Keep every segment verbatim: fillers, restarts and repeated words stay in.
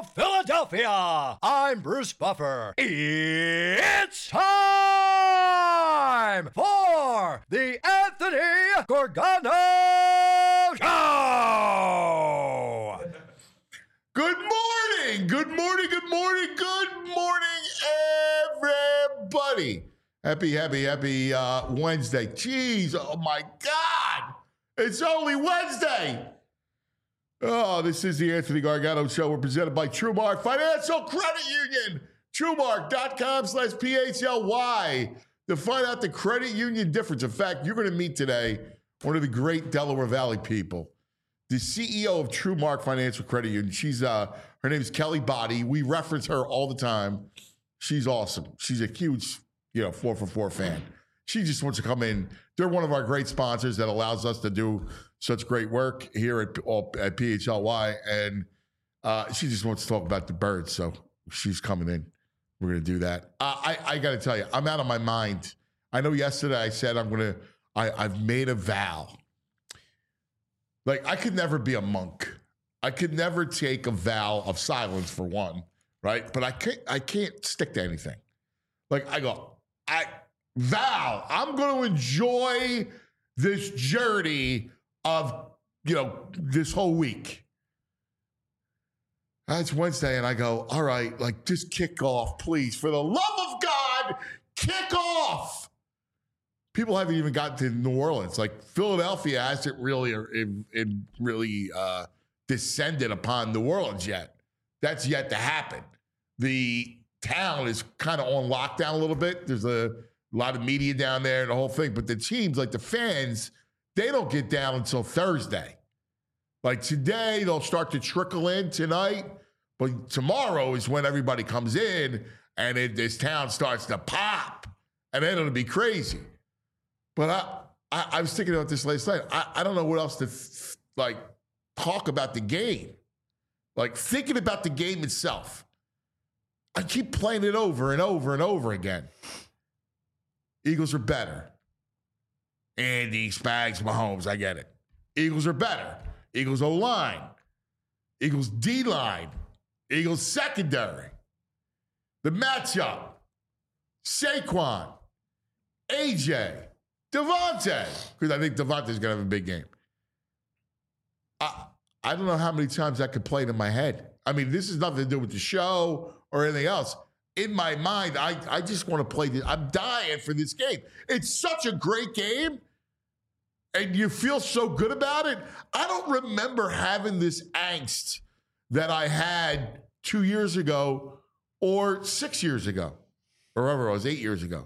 Philadelphia. I'm Bruce Buffer. It's time for the Anthony Gorgano Show. Good morning. Good morning. Good morning. Good morning, everybody. Happy, happy, happy uh, Wednesday. Jeez, oh my God. It's only Wednesday. Oh, this is the Anthony Gargano Show. We're presented by TrueMark Financial Credit Union. TrueMark.com slash P H L Y to find out the credit union difference. In fact, you're going to meet today one of the great Delaware Valley people, the C E O of TrueMark Financial Credit Union. She's uh, her name is Kelly Body. We reference her all the time. She's awesome. She's a huge, you know, four for four fan. She just wants to come in. They're one of our great sponsors that allows us to do such great work here at, at P H L Y. And uh, she just wants to talk about the birds. So she's coming in. We're going to do that. Uh, I, I got to tell you, I'm out of my mind. I know yesterday I said I'm going to, I've made a vow. Like, I could never be a monk. I could never take a vow of silence for one, right? But I can't, I can't stick to anything. Like, I go, I vow, I'm going to enjoy this journey of, you know, this whole week. That's Wednesday, and I go, all right, like, just kick off, please. For the love of God, kick off. People haven't even gotten to New Orleans. Like, Philadelphia hasn't really it, it really uh, descended upon New Orleans yet. That's yet to happen. The town is kind of on lockdown a little bit. There's a lot of media down there and the whole thing. But the teams, like the fans, they don't get down until Thursday. Like today, they'll start to trickle in tonight. But tomorrow is when everybody comes in and it, this town starts to pop. And then it'll be crazy. But I, I, I was thinking about this last night. I, I don't know what else to, th- like, talk about the game. Like, thinking about the game itself. I keep playing it over and over and over again. Eagles are better. Andy, Spags, Mahomes, I get it. Eagles are better. Eagles O-line. Eagles D-line. Eagles secondary. The matchup. Saquon. A J. Devontae. Because I think Devontae's going to have a big game. I, I don't know how many times that could play in my head. I mean, this has nothing to do with the show or anything else. In my mind, I, I just want to play this. I'm dying for this game. It's such a great game, and you feel so good about it. I don't remember having this angst that I had two years ago or six years ago, or whatever it was, eight years ago.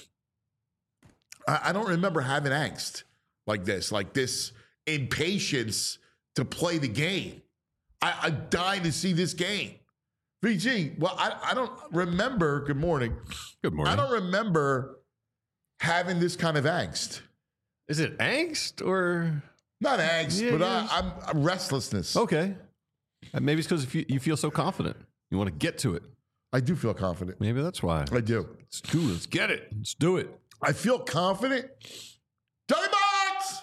I, I don't remember having angst like this, like this impatience to play the game. I, I'm dying to see this game. V G, well, I, I don't remember, good morning. Good morning. I don't remember having this kind of angst. Is it angst or? Not angst, Yeah, but yeah. I, I'm, I'm restlessness. Okay. Uh, Maybe it's because you, you feel so confident. You want to get to it. I do feel confident. Maybe that's why. I do. Let's do it. Let's get it. Let's do it. I feel confident. Johnny Box!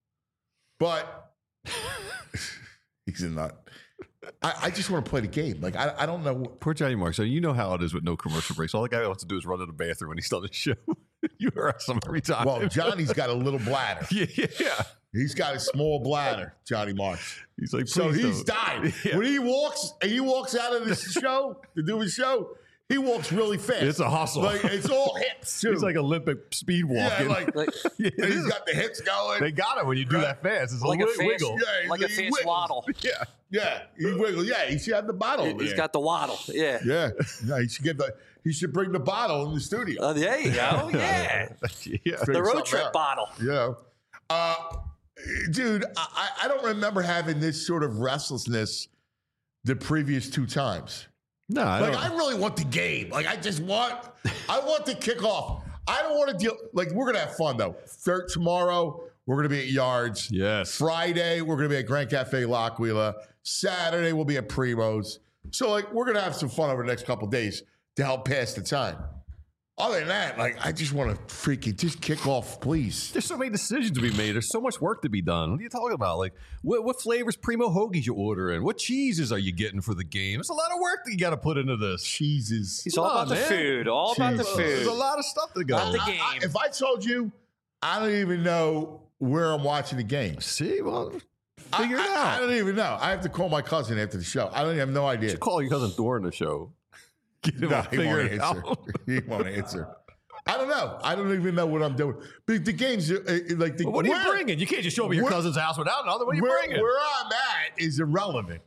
But he's a nut. I, I just want to play the game. Like, I, I don't know. Poor Johnny Mark. So you know how it is with no commercial breaks. All the guy wants to do is run to the bathroom when he's on the show. You harass him every time. Well, Johnny's got a little bladder. yeah, yeah, yeah. He's got a small bladder, Johnny Marks. He's like, So please he's don't. died. Yeah. When he walks, and he walks out of this show to do his show, he walks really fast. It's a hustle. Like, it's all hips, too. He's like Olympic speed walking. Yeah, like, Like, Yeah, and it he's is. got the hips going. They got it when you do Right. that fast. It's a like a little fast, wiggle. Yeah, like a he fast wiggles. waddle. Yeah. Yeah, he wiggles. Yeah, he should have the bottle. over He's there. got the waddle. Yeah. Yeah, yeah. He should get the. He should bring the bottle in the studio. Uh, there you go. Yeah. yeah. The Figure road something trip out. bottle. You know, uh, dude, I, I don't remember having this sort of restlessness the previous two times. No, I Like, don't. I really want the game. Like, I just want, I want the kickoff. I don't want to deal. Like, we're gonna have fun though. Third tomorrow, we're gonna be at Yards. Yes. Friday, we're gonna be at Grand Cafe Lockweila. Saturday, we'll be at Primo's. So, like, we're gonna have some fun over the next couple of days to help pass the time. other than that, like, I just want to freaking just kick off, please. There's so many decisions to be made. There's so much work to be done. What are you talking about? Like, what, what flavors Primo hoagies you ordering? What cheeses are you getting for the game? There's a lot of work that you got to put into this. Cheeses. He's all Come about on, the man. food. All about the Jesus. There's a food. lot of stuff to go. Not the I- game. I- if I told you, I don't even know where I'm watching the game. See, well, I, figure it I- I out. don't even know. I have to call my cousin after the show. I don't have no idea. You call your cousin during the show. Get him No, to he figure won't it answer. out. He won't answer. I don't know. I don't even know what I'm doing. But the game's uh, uh, like the. Well, what are you where- bringing? You can't just show up at your where- cousin's house without another. What are you where, bringing? where I'm at is irrelevant.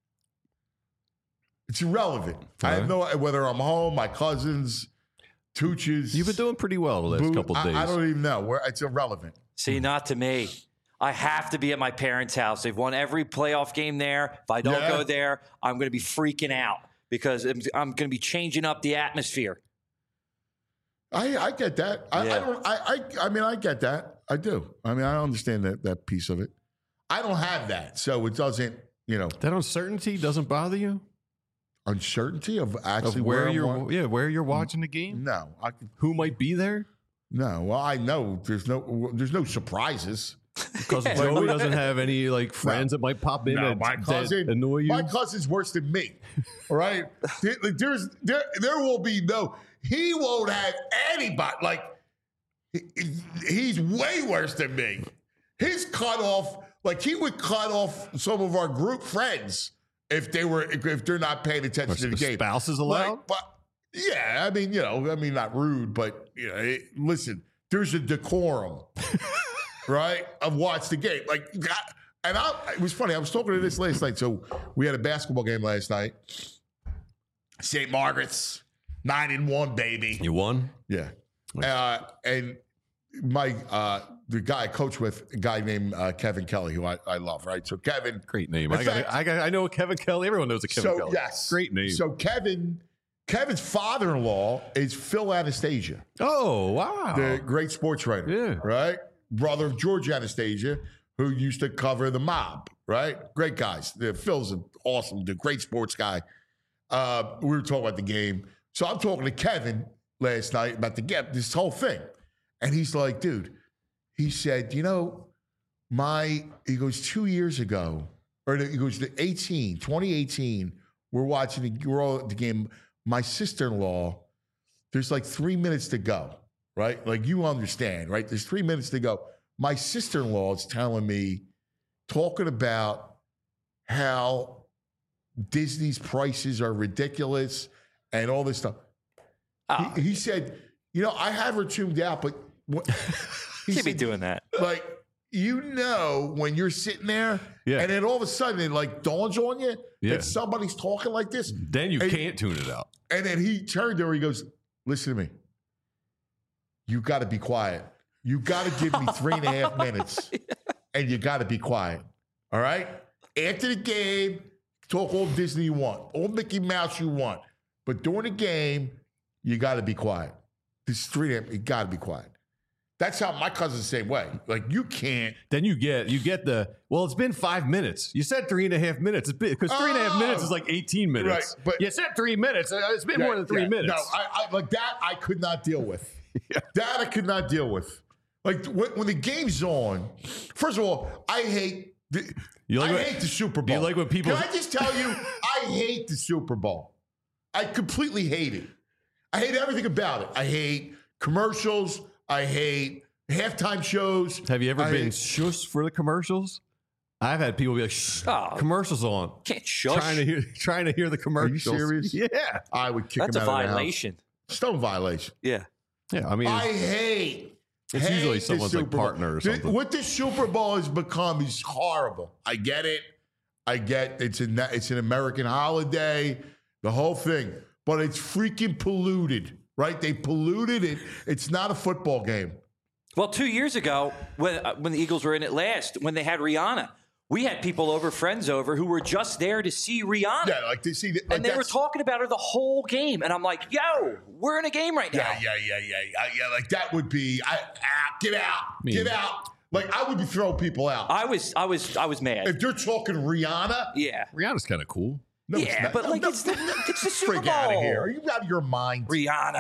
It's irrelevant. I have no whether I'm home, my cousins, Tooches. You've been doing pretty well the last Boo- couple of days. I, I don't even know where it's irrelevant. See, not to me. I have to be at my parents' house. They've won every playoff game there. If I don't Yeah. go there, I'm going to be freaking out because I'm, I'm going to be changing up the atmosphere. I, I get that. I, Yeah. I don't. I, I. I mean, I get that. I do. I mean, I understand that that piece of it. I don't have that, so it doesn't. You know, That uncertainty doesn't bother you uncertainty of of actually where, I'm you're, wa- yeah, where you're watching the game, No, I can, who might be there, no. Well, I know there's no there's no surprises. because Joey doesn't have any like friends that might pop in No, that, my that cousin, annoy you. my cousin's worse than me. All right, there, like, there's there there will be no. He won't have anybody. Like he- he's way worse than me. His cut off, like he would cut off some of our group friends if they were if they're not paying attention to the game. Spouses allowed? Like, but yeah, I mean, you know, I mean, not rude, but you know, it, listen, there's a decorum. Right? I've watched the game. Like, and I, it was funny. I was talking to this last night. So we had a basketball game last night. Saint Margaret's, nine and one, baby. You won? Yeah. Uh, and my uh, the guy I coach with, a guy named uh, Kevin Kelly, who I, I love. Right. So Kevin. Great name. In I got, fact- I got. I know Kevin Kelly. Everyone knows a Kevin so Kelly. yes, Great name. So Kevin, Kevin's father-in-law is Phil Anastasia, oh wow. the great sports writer. Yeah. Right. Brother of George Anastasia, who used to cover the Mob, right? Great guys. The, Phil's an awesome, the great sports guy. Uh, we were talking about the game. So I'm talking to Kevin last night about the game, this whole thing. And he's like, dude, he said, you know, my, he goes, two years ago, or he goes to eighteen, twenty eighteen, we're watching, the, we're all at the game. My sister-in-law, there's like three minutes to go. Right? Like you understand, right? There's three minutes to go. My sister-in-law is telling me, talking about how Disney's prices are ridiculous and all this stuff. Oh, He, he said, you know, I have her tuned out, but what, he can't be said, doing that. like, you know, when you're sitting there Yeah. and then all of a sudden it like dawns on you Yeah. that somebody's talking like this. Then you And- can't tune it out. And then he turned to her, he goes, listen to me. You got to be quiet. You got to give me three and a half minutes and you got to be quiet. All right? After the game, talk all Disney you want, all Mickey Mouse you want. But during the game, you got to be quiet. This three and a half, you got to be quiet. That's how my cousin's the same way. Like, you can't. Then you get you get the well. It's been five minutes. You said three and a half minutes. It's because three and a half Oh. minutes is like eighteen minutes. Right, but- you said three minutes. Uh, It's been more than three Yeah, minutes. No, I, I like that. I could not deal with. That I could not deal with. Like when, when the game's on. First of all, I hate. The, You like I when- hate the Super Bowl. you like when people- Can I just tell you? I hate the Super Bowl. I completely hate it. I hate everything about it. I hate commercials. I hate halftime shows. Have you ever I been hate- shush for the commercials? I've had people be like, "Shh, Oh. commercials on." Can't shush. Trying to hear, trying to hear the commercials. serious? Yeah, I would kick That's him a out of the house. violation. Stone violation. Yeah. yeah. I mean, I hate. It's hate usually the someone's, like, Super Bowl. partner or The- something. What the Super Bowl has become is horrible. I get it. I get it's an it's an American holiday, the whole thing, but it's freaking polluted, right? They polluted it. It's not a football game. Well, two years ago, when uh, when the Eagles were in it last, when they had Rihanna, we had people over, friends over, who were just there to see Rihanna. Yeah, like they see, like and they were that's- talking about her the whole game. And I'm like, yo, we're in a game right now. Yeah, yeah, yeah, yeah, yeah, yeah. Like that would be, I, ah, get out, mean- get out. Like I would be throwing people out I was, I was, I was mad. if they're talking Rihanna. yeah. Rihanna's kind of cool. No, it's Yeah, not. but No, like no, it's the, it's the Super Freak out of Bowl. here. Are you out of your mind? Rihanna.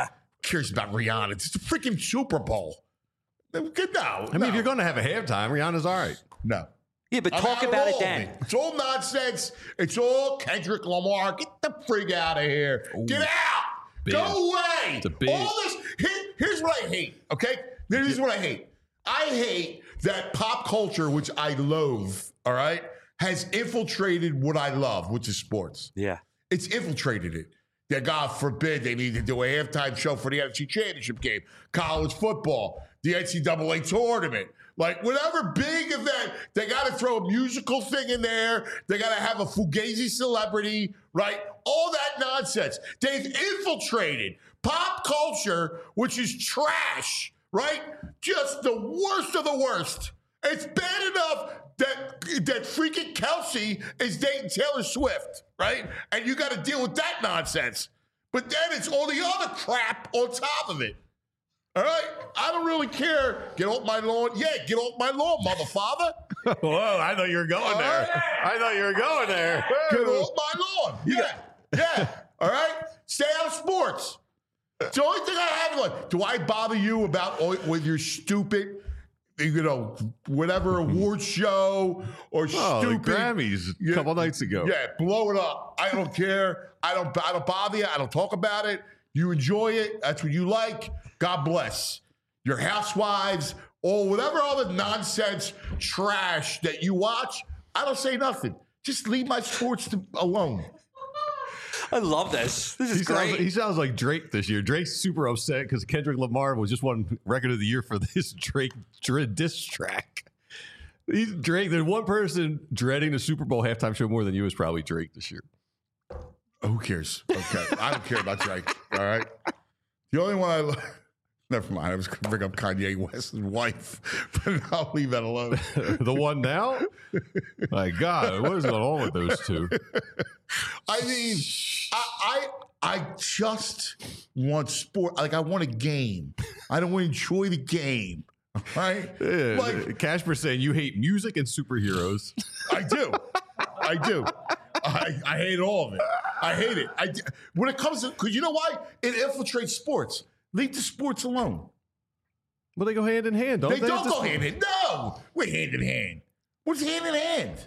cares about Rihanna? It's the freaking Super Bowl. No, I mean, no. if you're going to have a halftime, Rihanna's all right. No. Yeah, but I'm talk out of about it all of then. It's all nonsense. It's all Kendrick Lamar. Get the freak out of here. Get out. Big. Go away. It's a big- All this. Here, here's what I hate. Okay. Here's what I hate. I hate that pop culture, which I loathe. All right, has infiltrated what I love, which is sports. Yeah. It's infiltrated it. That God forbid they need to do a halftime show for the N F C Championship game, college football, the N C double A tournament. Like, whatever big event, they got to throw a musical thing in there. They got to have a Fugazi celebrity, right? All that nonsense. They've infiltrated pop culture, which is trash, right? Just the worst of the worst. It's bad enough that that freaking Kelsey is dating Taylor Swift, right? And you got to deal with that nonsense. But then it's all the other crap on top of it. All right? I don't really care. Get off my lawn. Yeah, get off my lawn, mother father. Whoa, I thought you were going there. right. I thought you were going there. Get off my lawn. Yeah, yeah. All right? Stay out of sports. It's the only thing I have. Like, do I bother you about all, with your stupid, you know, whatever award show or Oh, the stupid Grammys a Yeah. couple nights ago. Yeah, blow it up. I don't care. I don't. I don't bother you. I don't talk about it. You enjoy it. That's what you like. God bless your housewives or whatever other nonsense trash that you watch. I don't say nothing. Just leave my sports to, alone. I love this. This is He great. sounds, he sounds like Drake this year. Drake's super upset because Kendrick Lamar was just won record of the year for this Drake Dre- diss track. He's Drake. There's one person dreading the Super Bowl halftime show more than you is probably Drake this year. Who cares? Okay, I don't care about Drake. All right. The only one I lo- never mind. I was going to bring up Kanye West's wife, but I'll leave that alone. The one now? My God, what is going on with those two? I mean, I, I I just want sport. Like I want a game. I don't want to enjoy the game. Right? Yeah, Like Casper saying you hate music and superheroes. I do. I do. I, I hate all of it. I hate it. I, when it comes to, because you know why? It infiltrates sports. Leave the sports alone. Well, they go hand in hand, don't They they? don't Just- go hand in. No, we're hand in hand. What's hand in hand?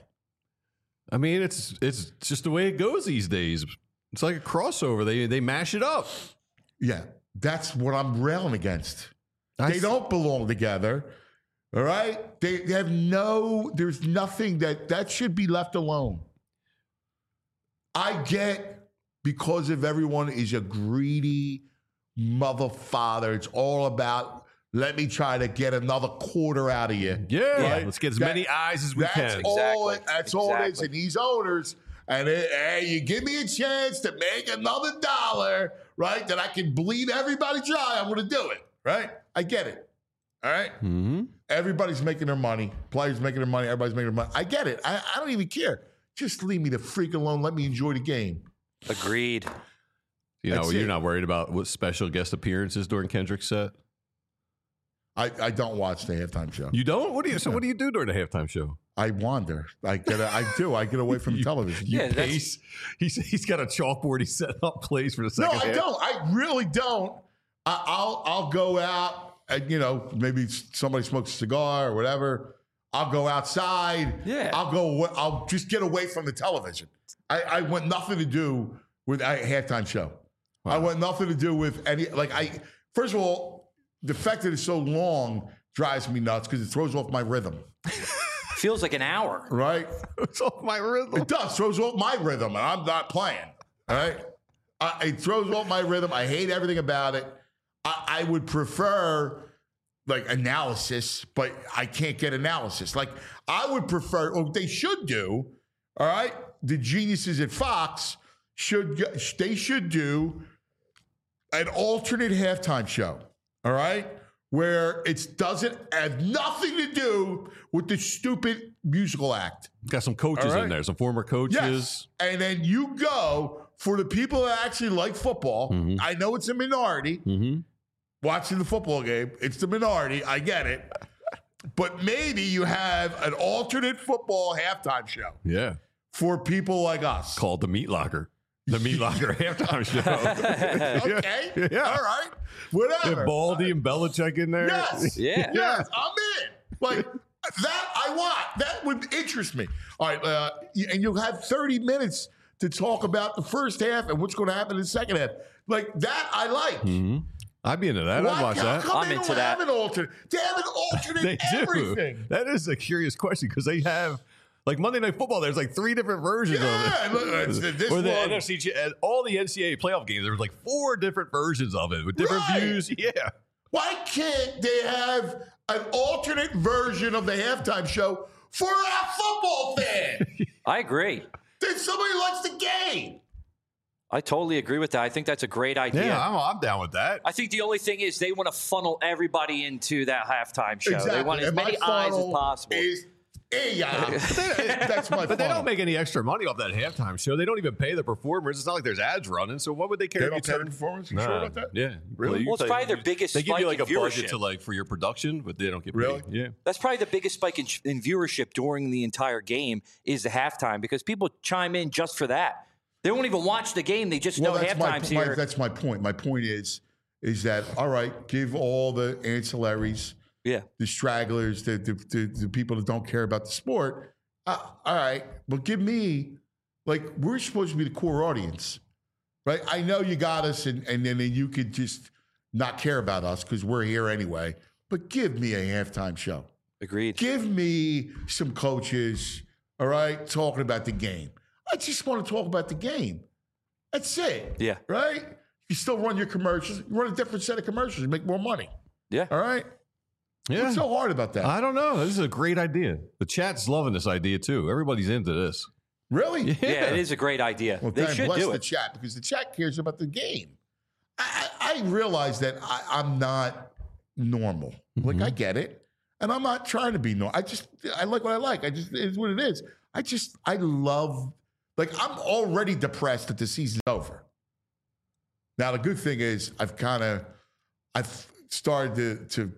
I mean, it's it's just the way it goes these days. It's like a crossover. They they mash it up. Yeah, that's what I'm railing against. I They s- don't belong together. All right? They, they have no, there's nothing that, that should be left alone. I get because of everyone is a greedy mother father. It's all about, let me try to get another quarter out of you. Yeah, Right? let's get as That- many eyes as we That's can. all. Exactly. It, that's all it is. Exactly. And these owners, and it, hey, you give me a chance to make another dollar, right? That I can bleed everybody dry. I'm going to do it, right? I get it. All right. Mm-hmm. Everybody's making their money. Players making their money. Everybody's making their money. I get it. I, I don't even care. Just leave me the freak alone. Let me enjoy the game. Agreed. You know, That's you're it. not worried about what special guest appearances during Kendrick's set. I, I don't watch the halftime show. You don't? What do you? So what do you do during the halftime show? I wander. I get. I do. I get away from the You- television. You Yeah, that's- pace. He's he's got a chalkboard. He's setting up plays for the No, second I half. don't. I really don't. I, I'll I'll go out and you know maybe somebody smokes a cigar or whatever. I'll go outside. Yeah. I'll go. I'll just get away from the television. I, I want nothing to do with a halftime show. I want nothing to do with any. Like I. First of all, the fact that it's so long drives me nuts because it throws off my rhythm. Feels like an hour. Right. It's off my rhythm. It does. Throws off my rhythm, and I'm not playing. All right. Uh, it throws off my rhythm. I hate everything about it. I, I would prefer like analysis, but I can't get analysis. Like I would prefer, or they should do. All right. The geniuses at Fox should go- they should do an alternate halftime show. All right. Where it doesn't have nothing to do with the stupid musical act. Got some coaches All right. in there, some former coaches. Yes. And then you go for the people that actually like football. Mhm. I know it's a minority Mm-hmm. watching the football game. It's the minority. I get it. But maybe you have an alternate football halftime show Yeah, for people like us. called the Meat Locker. The Meat Locker halftime show. Okay. Yeah. All right. Whatever. If Baldy and Belichick in there. Yes. Yeah. Yes. I'm in. Like, that I want. That would interest me. All right. Uh, and you'll have thirty minutes to talk about the first half and what's going to happen in the second half. Like, that I like. Mm-hmm. I'd be into that. Why I'd watch how that. come I'm they into don't that. have an alternate? They have an alternate They do. everything. That is a curious question because they have, like Monday Night Football, there's like three different versions Yeah, of look, it. it's the- this or the one- N F C, ch- uh, all the N C double A playoff games, there was like four different versions of it with different Right. views. Yeah. Why can't they have an alternate version of the halftime show for a football fan? I agree. Then somebody likes the game. I totally agree with that. I think that's a great idea. Yeah, I'm, I'm down with that. I think the only thing is they want to funnel everybody into that halftime show. Exactly. They want as And my many eyes as funnel possible. Is, yeah, that's my. But they funnel. don't make any extra money off that halftime show. They don't even pay the performers. It's not like there's ads running. So what would they care? They if don't you pay the turn- performance. You Nah. sure about that? Yeah, Really? you Well, it's pay- probably their biggest They give you spike like a in budget viewership. to like for your production, but they don't get paid. Really? Yeah. That's probably the biggest spike in, in viewership during the entire game is the halftime because people chime in just for that. They won't even watch the game. They just Well, know that's my, halftime's my here. that's my point. My point is, is that all right? Give all the ancillaries, yeah. the stragglers, the the, the, the people that don't care about the sport. Uh, all right, but give me like we're supposed to be the core audience, right? I know you got us, and and then you could just not care about us because we're here anyway. But give me a halftime show. Agreed. Give me some coaches, all right, talking about the game. I just want to talk about the game. That's it. Yeah. Right? You still run your commercials. You run a different set of commercials. You make more money. Yeah. All right? Yeah. What's so hard about that? I don't know. This is a great idea. The chat's loving this idea too. Everybody's into this. Really? Yeah. Yeah, it is a great idea. Well, they God should bless do the it. chat because the chat cares about the game. I, I, I realize that I, I'm not normal. Like, I get it. And I'm not trying to be normal. I just, I like what I like. I just, it's what it is. I just, I love, like, I'm already depressed that the season's over. Now, the good thing is I've kind of, I've started to, to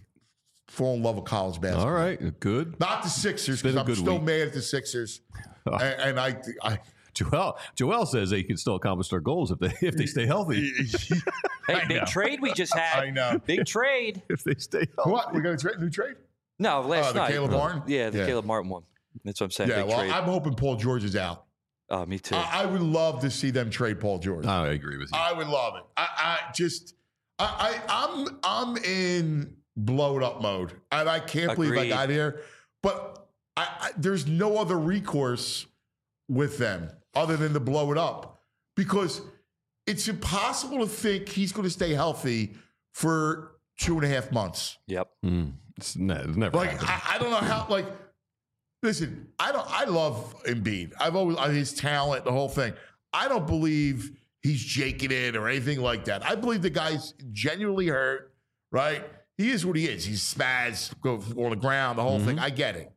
fall in love with college basketball. All right. Good. Not the Sixers, It's been because a I'm good still week. mad at the Sixers. and, and I, I, Joel, Joel says they can still accomplish their goals if they if they stay healthy. Hey, I big know. trade we just had. I know. Big trade. if they stay healthy. What? We got a tra- new trade? No, last Oh, the night. Caleb Martin? Yeah, the Yeah. Caleb Martin one. That's what I'm saying. Yeah, big well, trade. I'm hoping Paul George is out. oh, me too. I, I would love to see them trade Paul George. I agree with you. I would love it. I, I just, I, I, I'm, I'm in blowed up mode, and I can't believe I Agreed. got here. But I, I, there's no other recourse with them other than to blow it up because it's impossible to think he's going to stay healthy for two and a half months. yep. Mm, it's, ne- it's never Like happened. I, I don't know how. Like, listen, I don't. I love Embiid. I've always uh, his talent, the whole thing. I don't believe he's jaking it or anything like that. I believe the guy's genuinely hurt. Right? He is what he is. He's smashed, go on the ground, the whole thing. I get it,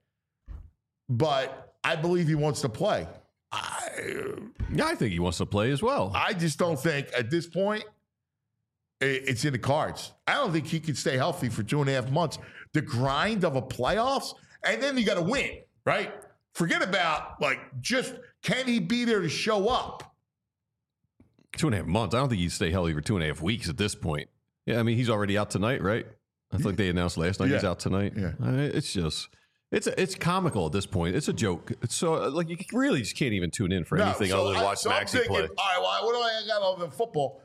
but I believe he wants to play. I, yeah, I think he wants to play as well. I just don't think at this point it- it's in the cards. I don't think he can stay healthy for two and a half months. The grind of a playoffs, and then you got to win, right? Forget about like just can he be there to show up? Two and a half months. I don't think he'd stay healthy for two and a half weeks at this point. Yeah, I mean he's already out tonight, right? I think they announced last night he's Yeah. out tonight. Yeah. I mean, it's just. It's a, it's comical at this point. It's a joke. It's so uh, like you really just can't even tune in for No, anything so other than I- watch so I'm Maxey thinking, play. All right, well, what do I got other than football?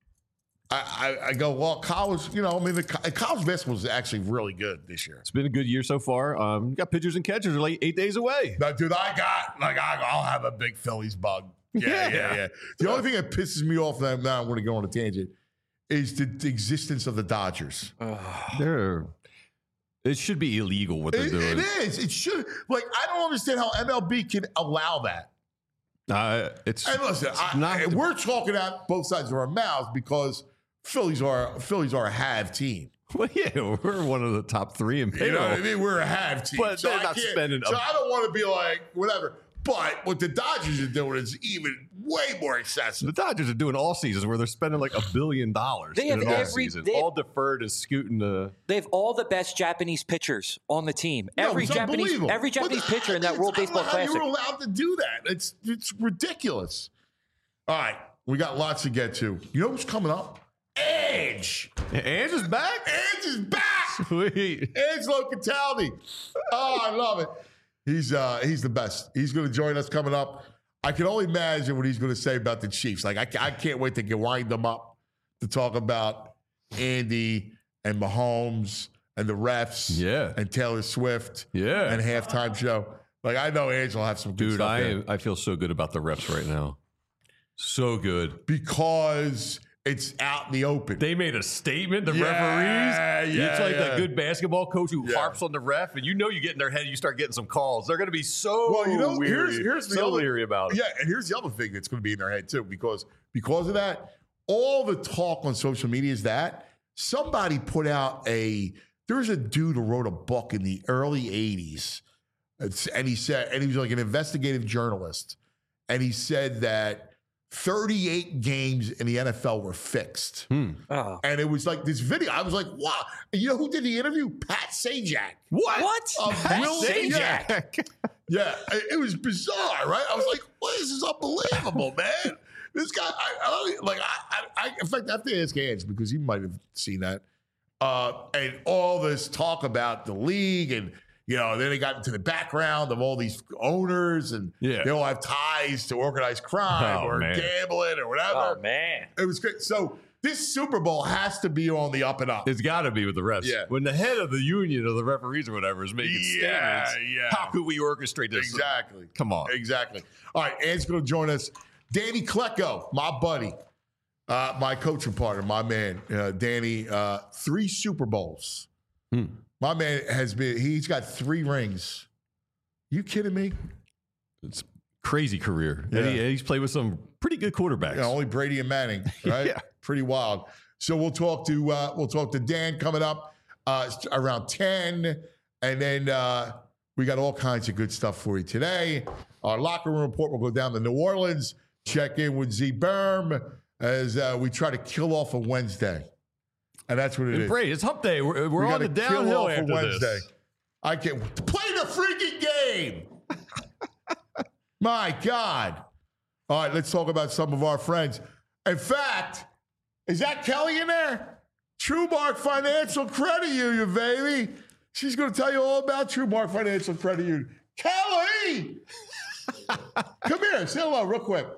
I, I, I go, well, college, you know, I mean, the co- college basketball is actually really good this year. It's been a good year so far. Um, you got pitchers and catchers are like eight days away. Now, dude, I got, like, I, I'll have a big Phillies bug. Yeah, yeah, Yeah. yeah. The only thing that pisses me off, now, now I'm going to go on a tangent, is the, the existence of the Dodgers. They're it should be illegal what they're It, doing. it is. It should. Like, I don't understand how M L B can allow that. Uh, it's And listen, I, not and the- we're talking out both sides of our mouths because Phillies are Phillies are a have team. well, yeah, we're one of the top three in You payroll. know what I mean? We're a have team. But they're I not can't- spending So a- I don't want to be like whatever. But what the Dodgers are doing is even way more excessive. The Dodgers are doing all seasons where they're spending like a billion dollars They in have an off every- season, they have- all deferred and scooting to. They have all the best Japanese pitchers on the team. No, Every it's Japanese, unbelievable. every Japanese But pitcher in that it's- World I don't Baseball know how Classic. You're allowed to do that. It's it's ridiculous. All right, we got lots to get to. You know who's coming up? Edge. Edge is back? Edge is back. Sweet. Edge Locatelli. Oh, I love it. He's uh, he's the best. He's going to join us coming up. I can only imagine what he's going to say about the Chiefs. Like, I, I can't wait to get wind them up to talk about Andy and Mahomes and the refs Yeah. and Taylor Swift Yeah. and halftime show. Like, I know Edge will have some good Dude, stuff I there. am, I feel so good about the refs right now. So good. Because it's out in the open. They made a statement, the Yeah, referees. yeah, it's like yeah. that good basketball coach who Yeah. harps on the ref, and you know you get in their head, you start getting some calls. They're going to be so Well, you know, weary, here's, here's the so other, leery about it. Yeah, and here's the other thing that's going to be in their head too, because because of that, all the talk on social media is that somebody put out a. There's a dude who wrote a book in the early eighties, and he said, and he was like an investigative journalist, and he said that thirty-eight games in the N F L were fixed. Oh. And it was like this video. I was like, wow. And you know who did the interview? Pat Sajak. What? What? Of Pat Will- Sajak. Yeah, it, it was bizarre, right? I was like, well, this is unbelievable, man. This guy, I, I don't, like, I, I, in fact, I have to ask Edge because he might have seen that. Uh, and all this talk about the league and, you know, then they got into the background of all these owners and Yeah. they all have ties to organized crime Oh, or man. gambling or whatever. Oh, man. It was great. So this Super Bowl has to be on the up and up. It's got to be with the refs. Yeah. When the head of the union of the referees or whatever is making Yeah, statements, yeah. how could we orchestrate this? Exactly. Come on. Exactly. All right, Ed's going to join us. Danny Klecko, my buddy, uh, my coaching partner, my man, uh, Danny, uh, three Super Bowls. Hmm. My man has been, he's got three rings. You kidding me? It's crazy career. Yeah. And he, and he's played with some pretty good quarterbacks. Yeah, only Brady and Manning, right? Yeah. Pretty wild. So we'll talk to uh, we'll talk to Dan coming up uh, around ten, and then uh, we got all kinds of good stuff for you today. Our locker room report will go down to New Orleans. Check in with Z Berm as uh, we try to kill off a Wednesday, and that's what it And is. Brady, it's hump day. We're, we're We on gotta the kill downhill off a after Wednesday. this. I can't play the freaking game. My God. All right, let's talk about some of our friends. In fact, is that Kelly in there? TrueMark Financial Credit Union, baby. She's going to tell you all about TrueMark Financial Credit Union. Kelly! Come here. Say hello real quick.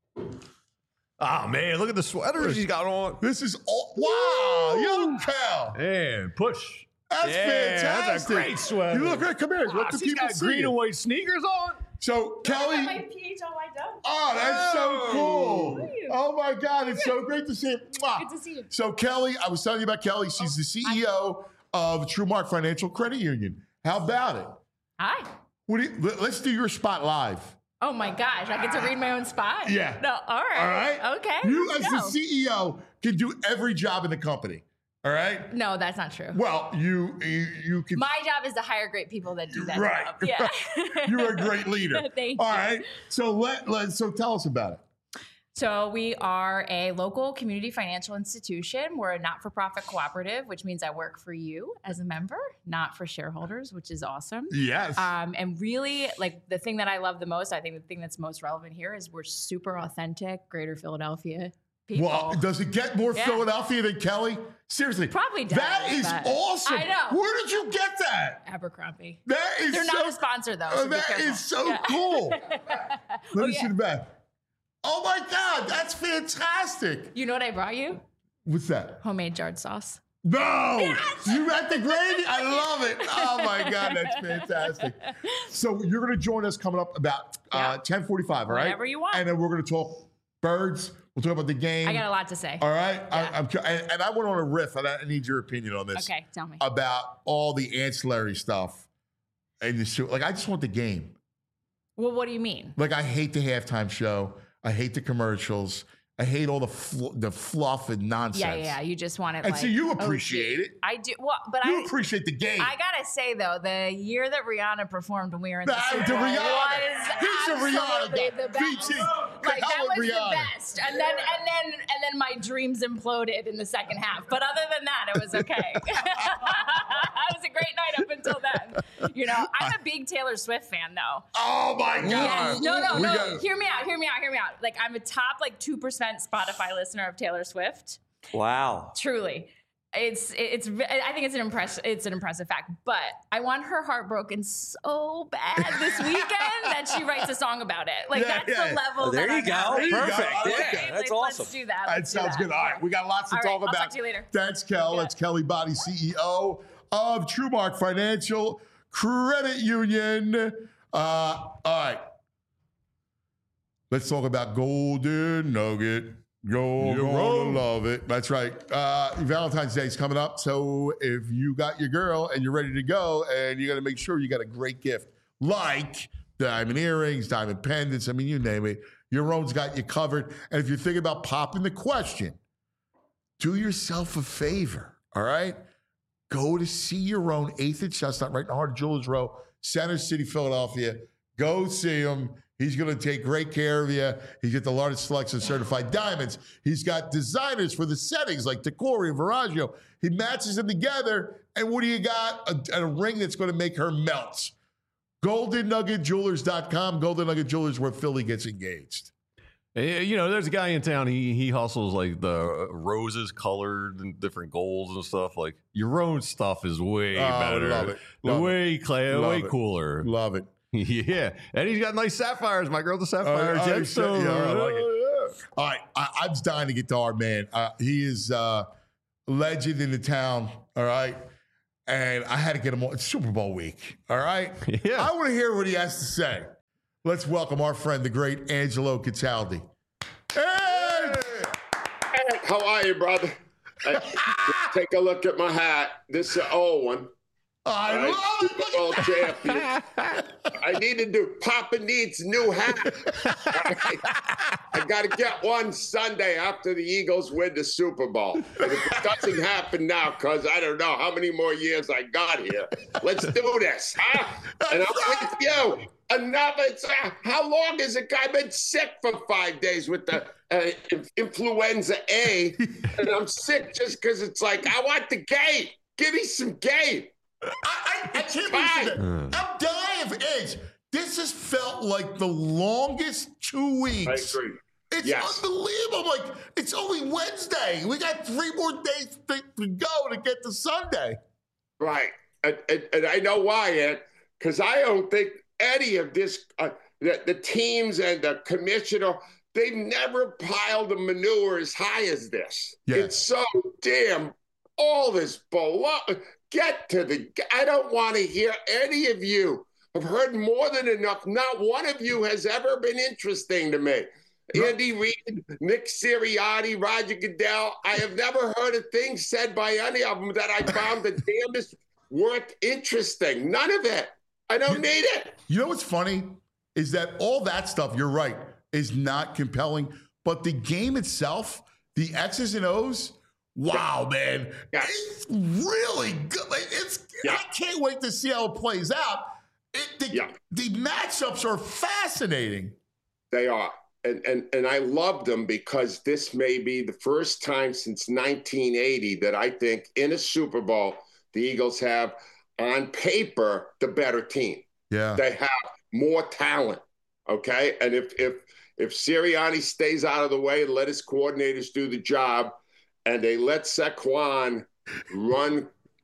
Oh, man, look at the sweater she's got on. This is all. Wow. Young Kel. And push. That's Yeah, fantastic. that's a great sweater. You look great. Come here. Let Wow, the she's people got see green you. and white sneakers on. So, I Kelly. got my P H L Y done. Oh, that's so cool. Thank you. Oh, my God. It's so great to see you. Mwah. Good to see you. So, Kelly, I was telling you about Kelly. She's the C E O of TrueMark Financial Credit Union. How about it? Hi. What do you, let- let's do your spot live. Oh my gosh, I get to read my own spot? Yeah. No, all right. All right? Okay. You, let's as go. the C E O, can do every job in the company. All right? No, that's not true. Well, you you, you can. My job is to hire great people that do that Right. job. Yeah. You're a great leader. Thank All you. right. So let, let so tell us about it. So we are a local community financial institution. We're a not-for-profit cooperative, which means I work for you as a member, not for shareholders, which is awesome. Yes. Um, and really, like the thing that I love the most, I think the thing that's most relevant here is we're super authentic, Greater Philadelphia people. Well, does it get more Yeah. Philadelphia than Kelly? Seriously. Probably does, That is but- awesome. I know. Where did you get that? Abercrombie. That is They're so, not a sponsor though. Oh, So be that careful. is so Yeah. cool. Let me yeah. see the back. Oh my God, that's fantastic. You know what I brought you? What's that? Homemade jarred sauce. No, you at the gravy? I love it. Oh my God, that's fantastic. So you're going to join us coming up about uh, Yeah. ten forty-five, all right? Whenever you want. And then we're going to talk birds. We'll talk about the game. I got a lot to say. All right, I, Yeah. I'm, cu- and, and I went on a riff, and I need your opinion on this. Okay, tell me. About all the ancillary stuff, and the show. Like, I just want the game. Well, what do you mean? Like, I hate the halftime show. I hate the commercials. I hate all the fl- the fluff and nonsense. Yeah, yeah, yeah. You just want it. And like, so you O G. appreciate it. I do. Well, but You I appreciate the game. I gotta say though, the year that Rihanna performed when we were in the Nah, Super the Bowl Rihanna. was He's a Rihanna absolutely guy. the V best. T. Like Hell that with was Rihanna. the best. And then and then and then my dreams imploded in the second half. But other than that, it was okay. It was a great night up until then. You know, I'm a big Taylor Swift fan though. Oh my God. Yes. No, no, We no. got- Hear me out. Hear me out. Hear me out. Like I'm a top like two percent Spotify listener of Taylor Swift. Wow. Truly, it's it's. I think it's an impress. It's an impressive fact. But I want her heart broken so bad this weekend that she writes a song about it. Like Yeah, that's yeah. the level. Oh, there that you I'm go. at. There you go. Perfect. I like Yeah, that. that's Like, awesome. Let's do that. That Let's do sounds that. good. All right, we got lots to All right, talk I'll about. talk to you later. That's Kel. Yeah. That's Kelly Body, C E O of TrueMark Financial Credit Union. Uh, all right. Let's talk about Golden Nugget. You're You're gonna wrong. love it. That's right. Uh, Valentine's Day is coming up. So if you got your girl and you're ready to go and you got to make sure you got a great gift like diamond earrings, diamond pendants, I mean, you name it, your own's got you covered. And if you're thinking about popping the question, do yourself a favor, all right? Go to see your own eighth and Chestnut, right in the heart of Jewelers Row, Center City, Philadelphia. Go see him. He's going to take great care of you. He's got the largest selection of certified diamonds. He's got designers for the settings like Decore and Viraggio. He matches them together. And what do you got? A, a ring that's going to make her melt. golden nugget jewelers dot com. Golden Nugget Jewelers, where Philly gets engaged. Eh, You know, there's a guy in town. He he hustles like the roses colored and different golds and stuff. Like your own stuff is way Oh, better, love it. Love way clear, Love way it. cooler. Love it. Yeah, and he's got nice sapphires. My girl's a sapphire Oh, oh, gemstone. yeah, I like it. Oh, yeah. All right, I, I'm dying to get to our man. Uh, he is uh, a legend in the town. All right, and I had to get him on. It's Super Bowl week. All right, Yeah. I want to hear what he has to say. Let's welcome our friend, the great Angelo Cataldi. Hey! How are you, brother? Uh, take a look at my hat. This is an old one. I Right? love it. Super Bowl champion. I need to do Papa needs new hat. I got to get one Sunday after the Eagles win the Super Bowl. And if it doesn't happen now, because I don't know how many more years I got here, let's do this, huh? And I'm with you. Another, it's, uh, how long has a guy been sick for five days with the uh, influenza A? And I'm sick just because it's like, I want the game. Give me some game. I, I, I can't believe that. I'm dying of age. This has felt like the longest two I weeks. agree. It's Yes. unbelievable. Like, it's only Wednesday. We got three more days to, to go to get to Sunday. Right. And, and, and I know why, Ed, because I don't think any of this, uh, the, the teams and the commissioner, they've never piled the manure as high as this. Yeah. It's so damn, all this below. Get to the, I don't want to hear any of you. I've heard more than enough. Not one of you has ever been interesting to me. Andy Reid, Nick Sirianni, Roger Goodell. I have never heard a thing said by any of them that I found the damnest worth interesting. None of it. I don't need it. You know what's funny is that all that stuff, you're right, is not compelling. But the game itself, the X's and O's, wow, man. Yes. It's really good. Like, it's Yeah. I can't wait to see how it plays out. It, the, Yeah. the matchups are fascinating. They are. And, and and I love them because this may be the first time since nineteen eighty that I think in a Super Bowl, the Eagles have on paper the better team. Yeah. They have more talent. Okay. And if if if Sirianni stays out of the way and let his coordinators do the job and they let Saquon run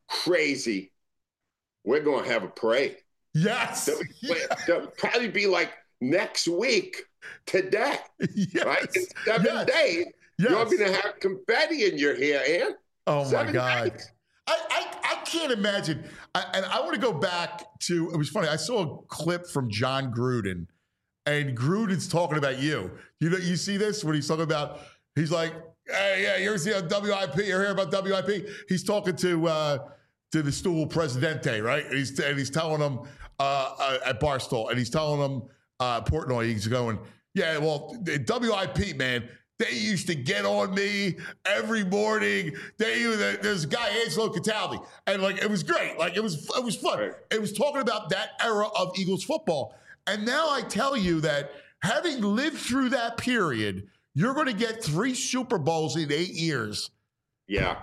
crazy, we're gonna have a parade. Yes. There'll, there'll probably be like next week today. Yes. Right? In seven Yes. days, Yes. you're going to have confetti in your hair, Ann. Oh, my Seven God. days. I, I, I can't imagine. I, and I want to go back to, it was funny. I saw a clip from John Gruden, and Gruden's talking about you. You know, you see this when he's talking about, he's like, hey, yeah, you ever see on W I P? You ever hear about W I P? He's talking to uh, to the stool Presidente, right? And he's, and he's telling him uh, uh, at Barstool, and he's telling him, uh, Portnoy, he's going, yeah, well, the W I P, man, They used to get on me every morning. They there's a guy, Angelo Cataldi, and like it was great. Like it was it was fun. Right. It was talking about that era of Eagles football. And now I tell you that having lived through that period, you're going to get three Super Bowls in eight years. Yeah.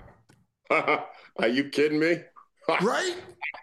Are you kidding me? Right?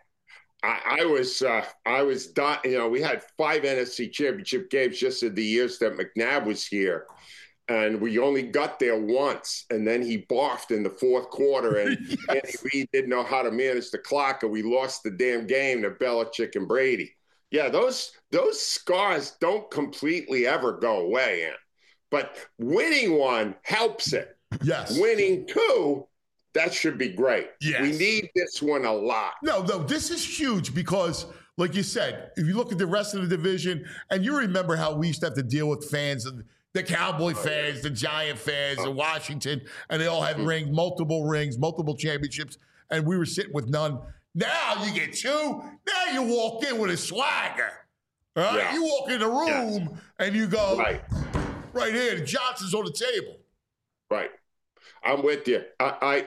I, I was, uh, I was, done, you know, we had five N F C championship games just in the years that McNabb was here. And we only got there once. And then he barfed in the fourth quarter. And Yes. Andy Reid didn't know how to manage the clock. And we lost the damn game to Belichick and Brady. Yeah, those those scars don't completely ever go away, Ant. But winning one helps it. Yes. Winning two, that should be great. Yes. We need this one a lot. No, no, this is huge because, like you said, if you look at the rest of the division, and you remember how we used to have to deal with fans, and the Cowboy fans, the Giant fans, Oh. the Washington, and they all had rings, multiple rings, multiple championships, and we were sitting with none. Now you get two. Now you walk in with a swagger. All right? Yeah. You walk in the room and you go, Right. right here, the Johnson's on the table. Right. I'm with you. I,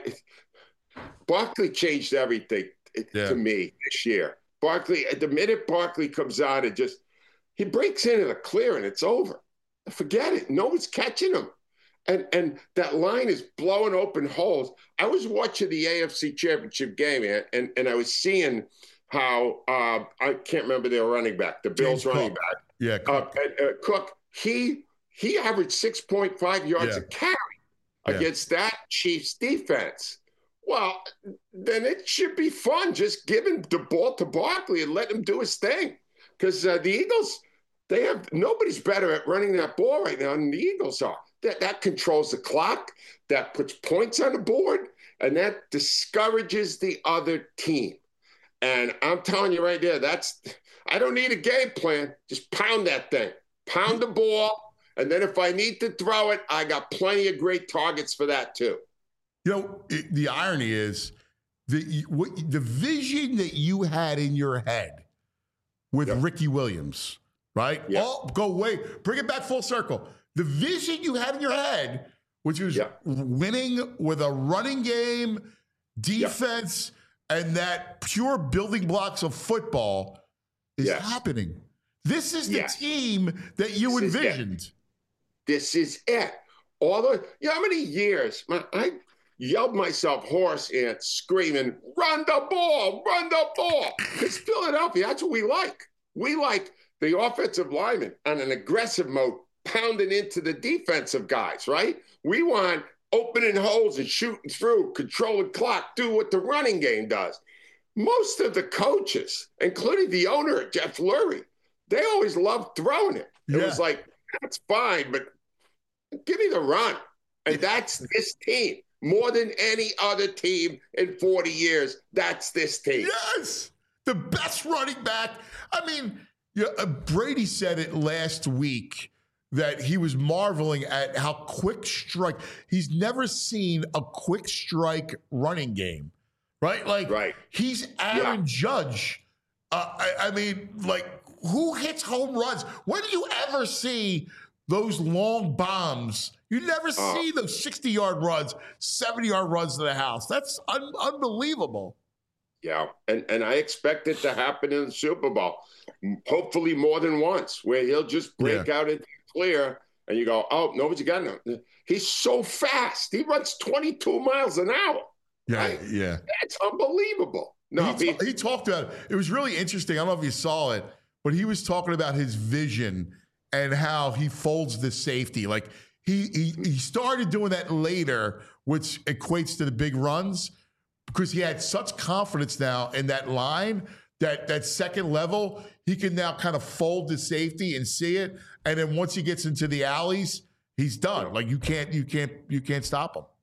I Barkley changed everything Yeah. to me this year. Barkley, the minute Barkley comes on, it just he breaks into the clear and it's over. Forget it. No one's catching him. And and that line is blowing open holes. I was watching the A F C Championship game, and and, and I was seeing how uh, I can't remember their running back, the Bills James running Cook. back, Yeah. uh, and, uh, Cook. He he averaged six point five yards Yeah. a carry Yeah. against that Chiefs defense. Well, then it should be fun just giving the ball to Barkley and let him do his thing. Because uh, the Eagles, they have nobody's better at running that ball right now than the Eagles are. That that controls the clock, that puts points on the board, and that discourages the other team. And I'm telling you right there, that's I don't need a game plan. Just pound that thing. Pound the ball. And then if I need to throw it, I got plenty of great targets for that too. You know, it, the irony is the what, the vision that you had in your head with Yep. Ricky Williams, right? Yep. Oh, go way, bring it back full circle. The vision you had in your head, which was Yep. winning with a running game, defense, and that pure building blocks of football, is Yes. happening. This is the Yes. team that you This is it. envisioned. This is it. All the you know how many years man, I yelled myself hoarse and screaming, run the ball, run the ball. Because Philadelphia, that's what we like. We like the offensive lineman on an aggressive mode, pounding into the defensive guys, right? We want opening holes and shooting through, controlling clock, do what the running game does. Most of the coaches, including the owner, Jeff Lurie, they always loved throwing it. It Yeah. was like, that's fine, but give me the run. And that's this team. More than any other team in forty years, that's this team. Yes, the best running back. I mean, yeah, uh, Brady said it last week that he was marveling at how quick strike. He's never seen a quick strike running game, right? Like, Right. he's Aaron Yeah. Judge. Uh, I, I mean, like, who hits home runs? When do you ever see those long bombs? You never Oh. see those sixty-yard runs, seventy-yard runs to the house. That's un- unbelievable. Yeah, and and I expect it to happen in the Super Bowl, hopefully more than once, where he'll just break out into clear, and you go, "Oh, nobody's got him." He's so fast; he runs twenty-two miles an hour. Yeah, Right? yeah. That's unbelievable. No, he, he, ta- he talked about it. It was really interesting. I don't know if you saw it, but he was talking about his vision and how he folds the safety. Like he he he started doing that later, which equates to the big runs, because he had such confidence now in that line that that second level, he can now kind of fold the safety and see it. And then once he gets into the alleys, he's done. Like you can't you can't you can't stop him.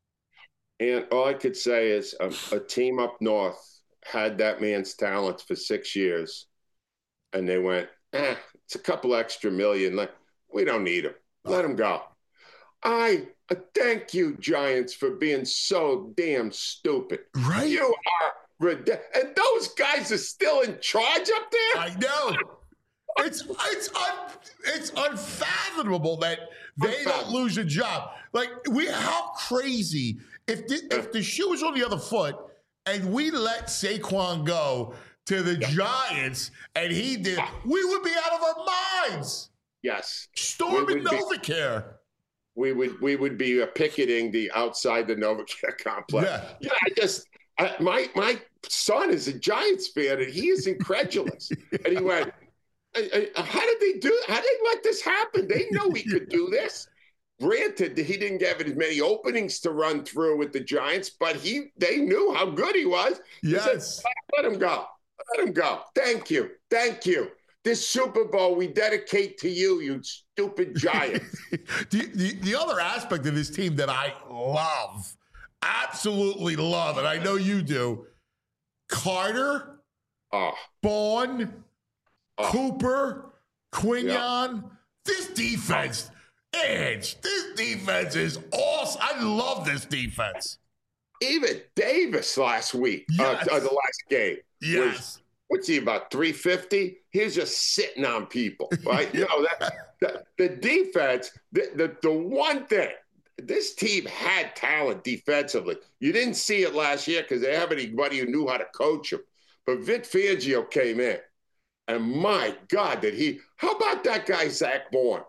and all I could say is um, a team up north had that man's talents for six years, and they went, "Eh, it's a couple extra million. Like we don't need him. Let him go." I uh, thank you, Giants, for being so damn stupid. Right? You are ridiculous. And those guys are still in charge up there? I know. It's it's un, it's unfathomable that they don't lose a job. Like we, how crazy if the, if the shoe was on the other foot and we let Saquon go to the Giants and he did, we would be out of our minds. Yes, storming Novacare. We would we would be uh, picketing the outside the Novacare complex. Yeah, yeah. I just I, my my son is a Giants fan and he is incredulous. And he went, I, I, "How did they do? How did they let this happen? They know we could do this." Granted, he didn't get as many openings to run through with the Giants, but he they knew how good he was. Yes, he said, let him go. Let him go. Thank you. Thank you. This Super Bowl we dedicate to you, you stupid Giants. the, the, the other aspect of this team that I love, absolutely love, and I know you do, Carter, oh. Bourne, oh. Cooper, Quinion. Yeah. This defense, Edge, this defense is awesome. I love this defense. Even Davis last week, yes. uh, uh, the last game. Yes. Was, what's he, about three fifty? He's just sitting on people, right? You know, that, that, the defense, the, the, the one thing, this team had talent defensively. You didn't see it last year because they have anybody who knew how to coach him. But Vic Fangio came in, and my God, did he – how about that guy, Zach Bourne?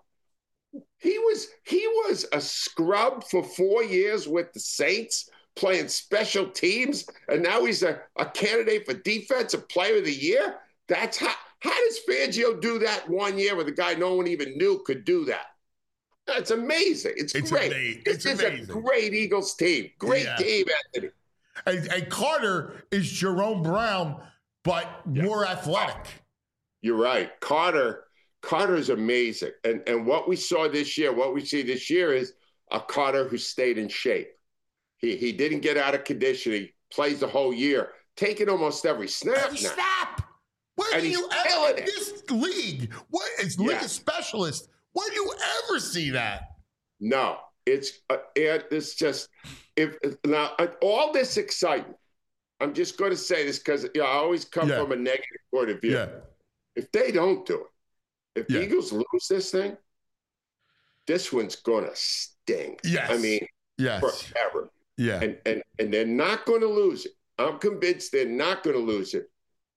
He was he was a scrub for four years with the Saints, playing special teams, and now he's a, a candidate for Defensive Player of the Year? That's how – how does Fangio do that one year with a guy no one even knew could do that? That's amazing. It's, it's great. Amazing. This it's is amazing. a great Eagles team. Great yeah. team, Anthony. And, and Carter is Jerome Brown, but yeah. more athletic. You're right. Carter Carter is amazing. And, and what we saw this year, what we see this year is a Carter who stayed in shape. He, he didn't get out of condition. He plays the whole year, taking almost every snap every now. snap. Where and do you ever in this league? What is league yeah. specialist? Where do you ever see that? No, it's uh, it's just if now uh, all this excitement. I'm just going to say this because you know, I always come yeah. from a negative point of view. Yeah. If they don't do it, if yeah. the Eagles lose this thing, this one's going to sting. Yes. I mean, yes. forever. Yeah. And and and they're not going to lose it. I'm convinced they're not going to lose it.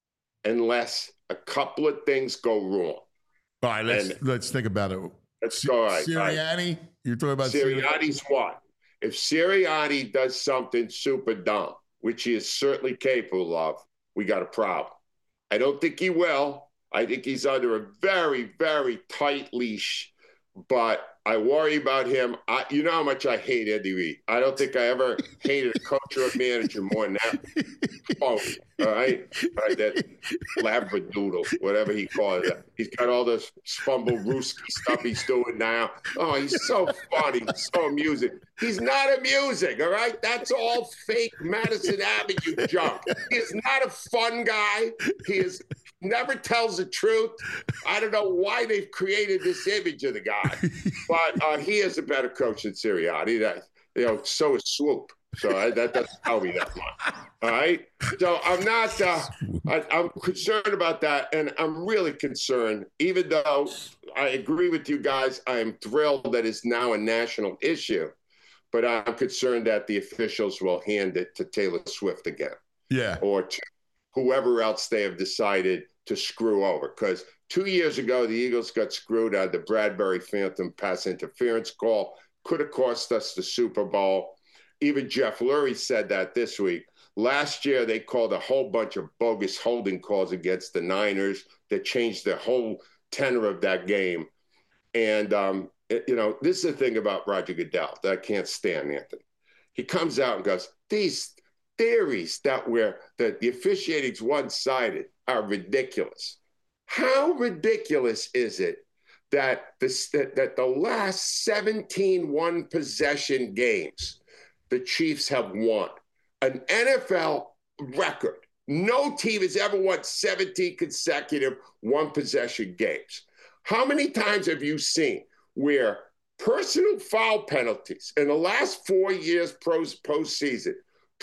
Unless a couple of things go wrong. All right, let's and let's think about it. Let's go. All right, Sirianni, right. you're talking about Sirianni's Sirianni. what? If Sirianni does something super dumb, which he is certainly capable of, we got a problem. I don't think he will. I think he's under a very, very tight leash, but I worry about him. I, you know how much I hate Andy Reid. I don't think I ever hated a coach or a manager more than that. Oh, all right? All right, that labradoodle, whatever he calls it. He's got all this Spumble-Rooski stuff he's doing now. Oh, he's so funny, so amusing. He's not amusing, all right? That's all fake Madison Avenue junk. He is not a fun guy. He is never tells the truth. I don't know why they've created this image of the guy, but uh, he is a better coach than Sirianni. That, you know, so is Swoop. So I, that doesn't tell me that much. All right. So I'm not. Uh, I, I'm concerned about that, and I'm really concerned. Even though I agree with you guys, I am thrilled that it's now a national issue, but I'm concerned that the officials will hand it to Taylor Swift again. Yeah. Or to whoever else they have decided to screw over. Because two years ago, the Eagles got screwed on the Bradbury Phantom pass interference call. Could have cost us the Super Bowl. Even Jeff Lurie said that this week. Last year, they called a whole bunch of bogus holding calls against the Niners that changed the whole tenor of that game. And, um, it, you know, this is the thing about Roger Goodell that I can't stand, Anthony. He comes out and goes, these theories that we're that the officiating's one-sided are ridiculous. How ridiculous is it that this that, that the last seventeen one-possession games the Chiefs have won? An N F L record. No team has ever won seventeen consecutive one-possession games. How many times have you seen where personal foul penalties in the last four years post postseason,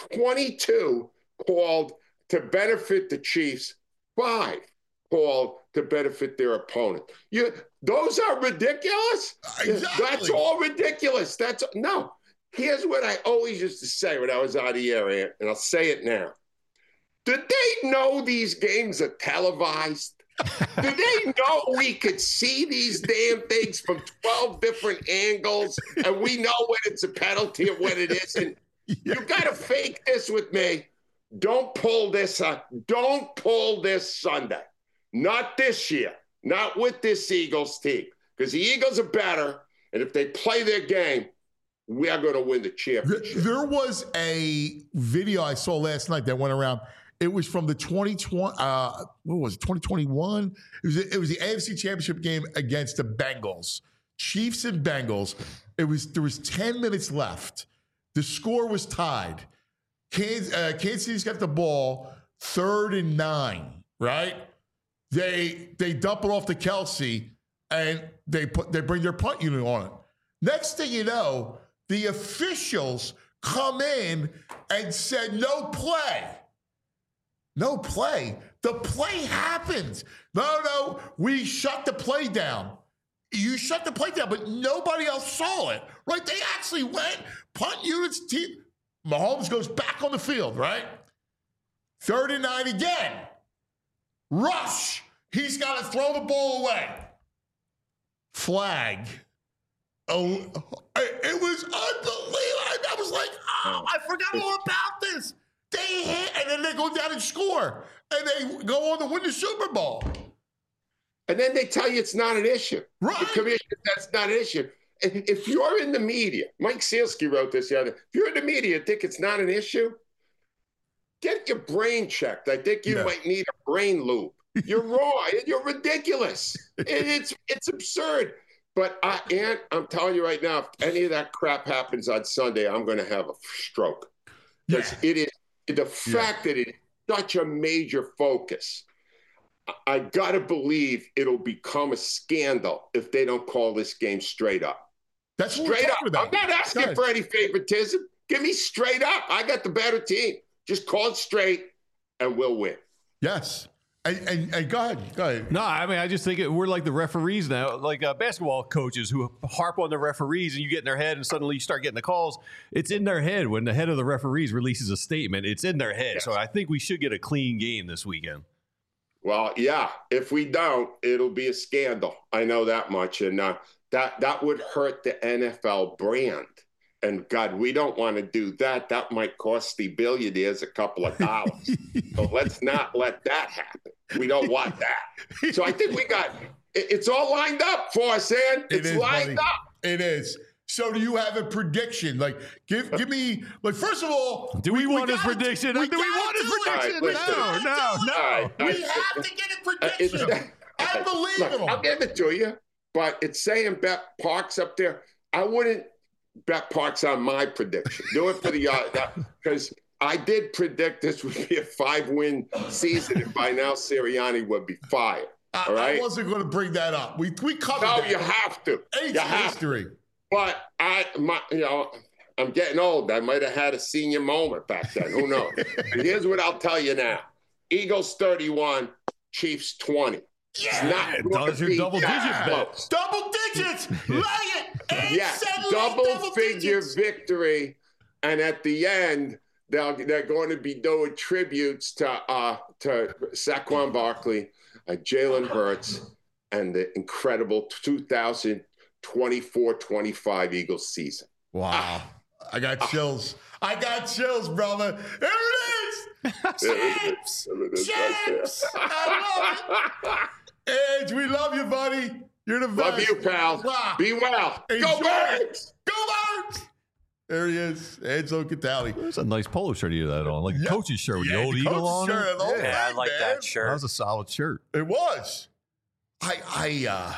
twenty-two called to benefit the Chiefs, five called to benefit their opponent. You, those are ridiculous. Exactly. That's all ridiculous. That's no. Here's what I always used to say when I was on the air, Ant, and I'll say it now. Did they know these games are televised? Did they know we could see these damn things from twelve different angles and we know when it's a penalty and when it isn't? Yeah. You got to fake this with me. Don't pull this uh, Don't pull this Sunday. Not this year. Not with this Eagles team. Because the Eagles are better, and if they play their game, we are going to win the championship. There was a video I saw last night that went around. It was from the twenty twenty, uh, what was it, twenty twenty-one? It was, it was the A F C Championship game against the Bengals. Chiefs and Bengals. It was There was ten minutes left. The score was tied. Kansas, uh, Kansas City's got the ball, third and nine, right? They they dump it off to Kelsey, and they put they bring their punt unit on it. Next thing you know, the officials come in and said, no play. No play. The play happens. No, no, we shut the play down. You shut the play down, but nobody else saw it, right? They actually went, punt units, team. Mahomes goes back on the field, right? Third and nine again. Rush. He's got to throw the ball away. Flag. Oh, it was unbelievable. I was like, oh, I forgot all about this. They hit, and then they go down and score, and they go on to win the Super Bowl. And then they tell you it's not an issue. Right. The commission, that's not an issue. If you're in the media, Mike Sealski wrote this the other day. If you're in the media and think it's not an issue, get your brain checked. I think you yeah. might need a brain loop. You're wrong. You're ridiculous. It's it's absurd. But I, Ant, I'm telling you right now, if any of that crap happens on Sunday, I'm going to have a stroke. Because yeah. it is the fact yeah. that it is such a major focus. I got to believe it'll become a scandal if they don't call this game straight up. That's straight up. About. I'm not asking Guys. for any favoritism. Give me straight up. I got the better team. Just call it straight, and we'll win. Yes. And, and, and go ahead. Go ahead. No, I mean, I just think it, we're like the referees now, like uh, basketball coaches who harp on the referees, and you get in their head, and suddenly you start getting the calls. It's in their head when the head of the referees releases a statement. It's in their head. Yes. So I think we should get a clean game this weekend. Well, yeah. If we don't, it'll be a scandal. I know that much, and uh, that that would hurt the N F L brand. And God, we don't want to do that. That might cost the billionaires a couple of dollars. So let's not let that happen. We don't want that. So I think we got it, it's all lined up for us, Ann. It's it is, lined buddy. up. It is. So do you have a prediction? Like, give give me like first of all, do we, we want his gotta, prediction? We do we want his prediction? Right, no, no, no. Right, we right. have to get a prediction. Uh, I believe Look, in him. I'll give it to you, but it's saying Bet Parks up there. I wouldn't bet Parks on my prediction. Do it for the because uh, I did predict this would be a five-win season, and by now Sirianni would be fired. I, all right? I wasn't going to bring that up. We we covered no, that. you have to. Ancient you have history. To. But I, my, you know, I'm getting old. I might have had a senior moment back then. Who knows? And here's what I'll tell you now: Eagles thirty-one, Chiefs twenty. Yeah, those are double digit bets. Double digits. Lay it. Yes, double, double figure digits. Victory, and at the end, they'll they're going to be doing tributes to uh to Saquon Barkley, uh, Jalen Hurts, and the incredible two thousand twenty-four twenty-five Eagles season. Wow, ah. I got chills. Ah. I got chills, brother. There it is. Champs, champs. I love it. Edge, we love you, buddy. You're the best. Love you, pal. Wow. Be well. Enjoy. Go Birds. Go Birds. There he is, Enzo Catali. There's a nice polo shirt you had on, like yeah. a coach's shirt with yeah, the old the eagle on shirt, it. Yeah, yeah thing, I like man. that shirt. That was a solid shirt. It was. I, I, uh,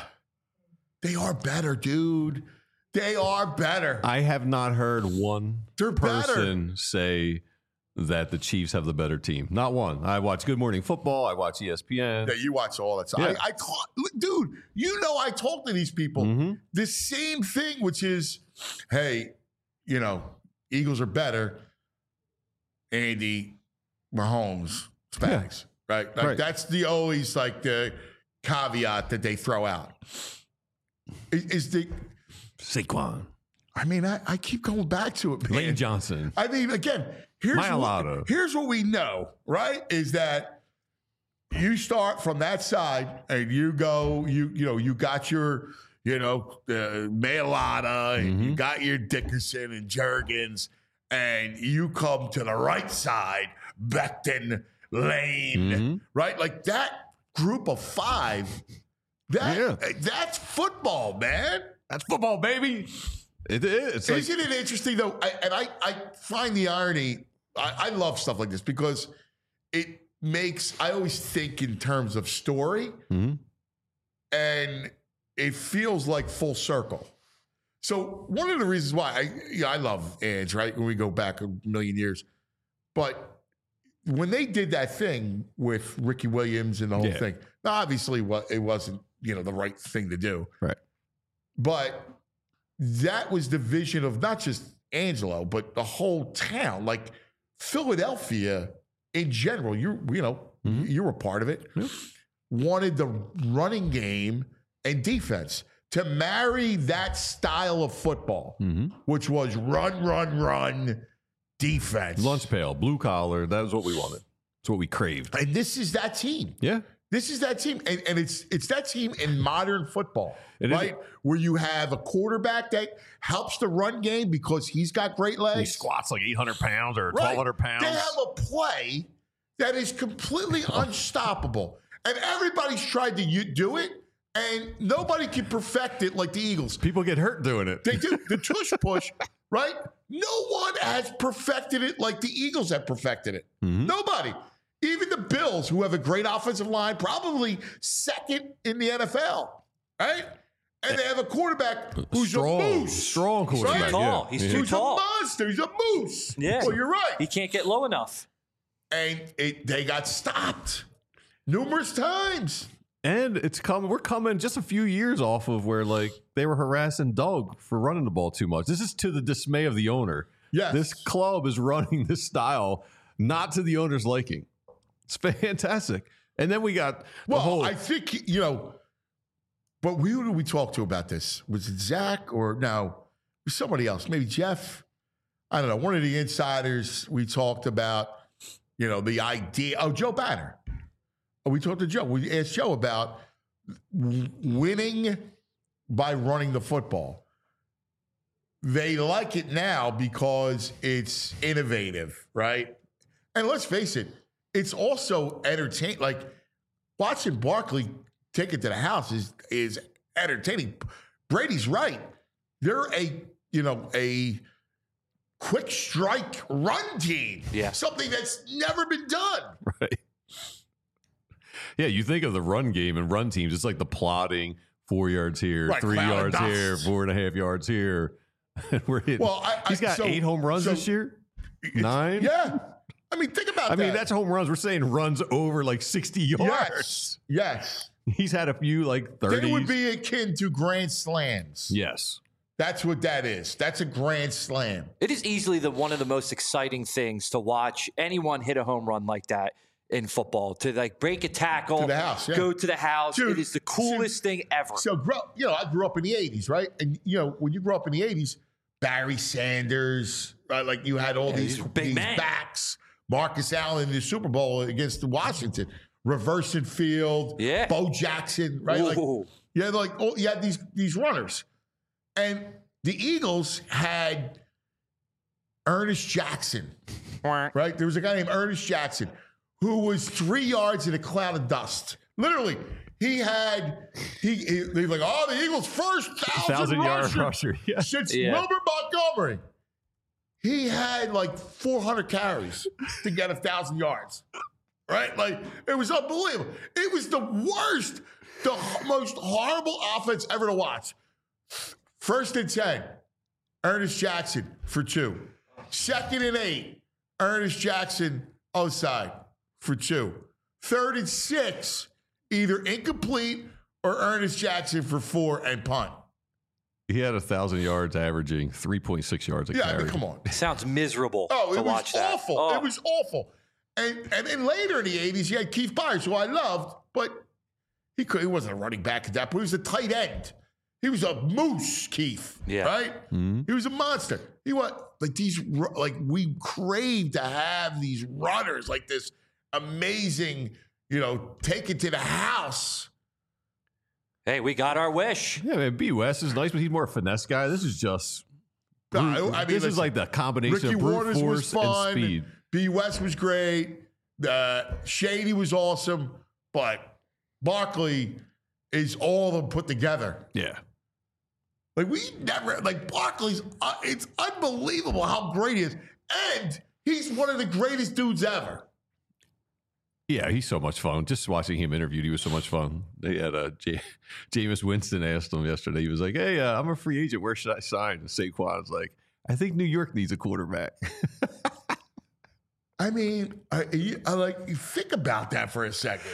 they are better, dude. They are better. I have not heard one They're person better. say that the Chiefs have the better team. Not one. I watch Good Morning Football. I watch E S P N. Yeah, you watch all that stuff. Yeah. I, I talk, dude, you know I talk to these people. Mm-hmm. The same thing, which is, hey, you know, Eagles are better. Andy, Mahomes, Spags, yeah. right? Like right. that's the always like the caveat that they throw out is, is the Saquon, I mean, I, I keep going back to it, man. Lane Johnson. I mean, again, here's Mailata. what, here's what we know, right? Is that you start from that side and you go, you you know, you got your, you know, uh, Mailata and Mm-hmm. you got your Dickerson and Juergens, and you come to the right side, Becton, Lane, Mm-hmm. right? Like that group of five, that Yeah. that's football, man. That's football, baby. It is. It's like, Isn't it interesting though? I, and I, I find the irony. I, I love stuff like this because it makes. I always think in terms of story, Mhm. and it feels like full circle. So one of the reasons why I, you know, I love Ange, right? When we go back a million years, but when they did that thing with Ricky Williams and the whole Yeah. thing, now obviously what it wasn't, you know, the right thing to do, right. but that was the vision of not just Angelo, but the whole town. Like Philadelphia in general, you you know, Mhm. you were part of it, wanted the running game and defense to marry that style of football, Mhm. which was run, run, run, defense. Lunch pail, blue collar. That was what we wanted. It's what we craved. And this is that team. Yeah. This is that team, and, and it's it's that team in modern football, It is. right? Where you have a quarterback that helps the run game because he's got great He legs. squats like eight hundred pounds or Right. twelve hundred pounds. They have a play that is completely unstoppable, and everybody's tried to u- do it, and nobody can perfect it like the Eagles. People get hurt doing it. They do the tush push, right? No one has perfected it like the Eagles have perfected it. Mhm. Nobody. Even the Bills, who have a great offensive line, probably second in the N F L, right? And they have a quarterback who's strong, a moose. strong quarterback. Too tall. Yeah. He's Yeah. too Who's tall. a monster. He's a moose. Yeah. Well, you're right. He can't get low enough. And it, they got stopped numerous times. And it's coming. We're coming just a few years off of where like they were harassing Doug for running the ball too much. This is to the dismay of the owner. Yes. This club is running this style not to the owner's liking. It's fantastic. And then we got the Well, whole. I think, you know, but we, who did we talk to about this? Was it Zach or no, somebody else? Maybe Jeff? I don't know. One of the insiders we talked about, you know, the idea. Oh, Joe Banner. Oh, we talked to Joe. We asked Joe about w- winning by running the football. They like it now because it's innovative, right? And let's face it, it's also entertaining. Like watching Barkley take it to the house is is entertaining. Brady's right. They're a you know a quick strike run team. Yeah. Something that's never been done. Right. Yeah, you think of the run game and run teams, it's like the plotting, four yards here, Right, three cloud of yards dust. here, four and a half yards here. And we're hitting. Well, I- I- he's got so- eight home runs so this year. It's- Nine? Yeah. I mean, think about I that. mean, that's home runs. We're saying runs over like sixty yards. yes. Yes. He's had a few like thirties. They would be akin to grand slams. Yes. That's what that is. That's a grand slam. It is easily the one of the most exciting things to watch anyone hit a home run like that in football. To like break a tackle, To the house, yeah. go to the house. Dude, it is the coolest thing ever. So, grow, you know, I grew up in the eighties, right? And, you know, when you grew up in the eighties, Barry Sanders, right? Like you had all Yeah, these, these were big these men. backs. Marcus Allen in the Super Bowl against the Washington. Reversing field. Yeah. Bo Jackson, right? Like, Ooh. you had like, oh, you had these, these runners. And the Eagles had Ernest Jackson, right? There was a guy named Ernest Jackson who was three yards in a cloud of dust. Literally, he had he, he they were like, oh, the Eagles' first thousand, Thousand yard rusher rusher. Yeah. since Yeah. Wilbur Montgomery. He had like four hundred carries to get a thousand yards, right? Like it was unbelievable. It was the worst, the h- most horrible offense ever to watch. First and ten, Ernest Jackson for two. Second and eight, Ernest Jackson outside for two. Third and six, either incomplete or Ernest Jackson for four and punt. He had a thousand yards, averaging three point six yards a Yeah, I carry. mean, come on. Sounds miserable Oh, to it was watch that. awful. Oh. It was awful. And and then later in the eighties, you had Keith Byers, who I loved, but He could. He wasn't a running back at that point. He was a tight end. He was a moose, Keith. Yeah. Right. Mm-hmm. He was a monster. He was like these. Like we crave to have these runners, like this amazing. You know, take it to the house. Hey, we got our wish. Yeah, man. B. West is nice, but he's more a finesse guy. This is just. No, I mean, this listen, is like the combination Ricky of brute Waters force was fun. and speed. B. West was great. Uh, Shady was awesome, but Barkley is all of them put together. Yeah. Like we never like Barkley's. Uh, it's unbelievable how great he is, and he's one of the greatest dudes ever. Yeah, he's so much fun. Just watching him interviewed, he was so much fun. They had a J- Jameis Winston asked him yesterday. He was like, "Hey, uh, I'm a free agent. Where should I sign?" And Saquon's like, "I think New York needs a quarterback." I mean, I, I like you think about that for a second,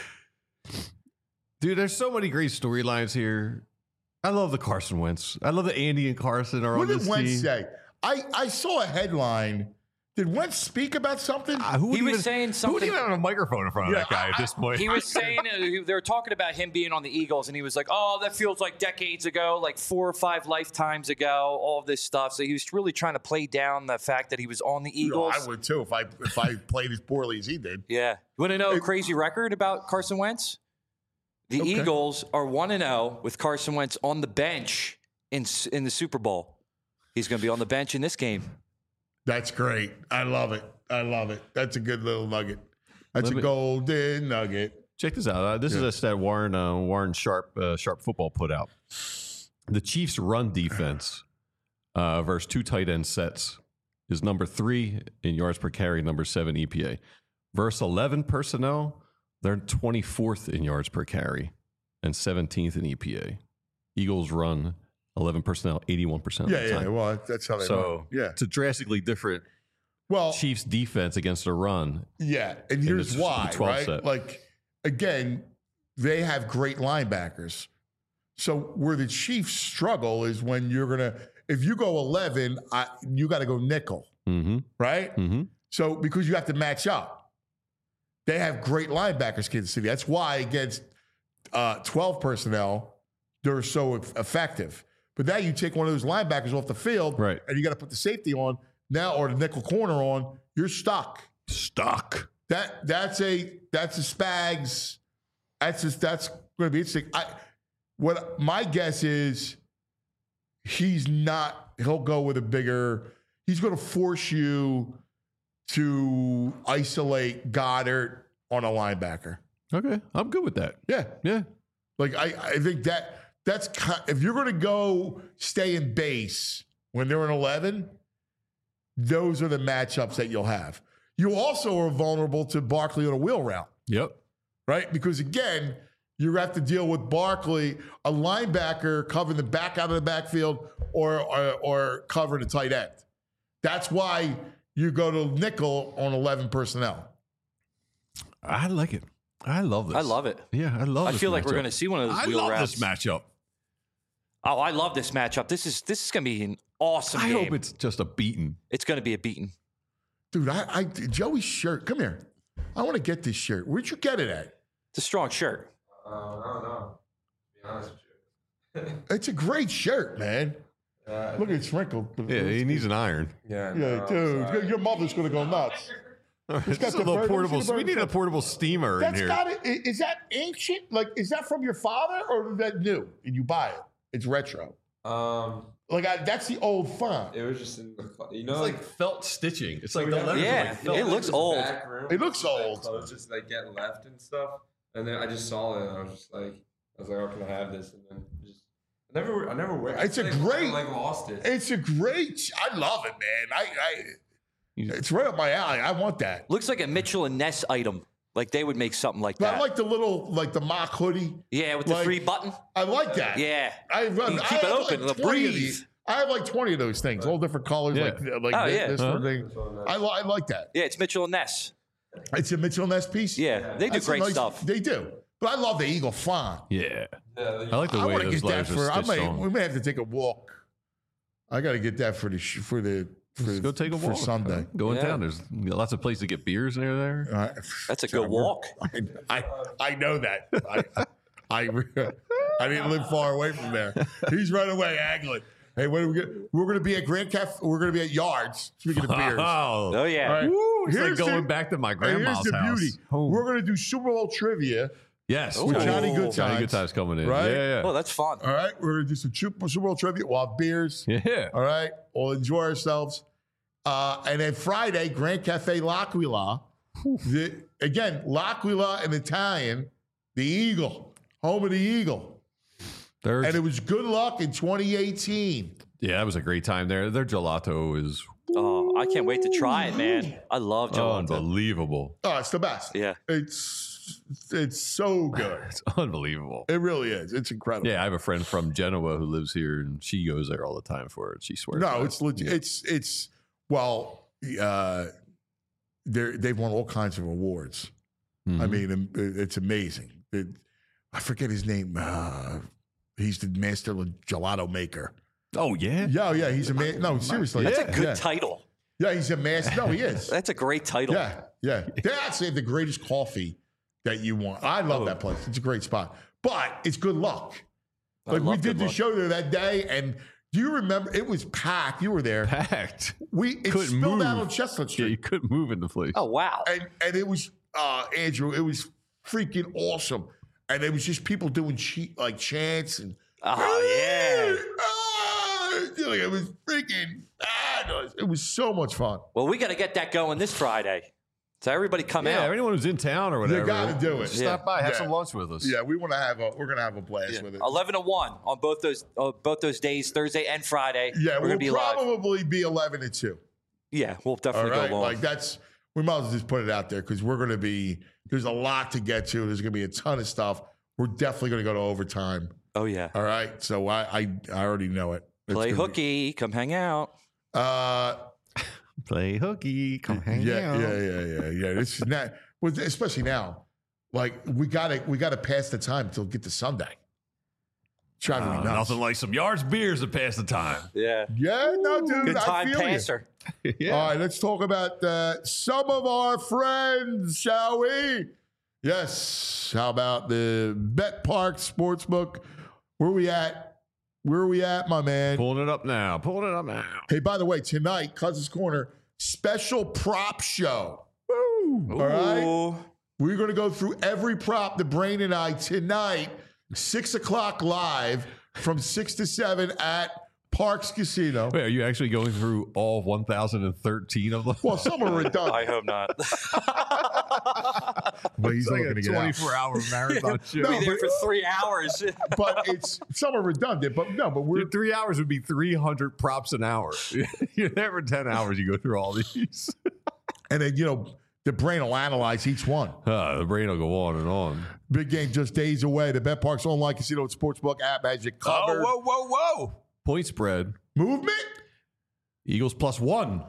dude. There's so many great storylines here. I love the Carson Wentz. I love that Andy and Carson are what on did this Wentz team. say? I I saw a headline. Did Wentz speak about something? Uh, who would He was even, saying Who would something- even have a microphone in front of Yeah, that guy I- at this point? He was saying uh, they were talking about him being on the Eagles, and he was like, "Oh, that feels like decades ago, like four or five lifetimes ago." All of this stuff. So he was really trying to play down the fact that he was on the You know, Eagles. I would too if I if I played as poorly as he did. Yeah. You want to know a It- crazy record about Carson Wentz? The Okay. Eagles are one and zero with Carson Wentz on the bench in in the Super Bowl. He's going to be on the bench in this game. That's great. I love it. I love it. That's a good little nugget. That's Let a me- golden nugget. Check this out. Uh, this is Yeah. a stat Warren uh, Warren Sharp uh, Sharp Football put out. The Chiefs' run defense uh, versus two tight end sets is number three in yards per carry, number seven E P A. Versus eleven personnel, they're twenty-fourth in yards per carry and seventeenth in E P A. Eagles run eleven personnel, eighty-one percent of Yeah, the yeah. time. Well, that's how they So run. Yeah. it's a drastically different Well, Chiefs defense against the run. yeah. And here's the why, twelve right? set. Like, again, they have great linebackers. So where the Chiefs struggle is when you're gonna, if you go eleven, I, you got to go nickel, Mm-hmm. right? Mm-hmm. So because you have to match up, they have great linebackers, Kansas City. That's why against uh, twelve personnel, they're so eff- effective. But now you take one of those linebackers off the field, Right. and you got to put the safety on now or the nickel corner on. You're stuck. Stuck. That that's a that's a Spags. That's just that's going to be interesting. I what my guess is he's not. He'll go with a bigger. He's going to force you to isolate Goddard on a linebacker. Okay, I'm good with that. Yeah, Yeah. like I I think that that's ki- if you're going to go stay in base when they're in eleven, those are the matchups that you'll have. You also are vulnerable to Barkley on a wheel route. Yep. Right? Because again, you have to deal with Barkley, a linebacker covering the back out of the backfield or, or, or covering the tight end. That's why you go to nickel on eleven personnel. I like it. I love this. I love it. Yeah, I love I this feel like we're matchup. going to see one of those I wheel love routes. this matchup. Oh, I love this matchup. This is this is going to be an awesome I game. hope it's just a beating. It's going to be a beating. Dude, I, I Joey's shirt. Come here. I want to get this shirt. Where'd you get it at? It's a strong shirt. Uh, I don't know. To be honest with you. It's a great shirt, man. Uh, Look, it's wrinkled. Yeah, he needs an iron. yeah, Yeah, no, dude. sorry. Your mother's going to go nuts. It's got a the little bird- portable. let me see the We bird need a shirt. portable steamer in That's here. got it. i- Is that ancient? Like, is that from your father or is that new? And you buy it? It's retro. Um, Like, I, that's the old font. it was just in the, clo- you know, It's like felt stitching. It's like So the we have- letters are Yeah, like felt. it looks this old. back room, It looks like, old. Clothes just like get left and stuff, and then I just saw it and I was just like, I was like, oh, can I have this? And then just I never, I never wear. It's a like, great- I, like lost it. It's a great. I love it, man. I, I it's right up my alley. I want that. Looks like a Mitchell and Ness item. Like they would make something like But that. I like the little, like the mock hoodie. yeah, with the like- three button. I like that. Yeah. I, I, You I keep it have open, like it'll twenty of breathe. these. I have like twenty of those things, all different colors, Yeah. like like Oh, this, yeah. this Huh? sort of thing. I, li- I like that. Yeah, it's Mitchell and Ness. It's a Mitchell Ness piece. Yeah, they do That's a great nice- stuff. They do. But I love the Eagle font. Yeah. yeah, I like the I way want to those get that letters for. are I stitched may. on. We may have to take a walk. I got to get that for the sh- for the for, Let's go take a for walk. Sunday. Go in Yeah. town. There's lots of places to get beers near there. Uh, That's a good walk. I, I I know that. I, I I didn't live far away from there. He's right away angling. Hey, when are we get? We're going to be at Grand Cafe. We're going to be at Yards. Speaking of beers. Oh, Oh yeah. All right. Woo, it's like Here's going the- back to my and grandma's here's the house. beauty. Oh. We're going to do Super Bowl trivia. Yes, With Ooh. Johnny Good Johnny Times. Good Times coming in. Right? Yeah, Oh, that's fun. All right. We're going to do some Super Super Bowl trivia. We'll have beers. yeah. yeah. All right. We'll enjoy ourselves. Uh, and then Friday, Grand Cafe L'Aquila. The, again, L'Aquila in Italian, the Eagle, home of the Eagle. There's, And it was good luck in twenty eighteen. yeah, that was a great time there. Their gelato is Oh, I can't wait to try it, man. I love gelato. unbelievable. Oh, it's the best. Yeah. It's it's so good. It's unbelievable. It really is. It's incredible. Yeah, I have a friend from Genoa who lives here, and she goes there all the time for it. She swears. by No, it. it's legit. It's it's well, uh, they they've won all kinds of awards. I Mhm. mean, it- it's amazing. It, I forget his name. Uh, he's the master gelato maker. Oh yeah. Yeah, yeah, he's a man. No, seriously, That's Yeah. a good yeah. title. Yeah, he's a master. No, he is. That's a great title. Yeah, yeah. They actually have the greatest coffee that you want. I love Oh. that place. It's a great spot, but it's good luck. I Like we love did Good the Luck. show there that day, and do you remember? It was packed. You were there. Packed. We it Couldn't spilled out move. on Chestnut Yeah, Street. you couldn't move in the place. Oh wow. and and it was uh Andrew, it was freaking awesome. And it was just people doing cheat like chants and Oh yeah. ah, like, it was freaking fabulous. It was so much fun. Well, we got to get that going this Friday. So everybody come yeah, out. anyone who's in town or whatever, gotta do it. Just Yeah. stop by, have Yeah. some lunch with us. Yeah, we want to have a we're gonna have a blast Yeah. with it. eleven to one on both those uh, both those days, Thursday and Friday. Yeah, we're we'll gonna be live. probably be eleven to two. Yeah, we'll All definitely right. go long. Like that's we might as well just put it out there because we're gonna be there's a lot to get to. There's gonna be a ton of stuff. We're definitely gonna go to overtime. oh yeah. All right. So I I, I already know it. It's Play gonna be- hooky. Come hang out. Uh Play hooky, come hang yeah, out. yeah, yeah, yeah, yeah. This is not, well, especially now. Like we gotta, we gotta pass the time till get to Sunday. Driving me Uh, nuts. nothing like some yards beers to pass the time. Yeah. Yeah, no, dude. Good I time feel passer. you. yeah. All right, let's talk about uh, some of our friends, shall we? Yes. How about the Bet Park Sportsbook? Where we at? Where are we at, my man? Pulling it up now. Pulling it up now. Hey, by the way, tonight, Cousins Corner special prop show. All right. Ooh. We're going to go through every prop, the Brain and I, tonight, six o'clock live from six to seven at Parks Casino. Wait, are you actually going through all one thousand thirteen of them? Well, some are redundant. I hope not. But he's It's like looking a to get out. twenty-four hour marathon show. No, be there but- for three hours. But it's some are redundant. But no, but we're Dude, three hours would be three hundred props an hour. You're there for ten hours. You go through all these. and then you know the brain will analyze each one. Uh, the brain will go on and on. Big game just days away. The Bet Parks online casino and sportsbook app has you covered. whoa, whoa, whoa. Point spread. Movement. Eagles plus one.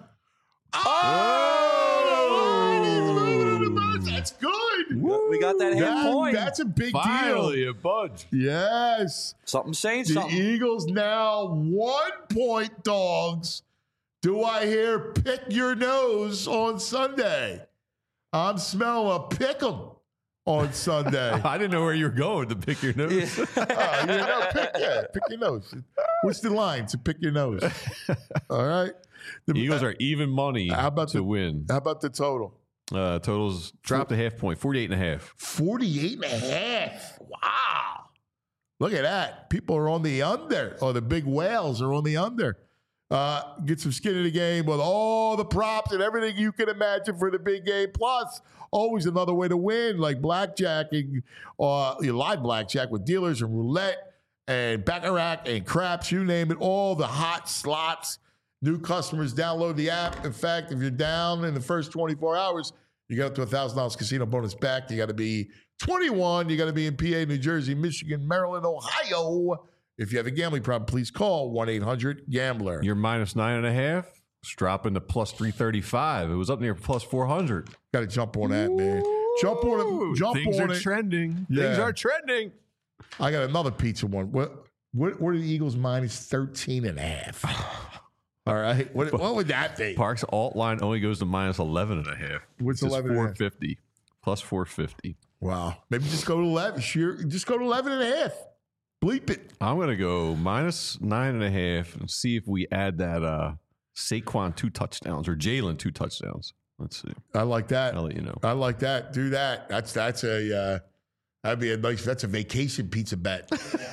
Oh, that's good. we got that half That- point. That's a big Finally, a budge. deal. Yes. Something saying The something. Eagles now one point dogs. Do I hear pick your nose on Sunday? I'm smelling a pick 'em on Sunday. I didn't know where you were going to pick your nose. Oh, you know, pick, yeah, pick your nose. What's the line to pick your nose? All right. The, Eagles are even money How about to the- win. How about the total? Uh, totals dropped a half point, forty-eight and a half. forty-eight and a half. Wow. Look at that. People are on the under, or the big whales are on the under. Uh, get some skin in the game with all the props and everything you can imagine for the big game. Plus, always another way to win, like blackjacking, uh, live blackjack with dealers and roulette and baccarat and craps, you name it. All the hot slots. New customers download the app. In fact, if you're down in the first twenty-four hours, you got up to one thousand dollars casino bonus back. You got to be twenty-one. You got to be in P A, New Jersey, Michigan, Maryland, Ohio. If you have a gambling problem, please call one eight hundred gambler. You're minus nine and a half. It's dropping to plus three thirty-five. It was up near plus four hundred. Got to jump on that, man. Jump on it. Jump Things on are it. trending. Yeah. Things are trending. I got another pizza one. What, what, what are the Eagles minus thirteen and a half? All right. What, what would that be? Parks alt line only goes to minus eleven and a half. What's Which is eleven and a half? four fifty. Plus four fifty. Wow. Maybe just go to eleven. Sheer, just go to eleven and a half. Bleep it. I'm going to go minus nine and a half and see if we add that uh, Saquon two touchdowns or Jalen two touchdowns. Let's see. I like that. I'll let you know. I like that. Do that. That's that's a uh, that'd be a nice. That's a vacation pizza bet.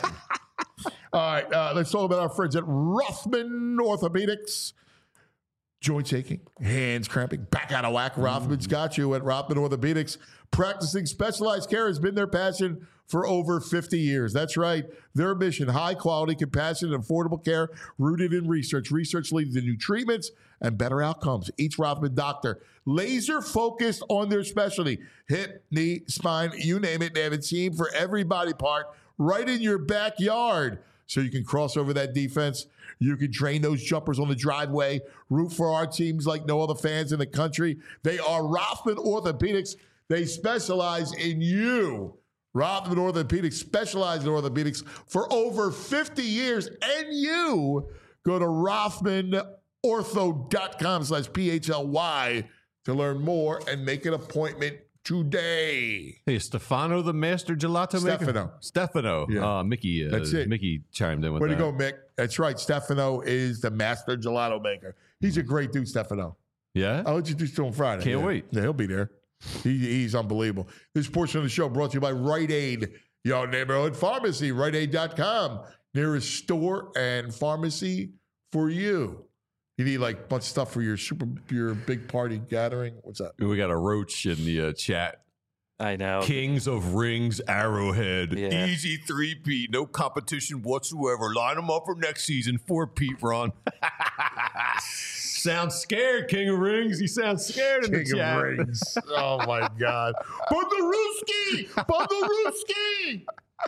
All right. Uh, let's talk about our friends at Rothman Orthopedics. Joints aching, hands cramping, back out of whack. Rothman's got you at Rothman Orthopedics. Practicing specialized care has been their passion for over fifty years. That's right. Their mission, high quality, compassionate, and affordable care rooted in research. Research leading to new treatments and better outcomes. Each Rothman doctor laser focused on their specialty. Hip, knee, spine, you name it. They have a team for every body part right in your backyard. So you can cross over that defense. You can train those jumpers on the driveway. Root for our teams like no other fans in the country. They are Rothman Orthopedics. They specialize in you. Rothman Orthopedics specialize in orthopedics for over fifty years. And you go to Rothman Ortho dot com slash P H L Y to learn more and make an appointment today. Hey, Stefano, the master gelato maker? Stefano. Stefano. Yeah. Uh, Mickey. Uh, That's it. Mickey chimed in with Way that. to go, Mick. That's right. Stefano is the master gelato maker. He's a great dude, Stefano. Yeah? I'll introduce you to him Friday. Can't Yeah. wait. Yeah, he'll be there. He, he's unbelievable. This portion of the show brought to you by Rite Aid, your neighborhood pharmacy, Rite Aid dot com. Nearest store and pharmacy for you. You need like a bunch of stuff for your super, your big party gathering. What's that? We got a roach in the uh, chat. I know. Kings of Rings, Arrowhead. Yeah. Easy three-peat. No competition whatsoever. Line them up for next season. Four-peat run. Sounds scared, King of Rings. He sounds scared in the King chat. of Rings. Oh, my God. Bondaruski! Bondaruski!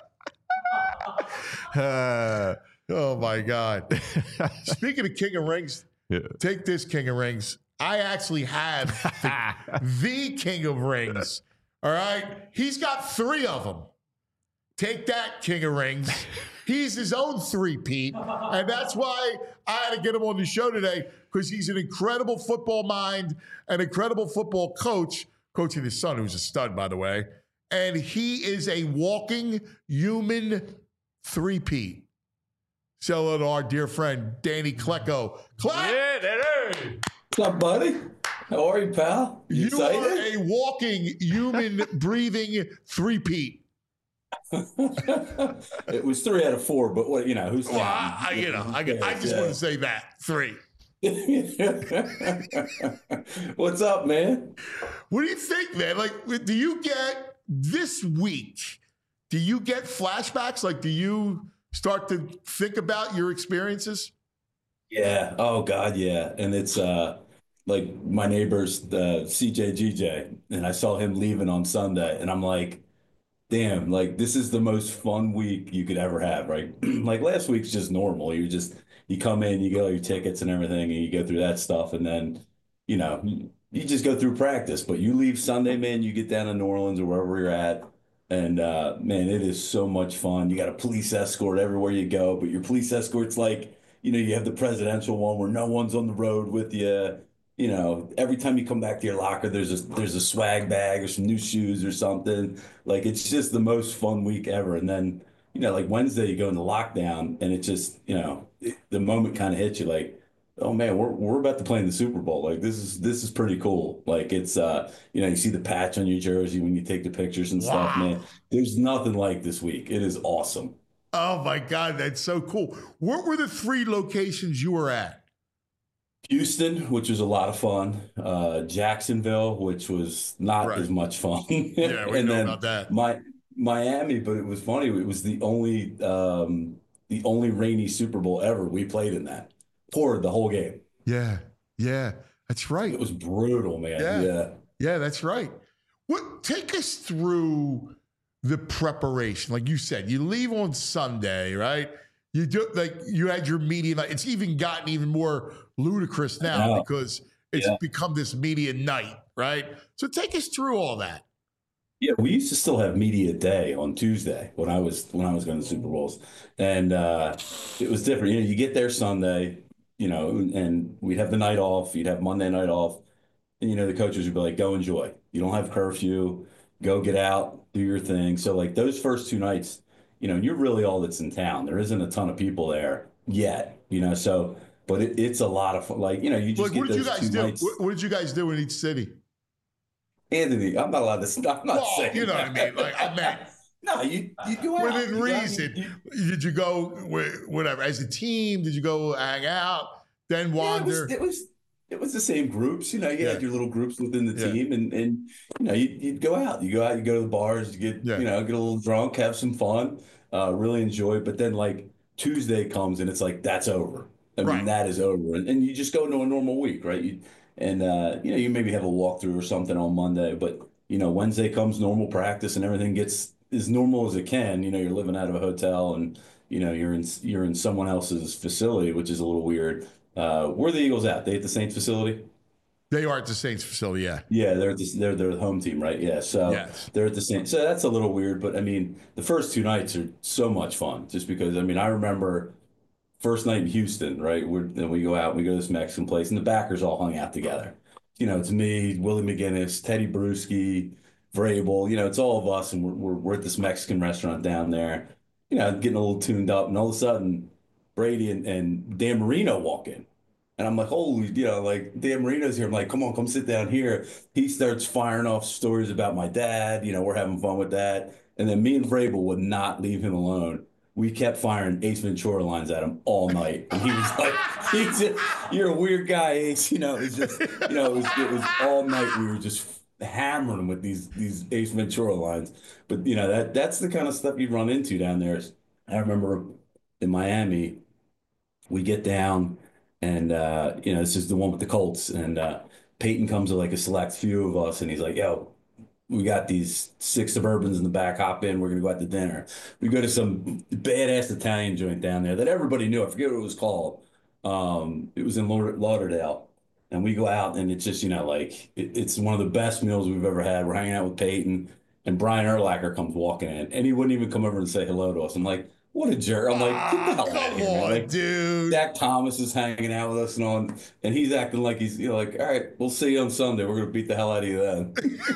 Uh, oh, my God. Speaking of King of Rings, Yeah. take this, King of Rings. I actually have the, the King of Rings. All right? He's got three of them. Take that, King of Rings. He's his own three-peat. And that's why I had to get him on the show today, because he's an incredible football mind, an incredible football coach, coaching his son, who's a stud, by the way. And he is a walking human three-peat. So hello to our dear friend, Danny Klecko. Clap! Yeah, that is. What's up, buddy? How are you, pal? You, You excited? are a walking, human, breathing three-peat. It was three out of four, but what you know? Who's Well, counting? I, I, you know, I, I just Yeah. want to say that. Three. What's up, man? What do you think, man? Like, do you get this week? Do you get flashbacks? Like, do you start to think about your experiences? Yeah. Oh God, yeah. And it's uh like my neighbor's uh, C J G J, and I saw him leaving on Sunday, and I'm like, damn, like this is the most fun week you could ever have, right? Like last week's just normal. You just you come in, you get all your tickets and everything, and you go through that stuff, and then you know you, you just go through practice. But you leave Sunday, man, you get down to New Orleans or wherever you're at, and uh, man, it is so much fun. You got a police escort everywhere you go, but your police escort's like, you know, you have the presidential one where no one's on the road with you. You know, every time you come back to your locker, there's a there's a swag bag or some new shoes or something. Like it's just the most fun week ever. And then, you know, like Wednesday you go into lockdown, and it just, you know, it, the moment kind of hits you like, oh man, we're we're about to play in the Super Bowl. Like this is this is pretty cool. Like it's uh, you know, you see the patch on your jersey when you take the pictures and stuff, Wow. man. There's nothing like this week. It is awesome. Oh my God, that's so cool. What were the three locations you were at? Houston, which was a lot of fun. Uh, Jacksonville, which was not Right. as much fun. Yeah, we and know then about that. My Miami, but it was funny. It was the only um, the only rainy Super Bowl ever we played in that. Poured the whole game. Yeah, yeah, that's right. It was brutal, man. Yeah. Yeah. Yeah, that's right. What take us through the preparation? Like you said, you leave on Sunday, right? You do like you had your media night. It's even gotten even more ludicrous now Yeah. because it's Yeah. become this media night, right? So take us through all that. Yeah, we used to still have media day on Tuesday when I was when I was going to Super Bowls, and uh, it was different. You know, you get there Sunday, you know, and we'd have the night off. You'd have Monday night off, and you know the coaches would be like, "Go enjoy. You don't have curfew. go get out, do your thing. So like those first two nights, you know, you're really all that's in town. There isn't a ton of people there yet, you know. So, but it, it's a lot of fun. Like, you know, you just Like, get what did you those guys two do? nights. What, what did you guys do in each city? Anthony, I'm not allowed to. I'm not Well, saying. you know that. what I mean. Like, I meant No, you you go out. within You go out, reason. you- you- Did you go with whatever as a team? Did you go hang out, then Yeah, it wander? was, it was it was the same groups. You know, you Yeah. had your little groups within the Yeah. team, and and you know, you, you'd go out. You go out. You go to the bars. You get Yeah. you know, get a little drunk, have some fun, uh, really enjoy it. But then like Tuesday comes, and it's like that's over. I Right. mean, that is over, and, and you just go into a normal week, right? You and uh, you know, you maybe have a walkthrough or something on Monday, but you know, Wednesday comes normal practice, and everything gets as normal as it can. You know, you're living out of a hotel, and you know, you're in you're in someone else's facility, which is a little weird. Uh, where are the Eagles at? They at the Saints facility? They are at the Saints facility. Yeah. Yeah, they're at the, they're they're the home team, right? Yeah, so Yes. they're at the Saints. So that's a little weird, but I mean, the first two nights are so much fun, just because I mean, I remember first night in Houston, right? We're then we go out, we go to this Mexican place, and the backers all hung out together. You know, it's me, Willie McGinnis, Teddy Bruschi, Vrabel. You know, it's all of us, and we're we're, we're at this Mexican restaurant down there. You know, getting a little tuned up, and all of a sudden, Brady and, and Dan Marino walk in. And I'm like, holy, you know, like Dan Marino's here. I'm like, come on, come sit down here. He starts firing off stories about my dad. You know, we're having fun with that. And then me and Vrabel would not leave him alone. We kept firing Ace Ventura lines at him all night. And he was like, he's just, you're a weird guy, Ace. You know, it was just, you know, it was, it was all night. We were just hammering him with these, these Ace Ventura lines. But, you know, that that's the kind of stuff you run into down there. I remember in Miami, we get down. And, uh, you know, this is the one with the Colts. And uh, Peyton comes with like a select few of us. And he's like, yo, we got these six Suburbans in the back. Hop in. We're going to go out to dinner. We go to some badass Italian joint down there that everybody knew. I forget what it was called. Um, it was in Laud- Lauderdale. And we go out and it's just, you know, like it, it's one of the best meals we've ever had. We're hanging out with Peyton. And Brian Urlacher comes walking in. And he wouldn't even come over and say hello to us. I'm like, what a jerk. I'm like, get the hell Come out of here, man. on, Like, dude. Dak Thomas is hanging out with us and on, and he's acting like he's, you know, like, all right, we'll see you on Sunday. We're gonna beat the hell out of you then.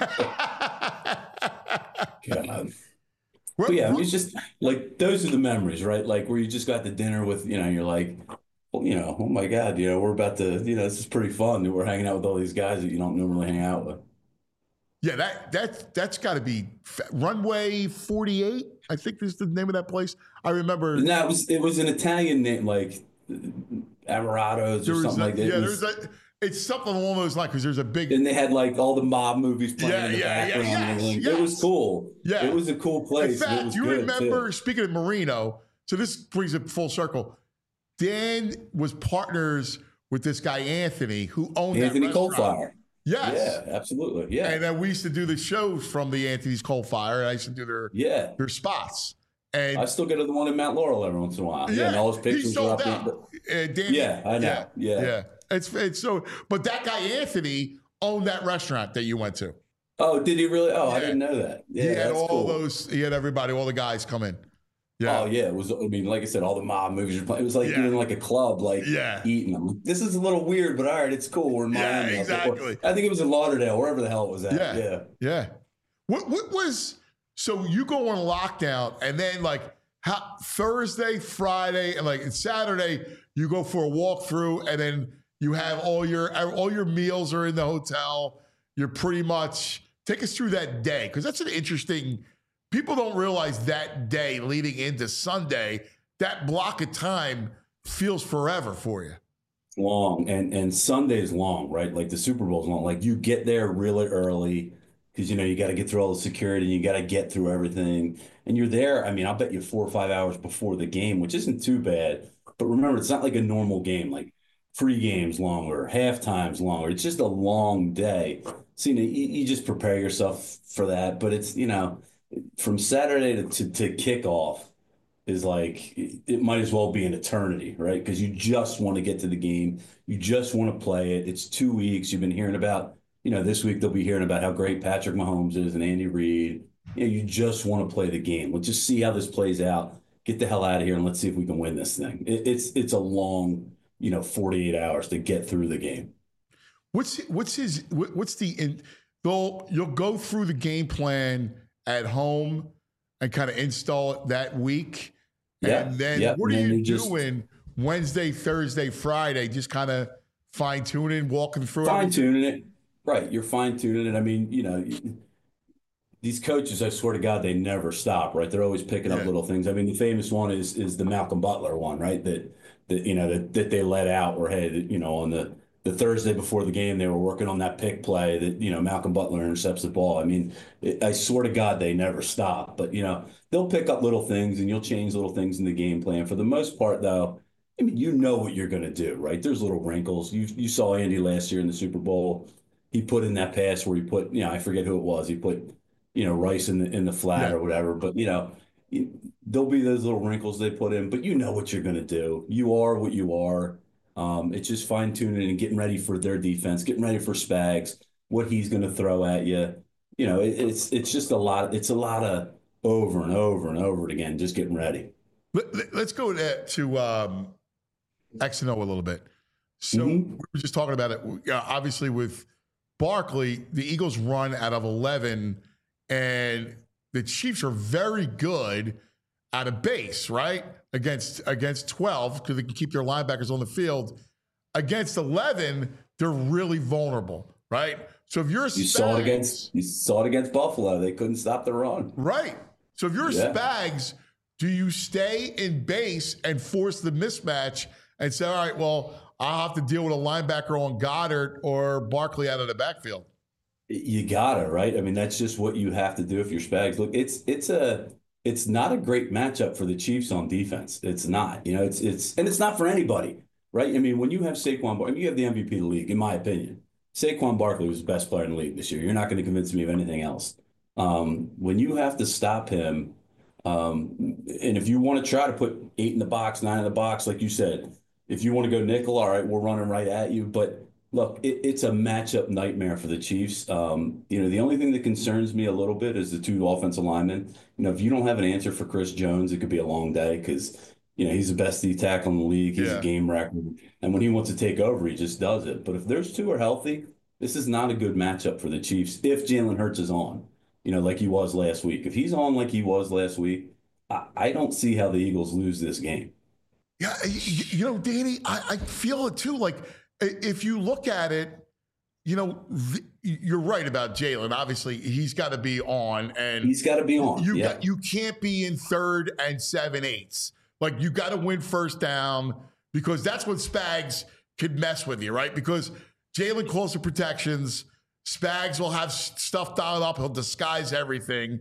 God. What- But yeah, I mean, what- it's just like those are the memories, right? Like where you just got the dinner with, you know, you're like, well, you know, oh my God, you know, we're about to, you know, this is pretty fun. We're hanging out with all these guys that you don't normally hang out with. Yeah, that that that's got to be Runway forty-eight. I think is the name of that place. I remember. And that was it was an Italian name, like Amaratos There or was something a- like that. yeah, It there's was- a. It's something along those lines because there's a big. And they had like all the mob movies playing Yeah, in the yeah, yeah, background. and yes, everything. yes. It was cool. Yeah. It was a cool In place. and it fact, was you good, remember, too. speaking of Marino, so this brings it full circle. Dan was partners with this guy, Anthony, who owned Anthony that restaurant. Coldfire. Yes. Yeah, absolutely. Yeah. And then we used to do the shows from the Anthony's Coal Fire, and I used to do their yeah. their spots. And I still go to the one in Mount Laurel every once in a while. Yeah. and all his he pictures are sold up out. there. Uh, Danny, Yeah, I know. Yeah. yeah. It's it's so, but that guy Anthony owned that restaurant that you went to. Oh, did he really? Oh, I Yeah. didn't know that. Yeah, he had that's all cool. those. He had everybody, all the guys come in. Yeah, Oh, yeah. It was, I mean, like I said, all the mob movies were playing. It was like Yeah. you're in like a club, like Yeah. eating them. This is a little weird, but all right, it's cool. We're in Yeah, Miami. exactly. I think it was in Lauderdale, wherever the hell it was at. Yeah. Yeah. yeah. What what was so you go on lockdown and then like how Thursday, Friday, and like and Saturday you go for a walkthrough and then you have all your all your meals are in the hotel. You're pretty much take us through that day because that's an interesting. People don't realize that day leading into Sunday, that block of time feels forever for you. Long and and Sunday's long, right? Like the Super Bowl's long. Like you get there really early because you know you got to get through all the security, you got to get through everything, and you're there. I mean, I'll bet you four or five hours before the game, which isn't too bad. But remember, it's not like a normal game. Like pre-game's longer, halftime's longer. It's just a long day. So you know, you, you just prepare yourself for that. But it's you know, from Saturday to to, to kickoff is like it, it might as well be an eternity, right? Because you just want to get to the game. You just want to play it. It's two weeks. You've been hearing about, you know, this week they'll be hearing about how great Patrick Mahomes is and Andy Reid. You know, you just want to play the game. Let's just see how this plays out. Get the hell out of here and let's see if we can win this thing. It, it's it's a long, you know, forty-eight hours to get through the game. What's what's his what, what's the in they'll you'll go through the game plan at home and kind of install it that week. Yeah. And then yeah. what and are then you they just doing Wednesday, Thursday, Friday? Just kind of fine tuning, walking through fine everything? tuning it. Right. You're fine tuning it. I mean, you know, these coaches, I swear to God, they never stop, right? They're always picking up Yeah. little things. I mean, the famous one is is the Malcolm Butler one, right? That that you know that, that they let out, or hey, that, you know, on the the Thursday before the game, they were working on that pick play that you know Malcolm Butler intercepts the ball. I mean, it, I swear to God, they never stop. But you know, they'll pick up little things, and you'll change little things in the game plan. For the most part, though, I mean, you know what you're going to do, right? There's little wrinkles. You you saw Andy last year in the Super Bowl. He put in that pass where he put, you know, I forget who it was. He put, you know, Rice in the in the flat Yeah. or whatever. But you know, you, there'll be those little wrinkles they put in. But you know what you're going to do. You are what you are. Um, it's just fine tuning and getting ready for their defense, getting ready for Spags, what he's going to throw at you. You know, it, it's it's just a lot. It's a lot of over and over and over again, just getting ready. Let, let- let's go to, to um, X and O a little bit. So Mhm. we were just talking about it. Uh, obviously, with Barkley, the Eagles run out of eleven, and the Chiefs are very good out of base, right? Against against twelve, because they can keep their linebackers on the field. Against eleven, they're really vulnerable, right? So if you're You Spags, saw it against you saw it against Buffalo. They couldn't stop the run. right? So if you're Yeah. Spags, do you stay in base and force the mismatch and say, all right, well, I'll have to deal with a linebacker on Goddard or Barkley out of the backfield? You gotta, right? I mean, that's just what you have to do if you're Spags. Look, it's it's a it's not a great matchup for the Chiefs on defense. It's not. You know, it's it's and it's not for anybody, right? I mean, when you have Saquon, Bar- I mean, you have the M V P of the league, in my opinion. Saquon Barkley was the best player in the league this year. You're not going to convince me of anything else. Um, when you have to stop him, um, and if you want to try to put eight in the box, nine in the box, like you said, if you want to go nickel, all right, we're running right at you. But look, it, it's a matchup nightmare for the Chiefs. Um, you know, the only thing that concerns me a little bit is the two offensive linemen. You know, if you don't have an answer for Chris Jones, it could be a long day because, you know, he's the best D tackle in the league. He's Yeah. a game record. And when he wants to take over, he just does it. But if those two are healthy, this is not a good matchup for the Chiefs if Jalen Hurts is on, you know, like he was last week. If he's on like he was last week, I, I don't see how the Eagles lose this game. Yeah, you, you know, Danny, I, I feel it too. Like, i- if you look at it, you know, th- you're right about Jalen. Obviously, he's got to be on, and He's got to be on. you yeah. got, you can't be in third and seven eighths. Like, you got to win first down because that's when Spags could mess with you, right? Because Jalen calls for protections. Spags will have s- stuff dialed up. He'll disguise everything.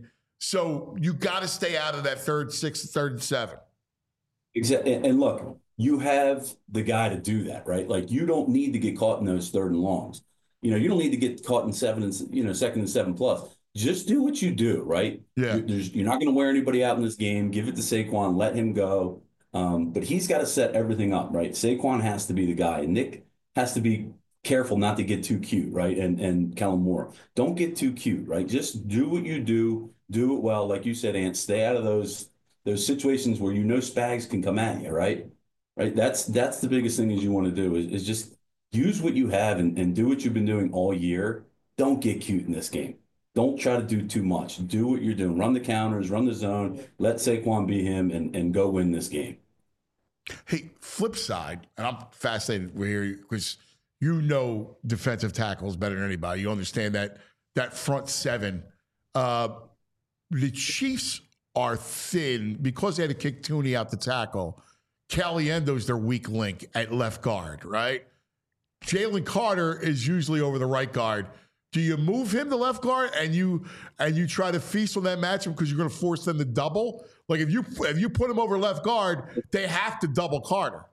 So you got to stay out of that third, sixth, third, and seven. Exactly. And look, you have the guy to do that, right? Like you don't need to get caught in those third and longs. You know, you don't need to get caught in seven and, you know, second and seven plus. Just do what you do, right? Yeah. You're, there's, you're not going to wear anybody out in this game. Give it to Saquon, let him go. Um, but he's got to set everything up, right? Saquon has to be the guy. And Nick has to be careful not to get too cute, right? And and Kellen Moore, don't get too cute, right? Just do what you do, do it well. Like you said, Ant, stay out of those those situations where you know Spags can come at you, right? Right. That's that's the biggest thing is you want to do is, is just use what you have and, and do what you've been doing all year. Don't get cute in this game. Don't try to do too much. Do what you're doing. Run the counters, run the zone, let Saquon be him and, and go win this game. Hey, flip side, and I'm fascinated with here because you know defensive tackles better than anybody. You understand that that front seven. Uh, the Chiefs are thin because they had to kick Tooney out to tackle. Caliendo's their weak link at left guard, right? Jalen Carter is usually over the right guard. Do you move him to left guard and you and you try to feast on that matchup because you're going to force them to double? Like if you if you put him over left guard, they have to double Carter.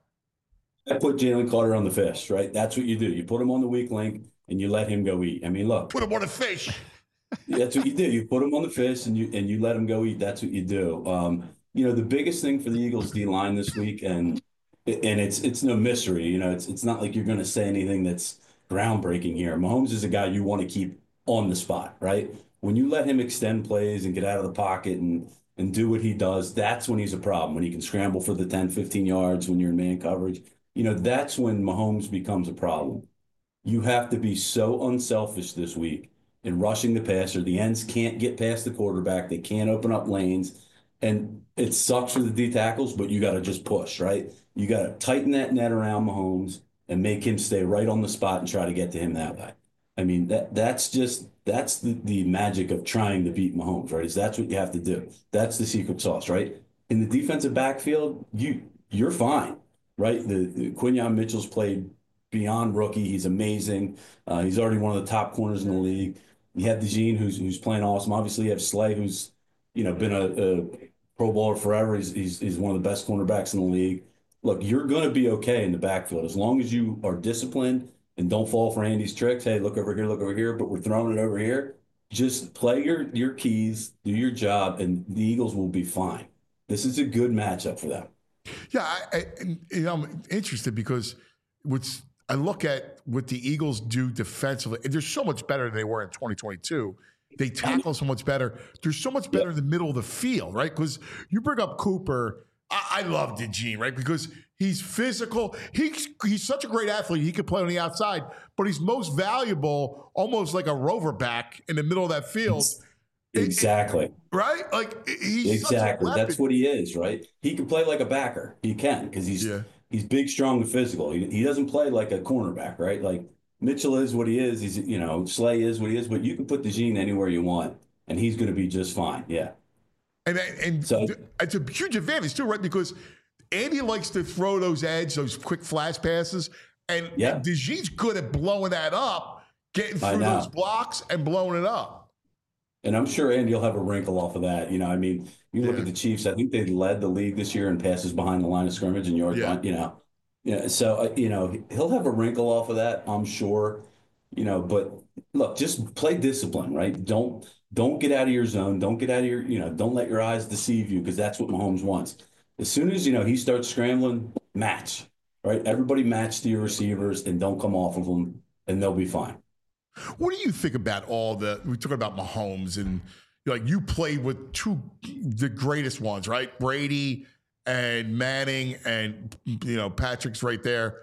I put Jalen Carter on the fish, right? That's what you do. You put him on the weak link and you let him go eat. I mean, look. Put him on a fish. That's what you do. You put him on the fish and you and you let him go eat. That's what you do. Um, you know, the biggest thing for the Eagles D line this week, and and it's it's no mystery. You know, it's it's not like you're going to say anything that's groundbreaking here. Mahomes is a guy you want to keep on the spot, right? When you let him extend plays and get out of the pocket and and do what he does, that's when he's a problem. When he can scramble for the ten, fifteen yards when you're in man coverage, you know, that's when Mahomes becomes a problem. You have to be so unselfish this week in rushing the passer. The ends can't get past the quarterback. They can't open up lanes. And it sucks for the D tackles, but you got to just push, right? You got to tighten that net around Mahomes and make him stay right on the spot and try to get to him that way. I mean, that that's just that's the, the magic of trying to beat Mahomes, right? Is that's what you have to do. That's the secret sauce, right? In the defensive backfield, you you're fine, right? The, the Quinyon Mitchell's played beyond rookie. He's amazing. Uh, he's already one of the top corners in the league. You have DeJean, who's who's playing awesome. Obviously, you have Slay, who's you know been a, a Pro Bowler forever. He's, he's he's one of the best cornerbacks in the league. Look, you're going to be okay in the backfield as long as you are disciplined and don't fall for Andy's tricks. Hey, look over here, look over here, but we're throwing it over here. Just play your your keys, do your job, and the Eagles will be fine. This is a good matchup for them. Yeah, I, I, and, you know, I'm interested because what's I look at what the Eagles do defensively, and they're so much better than they were in twenty twenty-two. They tackle so much better. They're so much better in the middle of the field, right? Because you bring up Cooper. I, I love DeJean, right? Because he's physical. He's he's such a great athlete. He could play on the outside, but he's most valuable, almost like a rover back in the middle of that field. Exactly. It, it, right? Like he's exactly. That's what he is, right? He can play like a backer. He can because he's yeah. he's big, strong, and physical. He, he doesn't play like a cornerback, right? Like Mitchell is what he is. He's you know Slay is what he is. But you can put DeJean anywhere you want, and he's going to be just fine. Yeah. And and so, it's a huge advantage too, right? Because Andy likes to throw those edge, those quick flash passes, and, yeah. and DeJean's good at blowing that up, getting through those blocks and blowing it up. And I'm sure Andy will have a wrinkle off of that. You know, I mean, you look yeah. at the Chiefs. I think they led the league this year in passes behind the line of scrimmage and yards. Yeah. You know, yeah. So uh, you know he'll have a wrinkle off of that, I'm sure. You know, but look, just play discipline, right? Don't don't get out of your zone. Don't get out of your, you know, don't let your eyes deceive you because that's what Mahomes wants. As soon as you know he starts scrambling, match, right? Everybody match to your receivers and don't come off of them, and they'll be fine. What do you think about all the, we talk about Mahomes and like you played with two, the greatest ones, right? Brady and Manning and, you know, Patrick's right there.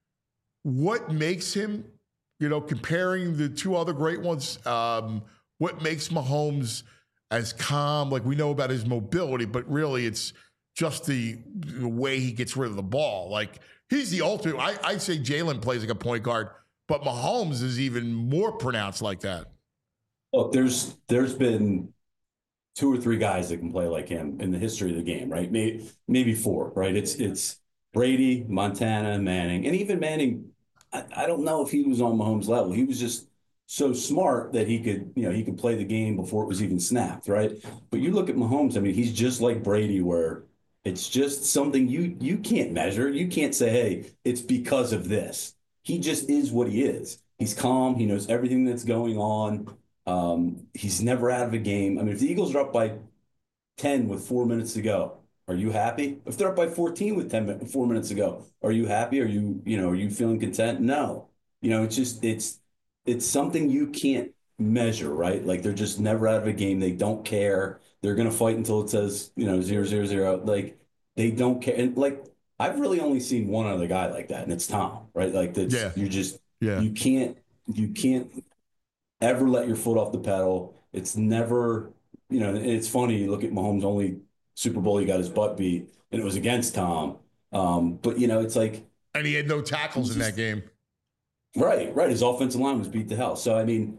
What makes him, you know, comparing the two other great ones, um, what makes Mahomes as calm? Like we know about his mobility, but really it's just the, the way he gets rid of the ball. Like he's the ultimate, I, I'd say Jalen plays like a point guard, but Mahomes is even more pronounced like that. Look, there's there's been two or three guys that can play like him in the history of the game, right? Maybe maybe four, right? It's it's Brady, Montana, Manning, and even Manning. I, I don't know if he was on Mahomes' level. He was just so smart that he could, you know, he could play the game before it was even snapped, right? But you look at Mahomes. I mean, he's just like Brady, where it's just something you you can't measure. You can't say, hey, it's because of this. He just is what he is. He's calm. He knows everything that's going on. Um, he's never out of a game. I mean, if the Eagles are up by ten with four minutes to go, are you happy? If they're up by fourteen with ten, four minutes to go, are you happy? Are you, you know, are you feeling content? No. You know, it's just, it's, it's something you can't measure, right? Like they're just never out of a game. They don't care. They're going to fight until it says, you know, zero, zero, zero. Like they don't care. And like, I've really only seen one other guy like that, and it's Tom, right? Like that's yeah. you're just yeah. you can't you can't ever let your foot off the pedal. It's never, you know, it's funny, you look at Mahomes' only Super Bowl he got his butt beat, and it was against Tom. Um, but you know, it's like and he had no tackles just, in that game. Right, right. His offensive line was beat to hell. So I mean,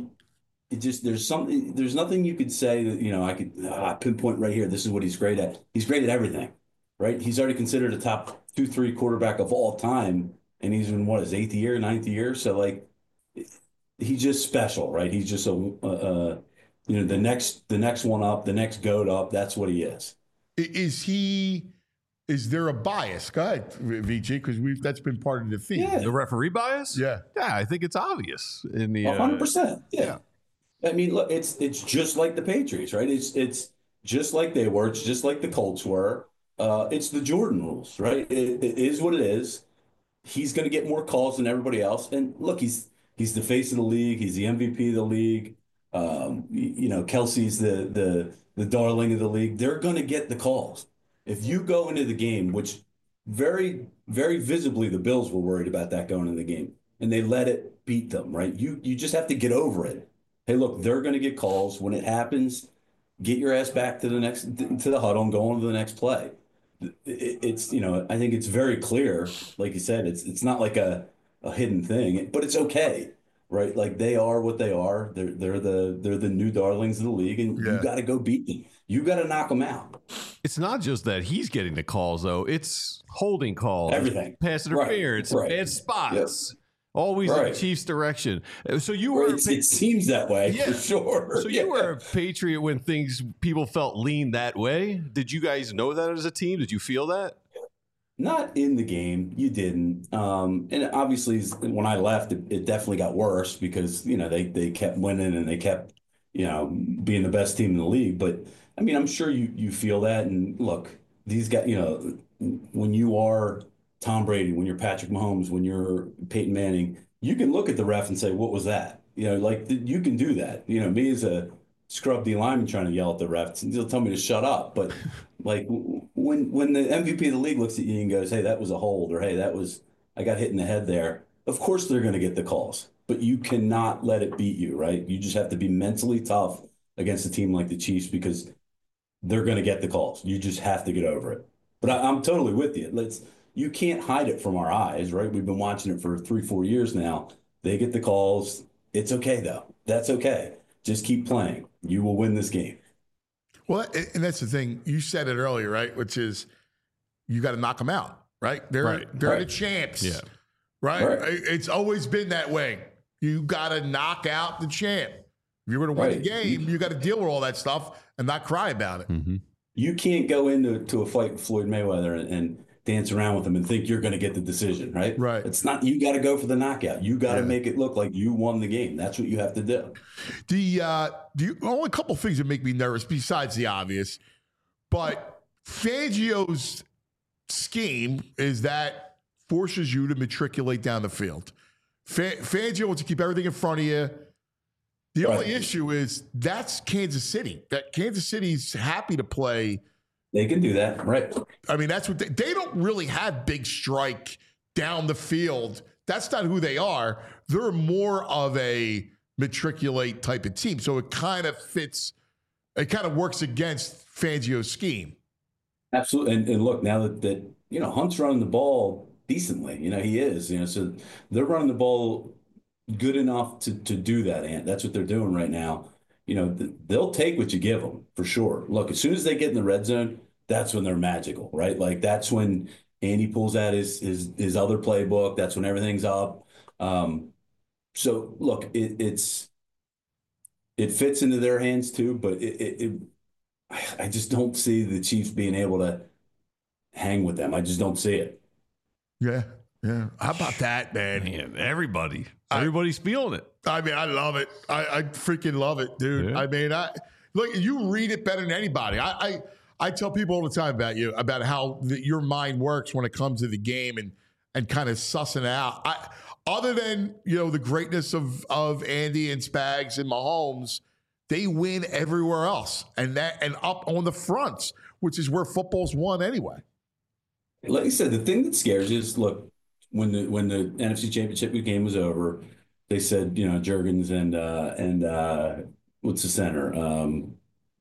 it just there's something there's nothing you could say that, you know, I could uh, pinpoint right here. This is what he's great at. He's great at everything. Right, he's already considered a top two, three quarterback of all time, and he's in what his eighth year, ninth year. So like, he's just special, right? He's just a, uh, uh, you know, the next, the next one up, the next goat up. That's what he is. Is he? Is there a bias? Go ahead, V G, because we that's been part of the theme. Yeah. The referee bias? Yeah, yeah. I think it's obvious in the one hundred percent. Yeah. yeah, I mean, look, it's it's just like the Patriots, right? It's it's just like they were. It's just like the Colts were. Uh, it's the Jordan rules, right? It, it is what it is. He's going to get more calls than everybody else. And look, he's he's the face of the league. He's the M V P of the league. Um, you, you know, Kelsey's the the the darling of the league. They're going to get the calls. If you go into the game, which very very visibly the Bills were worried about that going into the game, and they let it beat them, right? You you just have to get over it. hey, look, they're going to get calls. When it happens, get your ass back to the next to the huddle and go on to the next play. It's, you know, I think it's very clear, like you said, it's it's not like a, a hidden thing, but it's okay, right? Like they are what they are. They're they're the they're the new darlings of the league, and Yeah. you got to go beat them. You got to knock them out. It's not just that he's getting the calls, though. It's holding calls, Everything. pass Right, interference, right. bad spots, always in Right. the Chiefs' direction. So you were, a It, Pa- it seems that way Yeah. for sure. so Yeah. you were a Patriot when things people felt lean that way. Did you guys know that as a team? Did you feel that? Not in the game, you didn't. Um, and obviously, when I left, it, it definitely got worse because you know they they kept winning and they kept you know being the best team in the league. But I mean, I'm sure you you feel that. And look, these guys, you know, when you are Tom Brady, when you're Patrick Mahomes, when you're Peyton Manning, you can look at the ref and say, "What was that?" You know, like you can do that. You know, me as a scrub D lineman trying to yell at the refs, they'll tell me to shut up. But like when when the M V P of the league looks at you and goes, "Hey, that was a hold," or "Hey, that was I got hit in the head there," of course they're going to get the calls. But you cannot let it beat you, right? You just have to be mentally tough against a team like the Chiefs because they're going to get the calls. You just have to get over it. But I, I'm totally with you. Let's you can't hide it from our eyes, right? We've been watching it for three, four years now. They get the calls. It's okay though. That's okay. Just keep playing. You will win this game. Well, and that's the thing. You said it earlier, right? Which is you got to knock them out, right? They're Right. they're Right. the champs, Yeah. right? Right. It's always been that way. You got to knock out the champ. If you're going to win Right. the game, you got to deal with all that stuff and not cry about it. Mm-hmm. You can't go into to a fight with Floyd Mayweather and, and dance around with him and think you're going to get the decision, right? Right. It's not. You got to go for the knockout. You got to Yeah. make it look like you won the game. That's what you have to do. The uh, the only couple things that make me nervous besides the obvious, but Fangio's scheme is that forces you to matriculate down the field. Fa- Fangio wants to keep everything in front of you. The Right. only issue is that's Kansas City. That Kansas City's happy to play. They can do that, right? I mean, that's what they, they don't really have big strike down the field. That's not who they are. They're more of a matriculate type of team. So it kind of fits, it kind of works against Fangio's scheme. Absolutely. And, and look, now that, that, you know, Hunt's running the ball decently, you know, he is, you know, so they're running the ball good enough to, to do that. And that's what they're doing right now. You know, th- they'll take what you give them for sure. Look, as soon as they get in the red zone, that's when they're magical, right? Like that's when Andy pulls out his, his, his other playbook. That's when everything's up. Um, so look, it, it's, it fits into their hands too, but it, it, it I just don't see the Chiefs being able to hang with them. I just don't see it. Yeah. Yeah. How about that, man? Man, everybody, everybody's feeling it. I mean, I love it. I, I freaking love it, dude. Yeah. I mean, I look, you read it better than anybody. I, I, I tell people all the time about you, about how the, your mind works when it comes to the game and, and kind of sussing out. I, other than, you know, the greatness of, of Andy and Spags and Mahomes, they win everywhere else and that, and up on the fronts, which is where football's won anyway. Like I said, the thing that scares you is look, when the when the N F C Championship game was over, they said, you know, Jurgens and uh, and uh, what's the center? Um,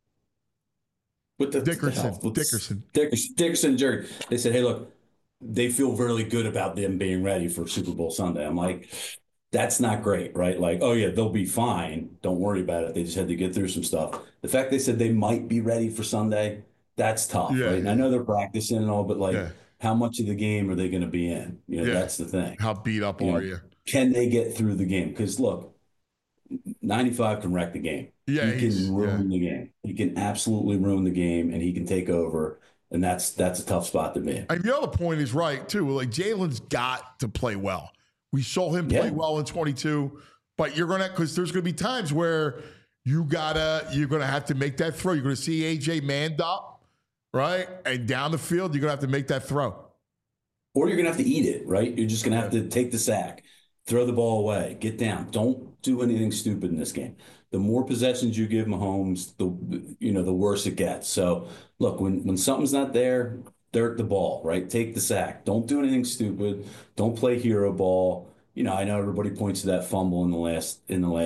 what the Dickerson, the hell? What's- Dickerson. Dickerson, Dickerson, Jurgens. They said, hey, look, they feel really good about them being ready for Super Bowl Sunday. I'm like, that's not great, right? Like, oh yeah, they'll be fine. Don't worry about it. They just had to get through some stuff. The fact they said they might be ready for Sunday, that's tough, Yeah, right? And I know they're practicing and all, but like, Yeah. how much of the game are they going to be in? You know, Yeah. that's the thing. How beat up You know, are you? Can they get through the game? Because look, ninety-five can wreck the game. Yeah, he he's- can ruin the game. He can absolutely ruin the game, and he can take over. And that's that's a tough spot to be. And the other point is right too. Like Jalen's got to play well. We saw him play Yeah. well in twenty-two, but you're gonna because there's gonna be times where you gotta you're gonna have to make that throw. You're gonna see A J manned up, right, and down the field. You're gonna have to make that throw. Or you're going to have to eat it, right? You're just going to have to take the sack, throw the ball away, get down. Don't do anything stupid in this game. The more possessions you give Mahomes, the you know the worse it gets. So look, when when something's not there, dirt the ball, right? Take the sack. Don't do anything stupid. Don't play hero ball. You know, I know everybody points to that fumble in the last in the last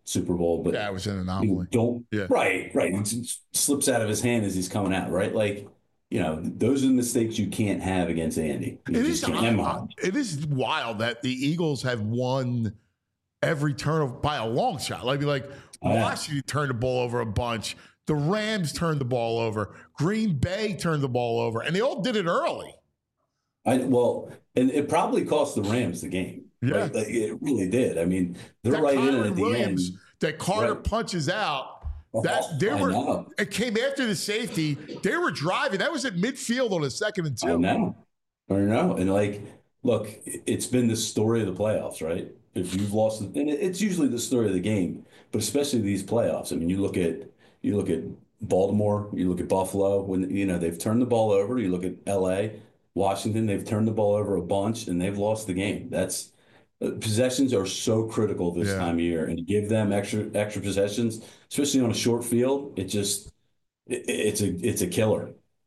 Super Bowl, but Yeah, it was an you anomaly. don't Yeah. right, right. It just slips out of his hand as he's coming out, right? Like, you know, those are the mistakes you can't have against Andy. You It just is, can't have them. it is wild that the Eagles have won every turn of, by a long shot. Like, like Oh, yeah. Washington turned the ball over a bunch. The Rams turned the ball over. Green Bay turned the ball over, and they all did it early. I well, and it probably cost the Rams the game. Yeah. Right? Like, it really did. I mean, they're That right in it Kyron at the Williams, end. that Carter Right. punches out. Oh, That they I were. know. It came after the safety. They were driving. That was at midfield on a second and I two. know. I know. And like, look, it's been the story of the playoffs, right? If you've lost, and it's usually the story of the game, but especially these playoffs. I mean, you look at you look at Baltimore, you look at Buffalo. When you know they've turned the ball over. You look at L A, Washington. They've turned the ball over a bunch, and they've lost the game. That's possessions are so critical this Yeah. time of year, and to give them extra extra possessions, especially on a short field, it just it, it's a it's a killer.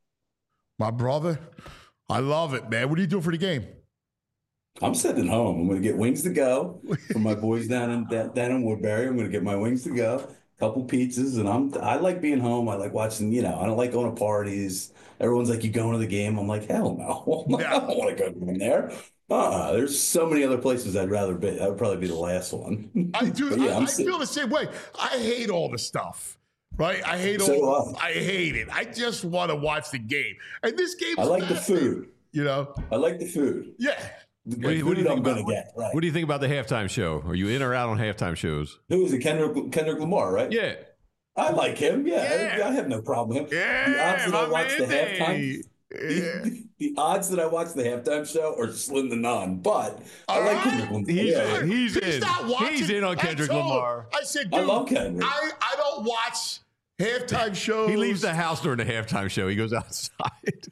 My brother, I love it, man. What are you doing for the game? I'm sitting home. I'm going to get wings to go for my boys down in down, down in Woodbury. I'm going to get my wings to go, a couple pizzas, and I'm I like being home. I like watching. You know, I don't like going to parties. Everyone's like, "You going to the game?" I'm like, "Hell no! I don't want to go in there." Uh-uh. There's so many other places I'd rather be. That would probably be the last one. I do. But yeah, I, I'm I sitting- feel the same way. I hate all the stuff, right? I hate So all. do I hate it. I just want to watch the game, and this game. I is like the fascinating, food. You know. I like the food. Yeah. The What do you- what do you food think I'm going about- to get. Right. What do you think about the halftime show? Are you in or out on halftime shows? Who is it? Kendrick Kendrick Lamar, right? Yeah. I like him. Yeah, Yeah. I, I have no problem with him. Yeah, the odds that I my watch the man, halftime. Yeah. The, the odds that I watch the halftime show are slim to none, but I All like right. Kendrick Lamar. He's Yeah. in. He's, He's in. not watching. He's in on I Kendrick told him. Lamar. I said, I dude, love Kendrick. I, I don't watch halftime shows. He leaves the house during the halftime show. He goes outside.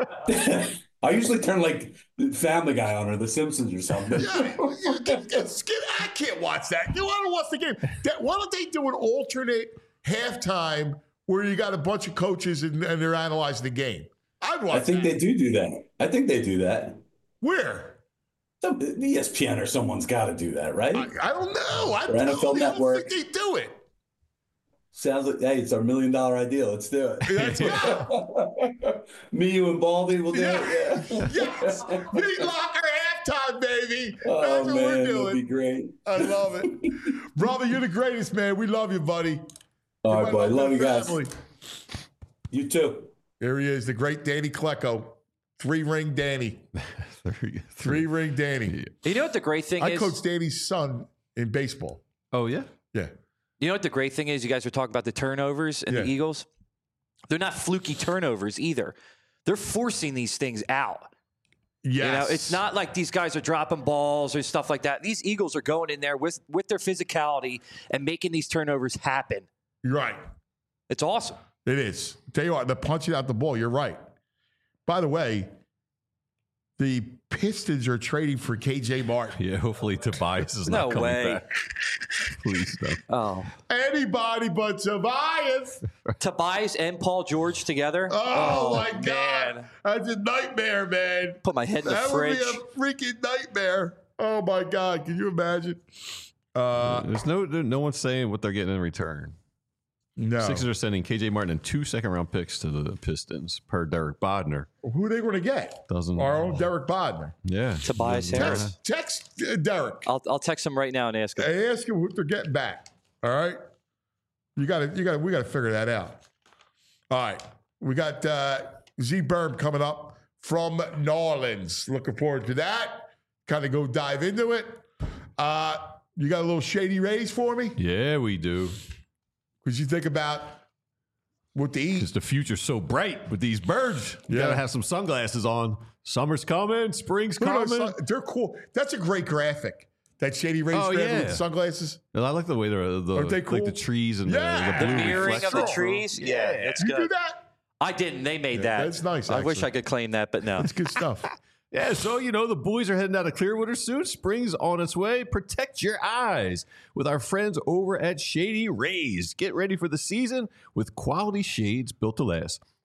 I usually turn like Family Guy on or The Simpsons or something. Yeah, you get- get- get- I can't watch that. You want to watch the game? That, why don't they do an alternate halftime where you got a bunch of coaches and, and they're analyzing the game? I'd watch I think that. they do do that. I think they do that. Where? Some, E S P N or someone's got to do that, right? I, I don't know. I, Or N F L don't, I don't Network. think they do it. Sounds like, hey, it's our million dollar idea. Let's do it. Let's go. Me, you, and Baldy will do Yeah. it. Yeah. Yes. Meat Locker halftime, baby. Oh, That's what man, we're that'd be doing. great. I love it. Brother, you're the greatest, man. We love you, buddy. All You're right, my boy. Love you that guys. family. You too. There he is, the great Danny Klecko. Three ring Danny. Three ring Danny. You know what the great thing I is? coached Danny's son in baseball. Oh, yeah? Yeah. You know what the great thing is? You guys were talking about the turnovers and Yeah. the Eagles. They're not fluky turnovers either. They're forcing these things out. Yes. You know, it's not like these guys are dropping balls or stuff like that. These Eagles are going in there with with their physicality and making these turnovers happen. You're right. It's awesome. It is. Tell you what, they're punching out the ball. You're right. By the way, the Pistons are trading for K J Martin. Yeah, hopefully Tobias is No not coming way. back. Please no. Oh, Anybody but Tobias. Tobias and Paul George together. Oh, my God. man. That's a nightmare, man. Put my head in the That fridge. would be a freaking nightmare. Oh, my God. Can you imagine? Uh, There's no no one's saying what they're getting in return. no. Sixers are sending K J Martin and two second round picks to the Pistons per Derek Bodner. Who are they going to get? Doesn't Our own Derek Bodner. Yeah. Tobias Doesn't- Harris. Text, text uh, Derek. I'll I'll text him right now and ask him. Hey, ask him what they're getting back. All right. You got to, you got to, we got to figure that out. All right. We got uh, Z Berm coming up from New Orleans. Looking forward to that. Kind of go dive into it. Uh, you got a little Shady Rays for me? Yeah, we do. Because you think about what to eat. Because the future's so bright with these birds. You Yeah. gotta have some sunglasses on. Summer's coming, spring's Who knows? coming. They're cool. That's a great graphic. That Shady Rays Oh, graphic with yeah. the sunglasses. And I like the way they're the, Aren't they like cool? the trees and Yeah. the, The the blue mirroring of the reflection. trees. Yeah, it's You do good. that? I didn't. They made Yeah, that. that's nice, I wish actually. I could claim that, but no. That's good stuff. Yeah, so you know the boys are heading out of Clearwater soon. Spring's on its way. Protect your eyes with our friends over at Shady Rays. Get ready for the season with quality shades built to last.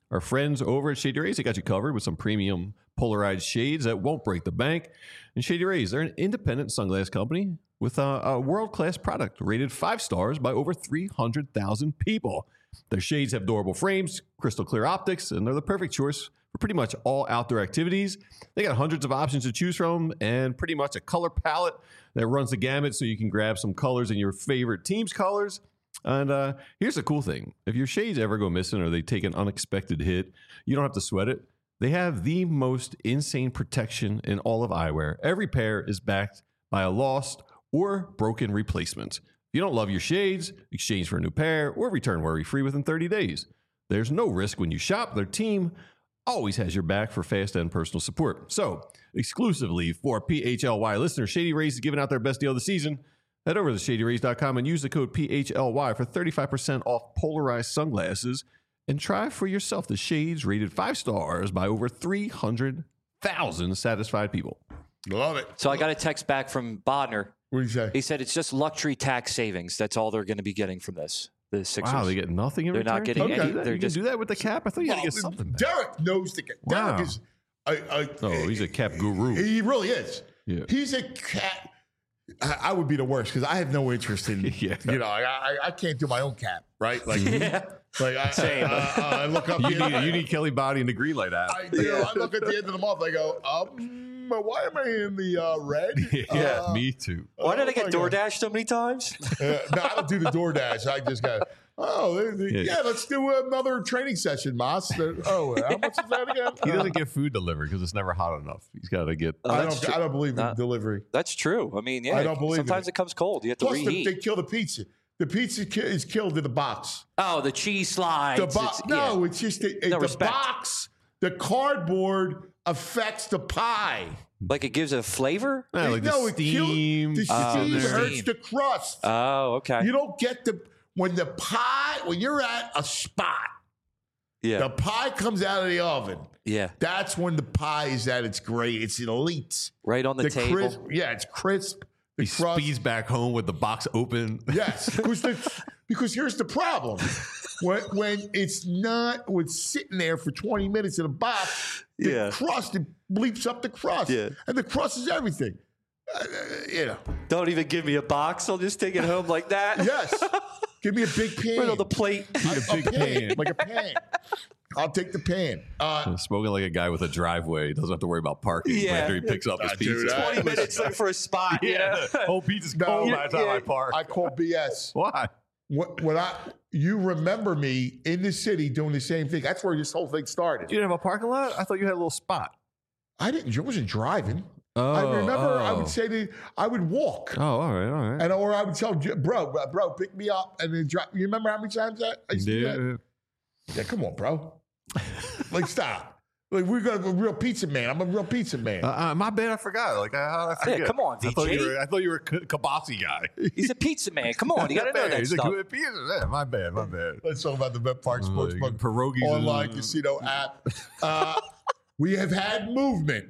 Our friends over at Shady Rays, they got you covered with some premium polarized shades that won't break the bank. And Shady Rays, they're an independent sunglass company with a, a world-class product rated five stars by over three hundred thousand people. Their shades have durable frames, crystal clear optics, and they're the perfect choice for pretty much all outdoor activities. They got hundreds of options to choose from and pretty much a color palette that runs the gamut so you can grab some colors in your favorite team's colors. And uh, here's the cool thing. If your shades ever go missing or they take an unexpected hit, you don't have to sweat it. They have the most insane protection in all of eyewear. Every pair is backed by a lost or broken replacement. If you don't love your shades, exchange for a new pair or return worry-free within thirty days. There's no risk when you shop. Their team always has your back for fast and personal support. So, exclusively for P H L Y listeners, Shady Rays is giving out their best deal of the season. Head over to shady rays dot com and use the code P H L Y for thirty-five percent off polarized sunglasses and try for yourself the shades rated five stars by over three hundred thousand satisfied people. Love it. So I got a text back from Bodner. What do you say? He said it's just luxury tax savings. That's all they're going to be getting from this. The Sixers. Wow, they get nothing in They're return? not getting You can any- do that? they're You just- can do that with the cap? I thought you had to get Well, something back. Derek knows the Derek Wow. is. I, I, Oh, he's a cap guru. He really is. Yeah. He's a cat. I, I would be the worst because I have no interest in. Yeah. You know, I, I I can't do my own cap, right? Like, Yeah. like I, Same. I, I, I look up. You the- need, you need Kelly Body and the green light app. I, you know, I look at the end of the month. I go, um, why am I in the uh, red? yeah, Uh, me too. Why did I oh get my God. DoorDash so many times? Uh, no, I don't do the DoorDash. I just go, oh, they- they- Yeah. yeah, let's do another training session, Moss. They're- Oh, how much is that again? He doesn't get food delivered because it's never hot enough. He's got to get. Oh, I that's don't. true. I don't believe in Uh, delivery. That's true. I mean, yeah. I don't believe in sometimes it. it comes cold. You have to Plus, the, reheat. they kill the pizza. The pizza ki- is killed in the box. oh, the cheese slides. The box. It's- No, yeah. it's just the, No the respect. box. The cardboard affects the pie. Like it gives it a flavor? Yeah, like no, the it kills- steam. The Oh, steam the hurts steam. the crust. Oh, okay. You don't get the when the pie when you're at a spot. yeah. The pie comes out of the oven. yeah. That's when the pie is at its great. It's elite. Right on the, table. crisp, yeah, it's crisp. The He crust. speeds back home with the box open. Yes, because the, because here's the problem: when when it's not when it's sitting there for twenty minutes in a box, the Yeah. crust it bleeps up the crust, Yeah. and the crust is everything. Uh, you know, Don't even give me a box. I'll just take it home like that. yes. Give me a big pan. Right on the plate. a big pan. like a pan. I'll take the pan. Uh, Smoking like a guy with a driveway. Doesn't have to worry about parking Yeah. after he picks up his Ah, dude, pizza. I- twenty minutes looking for a spot. You know? Yeah, whole pizza's No, cold by the time yeah, I park. I call B S. Why? What, when I you remember me in the city doing the same thing? That's where this whole thing started. You didn't have a parking lot? I thought you had a little spot. I didn't. I wasn't driving. Oh, I remember I oh. would say to I would walk, Oh, all right, all right. and or I would tell J- bro, bro, bro, pick me up and then drive. You remember how many times that I used to do that? Yeah. Yeah, come on, bro. Like stop. Like we're gonna be a real pizza man. I'm a real pizza man. Uh, uh, my bad, I forgot. Like, I, I forget. come on, I thought V J. you were, I thought you were a K- Kabasi guy. He's a pizza man. Come on. You got to know Yeah, that he's a stuff. good pizza. Yeah, my bad, my bad. Let's talk about the Bet Park Uh, Sportsbook pierogies online and- casino app. Uh, we have had movement.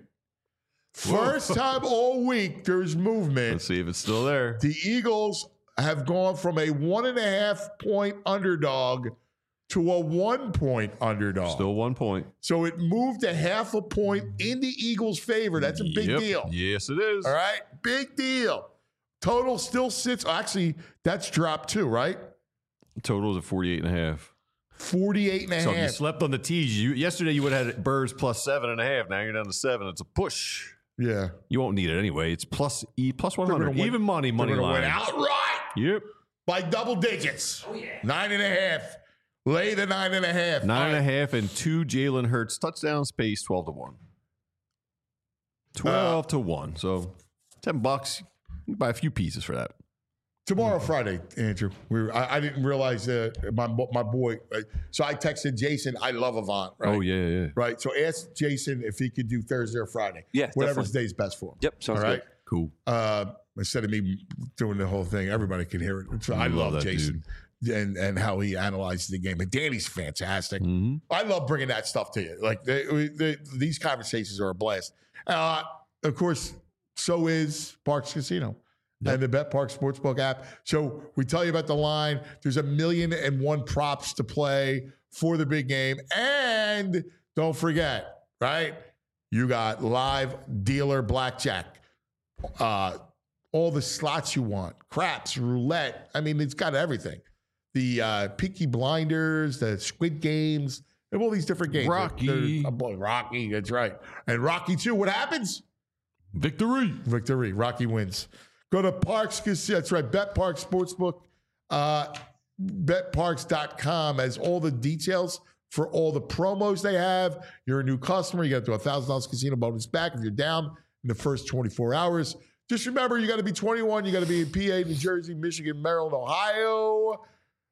First time all week there's movement. Let's see if it's still there. The Eagles have gone from a one and a half point underdog to a one point underdog. Still one point. So it moved a half a point in the Eagles' favor. That's a big Yep. deal. Yes, it is. All right. Big deal. Total still sits. Actually, that's dropped too, right? Total is at forty-eight and a half. forty-eight and a So if you half. slept on the tees, you yesterday you would have had Birds plus seven and a half. Now you're down to seven. It's a push. Yeah. You won't need it anyway. It's plus E plus one They're hundred. gonna win- Even money, money They're gonna line. win outright Yep. by double digits. Oh, yeah. Nine and a half. Lay the nine and a half. Nine and a All right. half and two Jalen Hurts touchdowns pays twelve to one. Twelve to one. So ten bucks. You can buy a few pieces for that. Tomorrow, Friday, Andrew. We were, I, I didn't realize that my my boy. Right? So I texted Jason. I love Avant. Right? Oh yeah, yeah. Right. So ask Jason if he could do Thursday or Friday. Yeah, Whatever definitely. day's best for him. Yep, sounds All right. good. Cool. Uh, instead of me doing the whole thing, everybody can hear it. So I Love love that Jason and and how he analyzes the game. And Danny's fantastic. Mm-hmm. I love bringing that stuff to you. Like they, they, these conversations are a blast. Uh, of course, so is Parks Casino. Yep. and the BetPark Sportsbook app. So we tell you about the line. There's a million and one props to play for the big game. And don't forget, right? You got live dealer blackjack, uh, all the slots you want, craps, roulette. I mean, it's got everything. The uh, Peaky Blinders, the Squid Games, they have all these different games. Rocky. They're, they're, oh boy, Rocky, that's right. And Rocky two, what happens? Victory. Victory. Rocky wins. Go to Parks Casino. That's right. BetPark Sportsbook. Uh, bet parks dot com has all the details for all the promos they have. You're a new customer. You get to a one thousand dollars casino bonus back if you're down in the first twenty-four hours. Just remember, you got to be twenty-one. You got to be in P A, New Jersey, Michigan, Maryland, Ohio.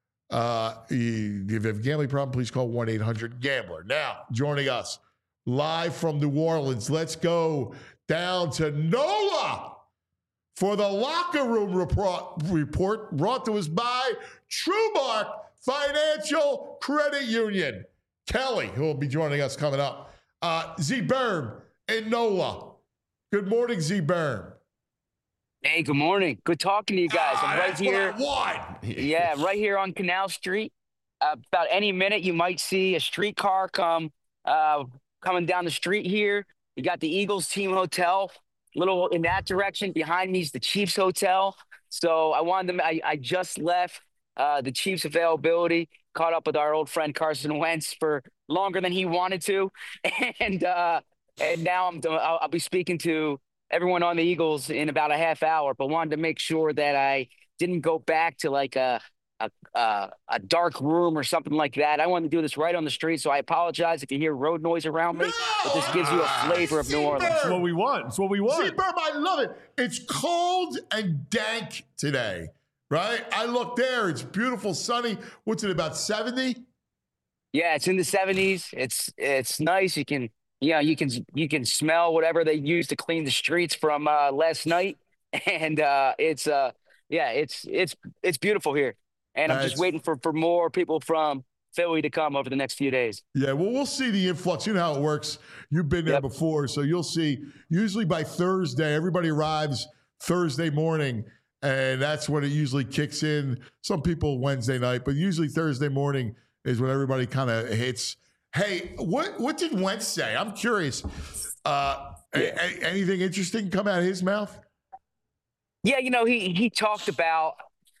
Uh, if you have a gambling problem, please call one eight hundred gambler. Now, joining us live from New Orleans, let's go down to NOLA for the locker room report, report brought to us by TrueMark Financial Credit Union. Kelly, who will be joining us coming up. Uh, Z Berm in NOLA. Good morning, Z Berm. Hey, good morning. Good talking to you guys. Ah, I'm right that's here. what I want. Yeah, right here on Canal Street. Uh, about any minute, you might see a streetcar come uh, coming down the street here. You got the Eagles team hotel, little in that direction. Behind me is the Chiefs hotel. So I wanted them. I, I just left uh, the Chiefs availability. Caught up with our old friend Carson Wentz for longer than he wanted to, and uh, and now I'm I'll, I'll be speaking to everyone on the Eagles in about a half hour, but wanted to make sure that I didn't go back to like a, a, a, a dark room or something like that. I wanted to do this right on the street. So I apologize if you hear road noise around me, no! but this gives you a flavor of New Orleans. That's what we want. That's what we want. Z Berm, I love it. It's cold and dank today, right? I look there. It's beautiful, sunny. What's it, about seventy? Yeah, it's in the seventies. It's, it's nice. You can, Yeah, you can you can smell whatever they use to clean the streets from uh, last night, and uh, it's uh yeah it's it's it's beautiful here, and I'm That's- just waiting for for more people from Philly to come over the next few days. Yeah, well, we'll see the influx. You know how it works. You've been there Yep. before, so you'll see. Usually by Thursday, everybody arrives Thursday morning, and that's when it usually kicks in. Some people Wednesday night, but usually Thursday morning is when everybody kind of hits. Hey, what what did Wentz say? I'm curious. Uh, a- a- anything interesting come out of his mouth? Yeah, you know he he talked about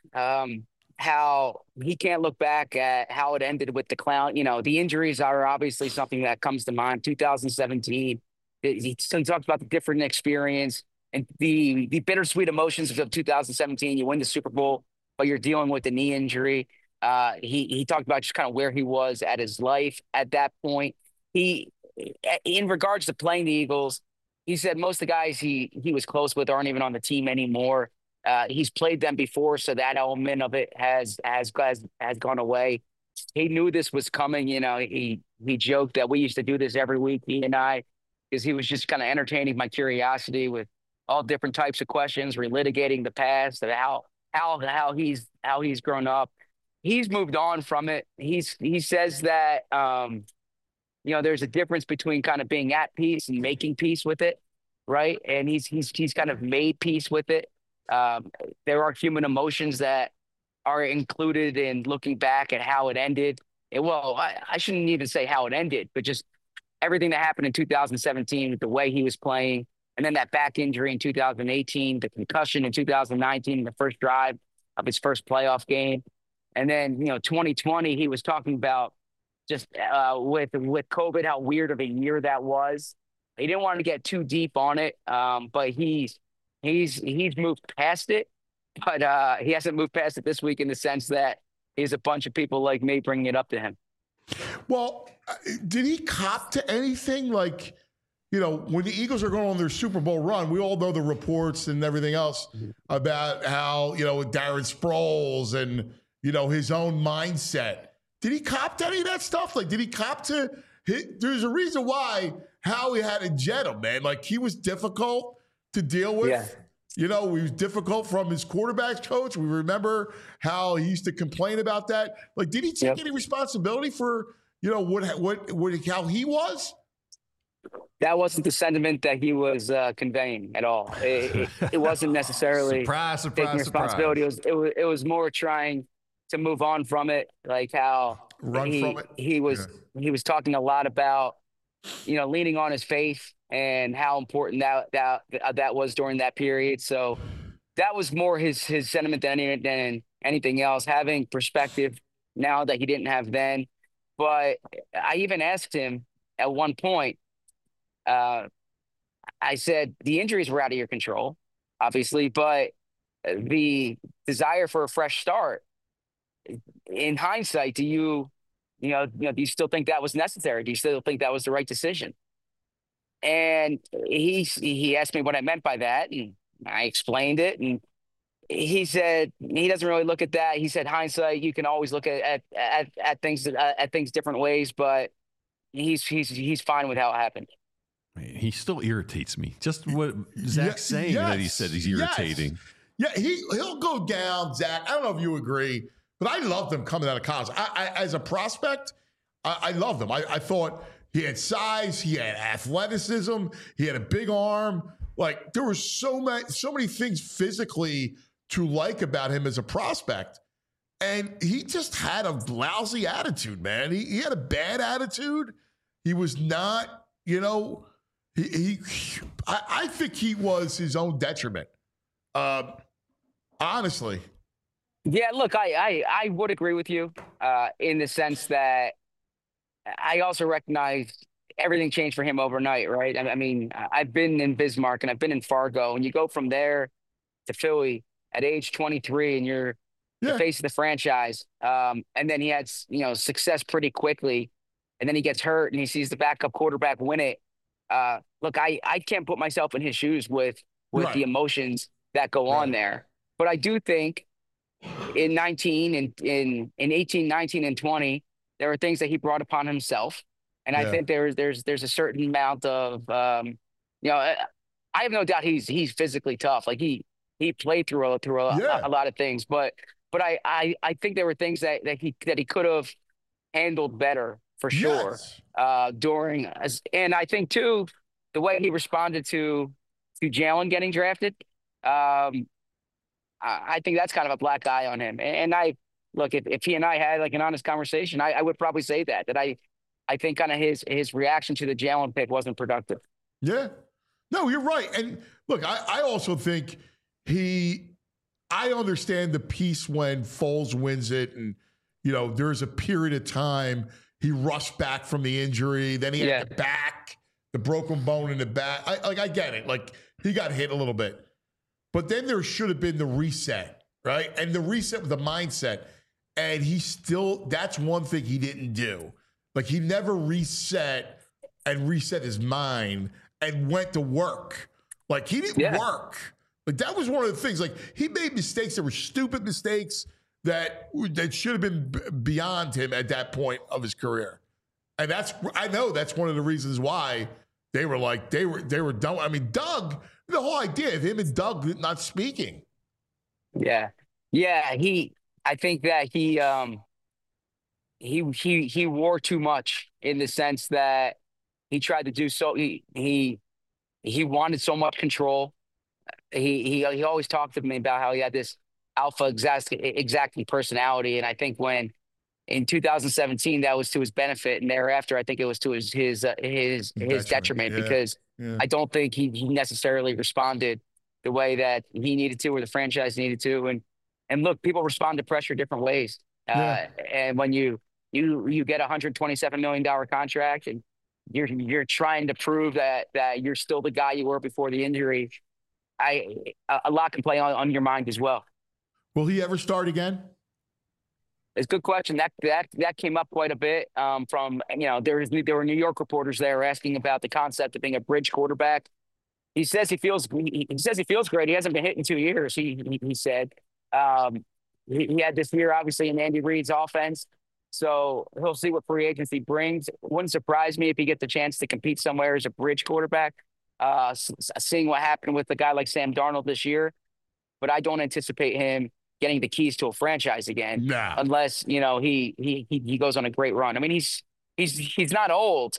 um, how he can't look back at how it ended with the clown. You know, the injuries are obviously something that comes to mind. two thousand seventeen, he, he talks about the different experience and the the bittersweet emotions of two thousand seventeen. You win the Super Bowl, but you're dealing with the knee injury. Uh, he he talked about just kind of where he was at his life at that point. He, in regards to playing the Eagles, he said most of the guys he he was close with aren't even on the team anymore. Uh, he's played them before, so that element of it has has has has gone away. He knew this was coming. You know, he he joked that we used to do this every week, he and I, because he was just kind of entertaining my curiosity with all different types of questions, relitigating the past, of how how how he's how he's grown up. He's moved on from it. He's he says that um, you know, there's a difference between kind of being at peace and making peace with it, right? And he's he's he's kind of made peace with it. Um, there are human emotions that are included in looking back at how it ended. And, well, I, I shouldn't even say how it ended, but just everything that happened in two thousand seventeen with the way he was playing, and then that back injury in two thousand eighteen, the concussion in two thousand nineteen, the first drive of his first playoff game. And then, you know, twenty twenty, he was talking about just uh, with with COVID, how weird of a year that was. He didn't want to get too deep on it, um, but he's he's he's moved past it. But uh, he hasn't moved past it this week in the sense that he's a bunch of people like me bringing it up to him. Well, uh, did he cop to anything? Like, you know, when the Eagles are going on their Super Bowl run, we all know the reports and everything else about how, you know, Darren Sproles and, you know, his own mindset. Did he cop to any of that stuff? Like, did he cop to his, there's a reason why Howie had to jet him, man. Like, he was difficult to deal with. Yeah. You know, he was difficult from his quarterback's coach. We remember how he used to complain about that. Like, did he take Yep. any responsibility for, you know, what, what, what, how he was? That wasn't the sentiment that he was uh, conveying at all. It, it, it wasn't necessarily Surprise, surprise, taking responsibility. It was, it was it was more trying to move on from it, like how Run he, from it? he was he was talking a lot about, you know, leaning on his faith and how important that that that was during that period. So that was more his his sentiment than any, than anything else. Having perspective now that he didn't have then. But I even asked him at one point. Uh, I said the injuries were out of your control, obviously, but the desire for a fresh start. In hindsight, do you, you know, you know, do you still think that was necessary? Do you still think that was the right decision? And he he asked me what I meant by that, and I explained it, and he said he doesn't really look at that. He said hindsight, you can always look at at at, at things uh, at things different ways, but he's he's he's fine with how it happened. He still irritates me. Just what Zach's Yeah, saying yes, that he said he's irritating. Yes. Yeah, he he'll go down, Zach. I don't know if you agree, but I loved him coming out of college. I, I as a prospect, I, I loved him. I, I thought he had size, he had athleticism, he had a big arm. Like there were so many so many things physically to like about him as a prospect. And he just had a lousy attitude, man. He, he had a bad attitude. He was not, you know, he, he I, I think he was his own detriment. Uh, honestly. Yeah, look, I, I, I would agree with you uh, in the sense that I also recognize everything changed for him overnight, right? I, I mean, I've been in Bismarck and I've been in Fargo, and you go from there to Philly at age twenty-three, and you're Yeah. the face of the franchise. Um, and then he had, you know, success pretty quickly, and then he gets hurt and he sees the backup quarterback win it. Uh, look, I, I can't put myself in his shoes with with Right. the emotions that go Right. on there. But I do think in nineteen and in, in eighteen, nineteen, and twenty, there were things that he brought upon himself. And Yeah. I think there's there's there's a certain amount of um, you know, I, I have no doubt he's he's physically tough. Like he he played through a, through a, Yeah. a, a lot of things, but but I, I I think there were things that, that he that he could have handled better for sure Yes. uh, during as and I think too the way he responded to to Jalen getting drafted. Um, I, I think that's kind of a black eye on him. And, and I look if, if he and I had like an honest conversation, I, I would probably say that that I I think kind of his his reaction to the Jalen pick wasn't productive. Yeah. No, you're right. And look, I, I also think he, I understand the piece when Foles wins it. And, you know, there's a period of time he rushed back from the injury. Then he had Yeah. the back, the broken bone in the back. I, like, I get it. Like, he got hit a little bit. But then there should have been the reset, right? And the reset with the mindset. And he still, that's one thing he didn't do. Like, he never reset and reset his mind and went to work. Like, he didn't Yeah. work. Like, that was one of the things. Like, he made mistakes that were stupid mistakes that that should have been b- beyond him at that point of his career. And that's, I know that's one of the reasons why they were like, they were, they were done. I mean, Doug, the whole idea of him and Doug not speaking. Yeah. Yeah. He, I think that he, um, he, he, he wore too much in the sense that he tried to do so. He, he, he wanted so much control. He, he, he always talked to me about how he had this alpha exact, exacting personality. And I think when in two thousand seventeen, that was to his benefit. And thereafter, I think it was to his, his, uh, his, his detriment, yeah, because yeah. I don't think he, he necessarily responded the way that he needed to, or the franchise needed to. And, and look, people respond to pressure different ways. Yeah. Uh, and when you, you, you get a one hundred twenty-seven million dollars contract and you're, you're trying to prove that, that you're still the guy you were before the injury, I, a, a lot can play on, on your mind as well. Will he ever start again? It's a good question. That that that came up quite a bit um, from, you know, there was there were New York reporters there asking about the concept of being a bridge quarterback. He says he feels he, he says he feels great. He hasn't been hit in two years. He he, he said um, he, he had this year obviously in Andy Reid's offense, so he'll see what free agency brings. It wouldn't surprise me if he gets the chance to compete somewhere as a bridge quarterback. Uh, seeing what happened with a guy like Sam Darnold this year, but I don't anticipate him getting the keys to a franchise again, Nah. unless, you know, he, he, he, he goes on a great run. I mean, he's, he's, he's not old,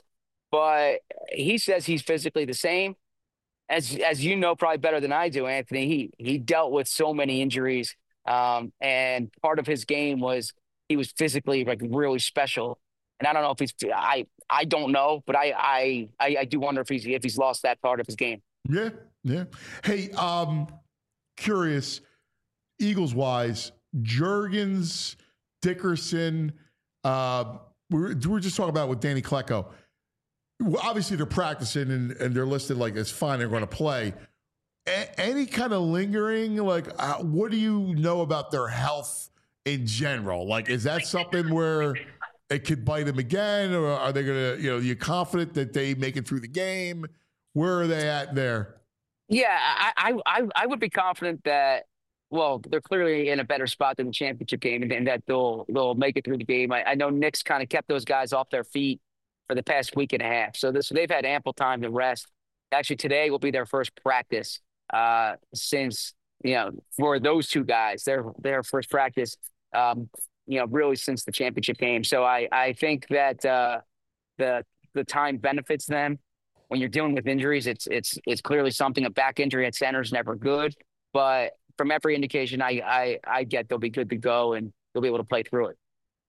but he says he's physically the same. As as you know, probably better than I do, Anthony. He he dealt with so many injuries, um, and part of his game was he was physically like really special. And I don't know if he's I I don't know, but I I I, I do wonder if he's if he's lost that part of his game. Yeah, yeah. Hey, um, curious, Eagles wise, Jurgens, Dickerson. Uh, we were, we were just talking about with Danny Klecko. Well, obviously, they're practicing and, and they're listed like it's fine. They're going to play. A- any kind of lingering, like, uh, what do you know about their health in general? Like, is that something where it could bite them again, or are they going to, you know, you confident that they make it through the game? Where are they at there? Yeah, I I I would be confident that. Well, they're clearly in a better spot than the championship game, and, and that they'll they'll make it through the game. I, I know Nick's kind of kept those guys off their feet for the past week and a half, so this they've had ample time to rest. Actually, today will be their first practice uh, since you know for those two guys, their their first practice, um, you know, really since the championship game. So I I think that uh, the the time benefits them. When you're dealing with injuries, it's it's it's clearly something. A back injury at center is never good, but from every indication I, I I get, they'll be good to go and they'll be able to play through it.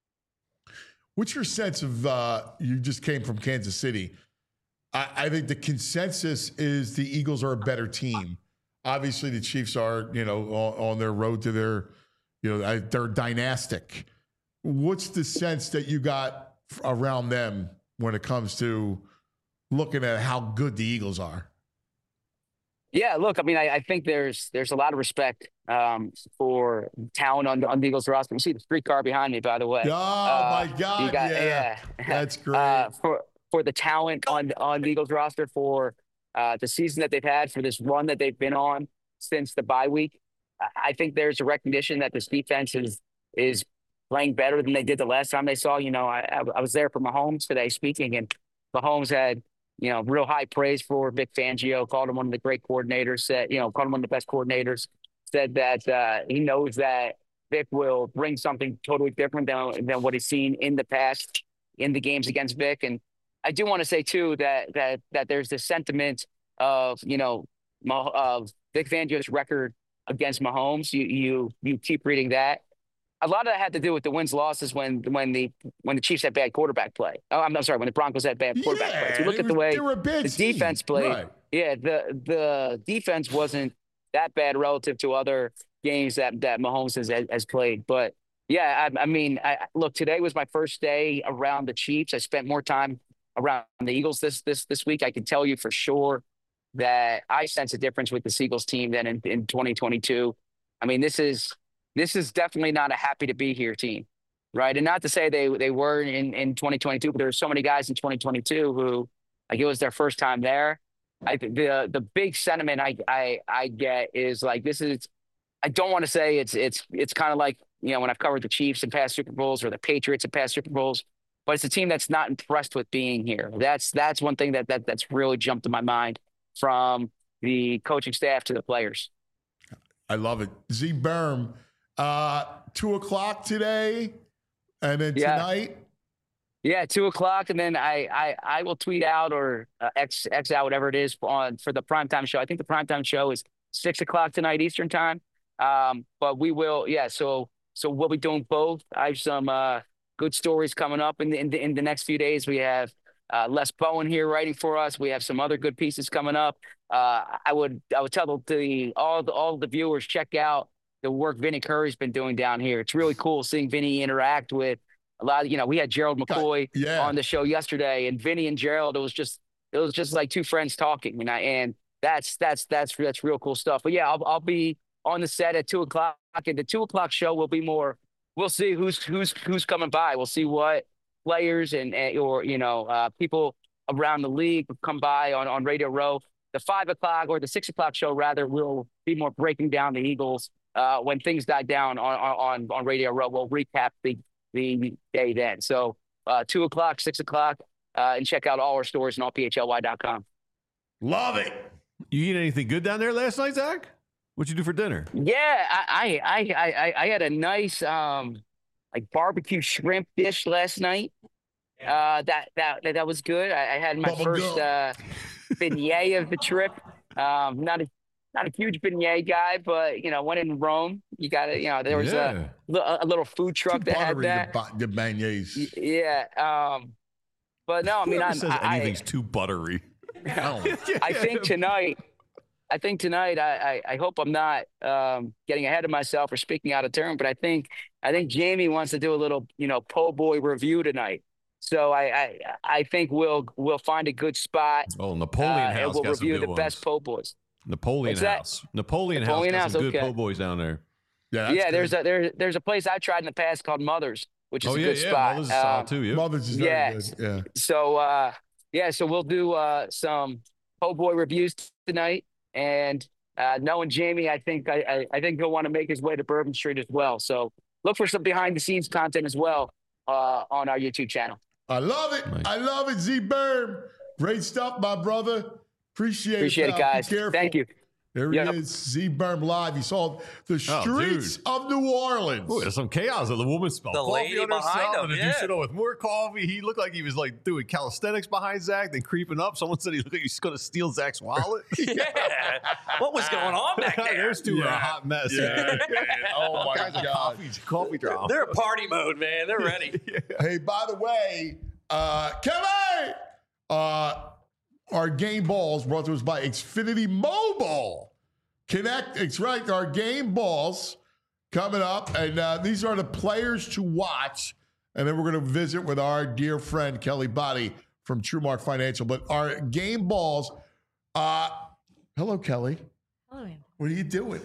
What's your sense of, uh, you just came from Kansas City. I, I think the consensus is the Eagles are a better team. Obviously, the Chiefs are, you know, on, on their road to their, you know, they're dynastic. What's the sense that you got around them when it comes to looking at how good the Eagles are? Yeah, look, I mean, I, I think there's there's a lot of respect um, for talent on, on the Eagles roster. You see the streetcar behind me, by the way. Oh, uh, my God, got, yeah. yeah. That's great. Uh, for, for the talent on, on the Eagles roster, for uh, the season that they've had, for this run that they've been on since the bye week, I think there's a recognition that this defense is is playing better than they did the last time they saw. You know, I, I was there for Mahomes today speaking, and Mahomes had – you know, real high praise for Vic Fangio, called him one of the great coordinators, said, you know, called him one of the best coordinators, said that uh, he knows that Vic will bring something totally different than, than what he's seen in the past in the games against Vic. And I do want to say, too, that that that there's this sentiment of, you know, of Vic Fangio's record against Mahomes. You, you, you keep reading that. A lot of that had to do with the wins losses when when the when the Chiefs had bad quarterback play. Oh, I'm, I'm sorry, when the Broncos had bad quarterback yeah, play. So you look at was, the way the team. defense played. Right. Yeah, the the defense wasn't that bad relative to other games that that Mahomes has has played. But yeah, I, I mean, I, look, today was my first day around the Chiefs. I spent more time around the Eagles this this this week. I can tell you for sure that I sense a difference with the Eagles team than in, in twenty twenty-two. I mean, this is. This is definitely not a happy to be here team, right? And not to say they they were in, in twenty twenty-two, but there were so many guys in twenty twenty-two who, like, it was their first time there. I the the big sentiment I I I get is like this is. I don't want to say it's it's it's kind of like, you know, when I've covered the Chiefs in past Super Bowls or the Patriots in past Super Bowls, but it's a team that's not impressed with being here. That's that's one thing that that that's really jumped in my mind from the coaching staff to the players. I love it. Z Berm. Uh, two o'clock today, and then yeah. tonight. Yeah, two o'clock, and then I I, I will tweet out or uh, X X out whatever it is on for the primetime show. I think the primetime show is six o'clock tonight Eastern time. Um, but we will, yeah. So so we'll be doing both. I have some uh, good stories coming up in the, in the in the next few days. We have uh, Les Bowen here writing for us. We have some other good pieces coming up. Uh, I would I would tell the all the, all the viewers, check out the work Vinny Curry's been doing down here. It's really cool seeing Vinny interact with a lot of, you know, we had Gerald McCoy yeah. on the show yesterday, and Vinny and Gerald, it was just, it was just like two friends talking. And I, and that's, that's, that's, that's real cool stuff. But yeah, I'll, I'll be on the set at two o'clock, and the two o'clock show will be more, we'll see who's, who's, who's coming by. We'll see what players and, and or, you know, uh, people around the league come by on, on Radio Row. The five o'clock or the six o'clock show rather will be more breaking down the Eagles. Uh, when things die down on on on Radio Row, we'll recap the the day then. So uh, two o'clock, six o'clock, uh, and check out all our stories on all P H L Y dot com. Love it. You eat anything good down there last night, Zach? What'd you do for dinner? Yeah, I I I I, I had a nice um like barbecue shrimp dish last night. Uh, that that that was good. I, I had my Bubble first gum. uh, beignet of the trip. Um, not a not a huge beignet guy, but you know, when in Rome, you got to you know there was Yeah. a li- a little food truck Too that had buttery, that. the, bu- the beignets. Y- Yeah. Um, but no, I mean, Whoever I'm, says I, anything's too buttery. Oh, I think tonight, I think tonight, I, I, I hope I'm not um, getting ahead of myself or speaking out of turn, but I think I think Jamie wants to do a little, you know, po' boy review tonight. So I, I I think we'll we'll find a good spot. Oh, Napoleon uh, House and we'll got some review good the ones. best po' boys. Napoleon What's that? House. Napoleon, Napoleon House House, got some good okay. po' boys down there. yeah, that's Yeah, there's good. a there, there's a place I tried in the past called Mother's, which is Oh a yeah, good yeah. spot. Mother's is Um, solid too. Yeah. Mother's is very yes. good. Yeah. So uh, yeah, so we'll do uh, some po' boy reviews tonight, and uh, knowing Jamie, I think I, I, I think he'll want to make his way to Bourbon Street as well. So look for some behind the scenes content as well uh, on our YouTube channel. I love it. Nice. I love it, Z Berm. Great stuff, my brother. Appreciate, Appreciate it, it, pal. Be guys. careful. Thank you. There he Yep. is, Z Berm live. You saw the Oh, streets dude. of New Orleans. Ooh, there's some chaos. The woman spelled The coffee lady on herself, behind him, and the yeah. dude sitting with more coffee. He looked like he was like doing calisthenics behind Zach, then creeping up. Someone said he looked like he's going to steal Zach's wallet. Yeah. What was going on back there? There's two are a Yeah. hot mess. Yeah. oh All my kinds of God. coffee, coffee drama. They're in party mode, man. They're ready. Hey, by the way, uh, Kevin, uh, our game balls brought to us by Xfinity Mobile. Connect, it's right, our game balls coming up, and uh, these are the players to watch. And then we're going to visit with our dear friend Kelly Body from TrueMark Financial. But our game balls, uh, hello, Kelly. Hello. What are you doing?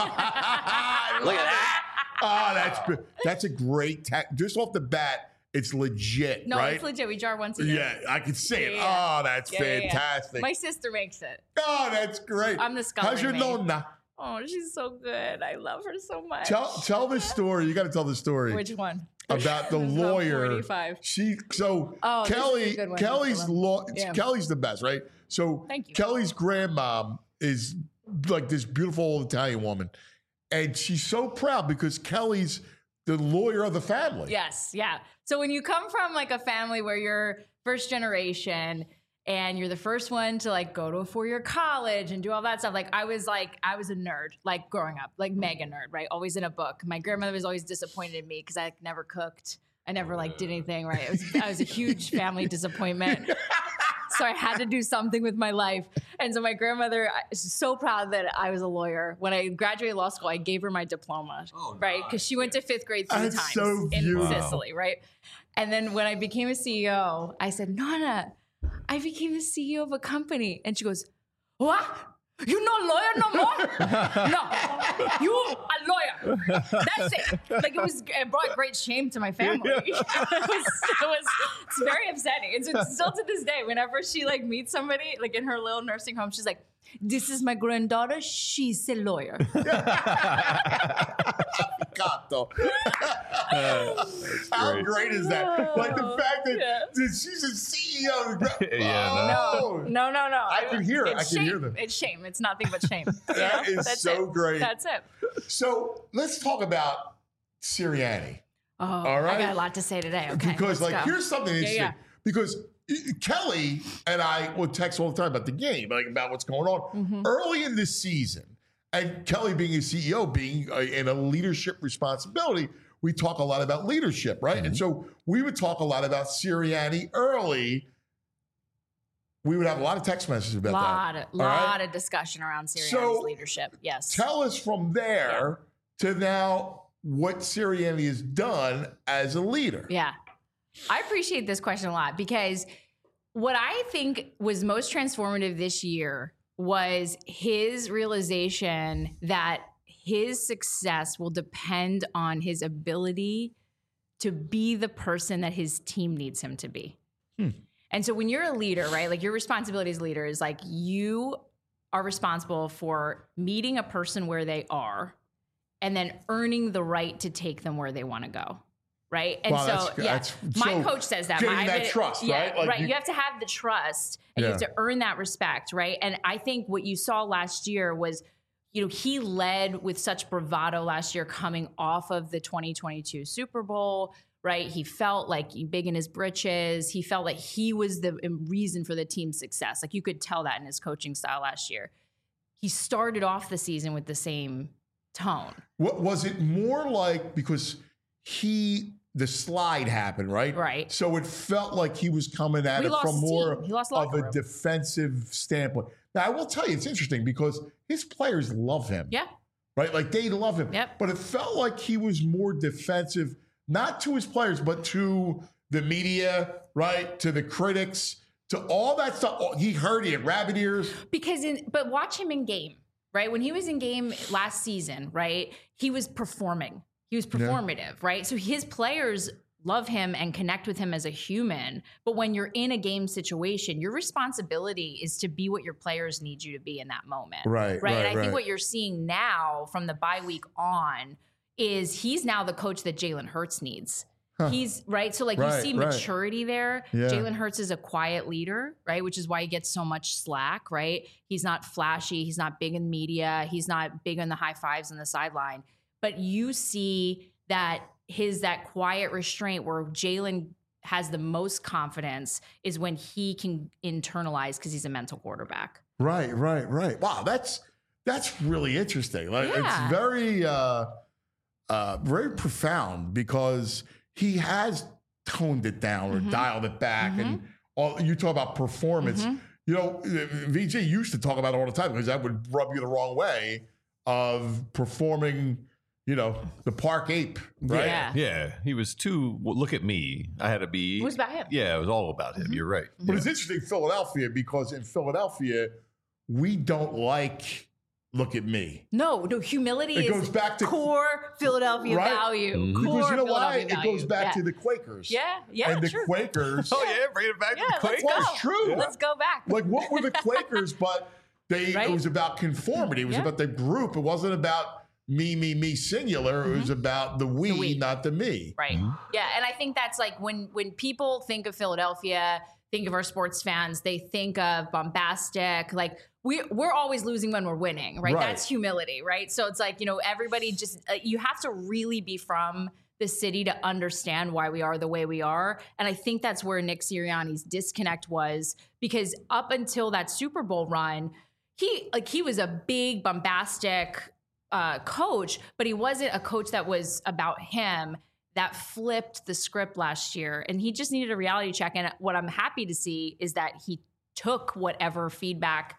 I Look at love it. that. Oh, that's good. That's a great ta- just off the bat. It's legit, No, right? it's legit. We jar once a year. Yeah, I can see it. Yeah, yeah. Oh, that's Yeah, yeah, yeah. fantastic. My sister makes it. Oh, that's great. I'm the How's your scullery maid. nonna? Oh, she's so good. I love her so much. Tell tell the story. You got to tell the story Which one? about the There's about lawyer. forty-five. She so Oh, this is a Kelly good one. Kelly's This is a good law Yeah. Kelly's the best, right? So Thank you. Kelly's grandmom is like this beautiful old Italian woman, and she's so proud because Kelly's the lawyer of the family. Yes, yeah. So when you come from like a family where you're first generation and you're the first one to like go to a four-year college and do all that stuff, like I was like, I was a nerd, like growing up, like mega nerd, right? Always in a book. My grandmother was always disappointed in me because I like, never cooked. I never like did anything, right? It was, I was a huge family disappointment. So I had to do something with my life. And so my grandmother is so proud that I was a lawyer. When I graduated law school, I gave her my diploma, Oh, right? Because she went to fifth grade three That's times so in beautiful. Sicily, right? And then when I became a C E O, I said, Nana, I became the C E O of a company. And she goes, what? You no lawyer no more? No, you a lawyer. That's it. Like it was, it brought great shame to my family. it, was, it was, it's very upsetting. It's, it's still to this day. Whenever she like meets somebody, like in her little nursing home, she's like, "This is my granddaughter. She's a lawyer." Gato. How great. great is that? Like the fact that, Yeah. that she's a C E O. Yeah, Oh, No, no, no. I can hear it. It's I can shame. hear them. It's shame. It's nothing but shame. You know? That is That's so it. great. That's it. So let's talk about Sirianni. Oh, All right. I got a lot to say today. Okay, because let's like go. here's something Yeah, interesting. yeah. Because uh, Kelly and I would text all the time about the game, like about what's going on Mm-hmm. early in this season. And Kelly being a C E O, being a, in a leadership responsibility, we talk a lot about leadership, right? Mm-hmm. And so we would talk a lot about Sirianni early. We would have a lot of text messages about lot, that. of, All right? lot of discussion around Sirianni's So, leadership. Yes. Tell us from there to now what Sirianni has done as a leader. Yeah. I appreciate this question a lot because what I think was most transformative this year was his realization that his success will depend on his ability to be the person that his team needs him to be. Hmm. And so when you're a leader, right, like your responsibility as a leader is like you are responsible for meeting a person where they are and then earning the right to take them where they want to go. Right. And Wow, so, that's- yeah, that's- my so coach says that. getting My- that but- trust, yeah, right? Like right. you- You, have to have the trust and you have Yeah. to earn that respect. Right. And I think what you saw last year was you know, he led with such bravado last year coming off of the twenty twenty-two Super Bowl, right? He felt like big in his britches. He felt like he was the reason for the team's success. Like you could tell that in his coaching style last year. He started off the season with the same tone. What was it more like because he the slide happened, right? Right. So it felt like he was coming at We it lost from more steam. He lost of locker a room. defensive standpoint. Now I will tell you, it's interesting because his players love him. Yeah. Right? Like they love him. Yep. But it felt like he was more defensive, not to his players, but to the media, right? To the critics, to all that stuff. He heard it, rabbit ears. Because in, but watch him in game, right? When he was in game last season, right? He was performing. He was performative, right? So his players love him and connect with him as a human. But when you're in a game situation, your responsibility is to be what your players need you to be in that moment. Right, Right. right, and I right. think what you're seeing now from the bye week on is he's now the coach that Jalen Hurts needs. He's right. So like Right, you see right. maturity there. Yeah. Jalen Hurts is a quiet leader, right? Which is why he gets so much slack, right? He's not flashy. He's not big in media. He's not big on the high fives on the sideline. But you see that his that quiet restraint where Jalen has the most confidence is when he can internalize because he's a mental quarterback. Right, right, right. Wow, that's that's really interesting. Like Yeah. it's very uh uh very profound because he has toned it down or Mhm. dialed it back. Mhm. And all you talk about performance. Mhm. You know, V J used to talk about it all the time because that would rub you the wrong way of performing, you know, the park ape, right? Yeah. Yeah, he was too. Well, look at me. I had to be. It was about him. Yeah, it was all about Mm-hmm. him. You're right. But it's interesting, Philadelphia, because in Philadelphia, we don't like look at me. No, no, humility It is goes back to- core Philadelphia Right? value. Mhm. Core Because you know why? Philadelphia It goes value. back yeah. to the Quakers. Yeah, yeah, and the true. Quakers. Oh yeah, bring it back Yeah, to the let's Quakers. go. Well, it's true. Let's go back. Like, what were the Quakers? But they Right? it was about conformity. It was Yeah. about the group. It wasn't about me, me, me singular. It was about the we, Mm-hmm. The we. not the me. Right. Yeah, and I think that's like when when people think of Philadelphia, think of our sports fans, they think of bombastic, like we we're always losing when we're winning, right? Right. That's humility, right? So it's like, you know, everybody just uh, you have to really be from the city to understand why we are the way we are. And I think that's where Nick Sirianni's disconnect was because up until that Super Bowl run, he like he was a big bombastic uh, coach, but he wasn't a coach that was about him. That flipped the script last year, and he just needed a reality check. And what I'm happy to see is that he took whatever feedback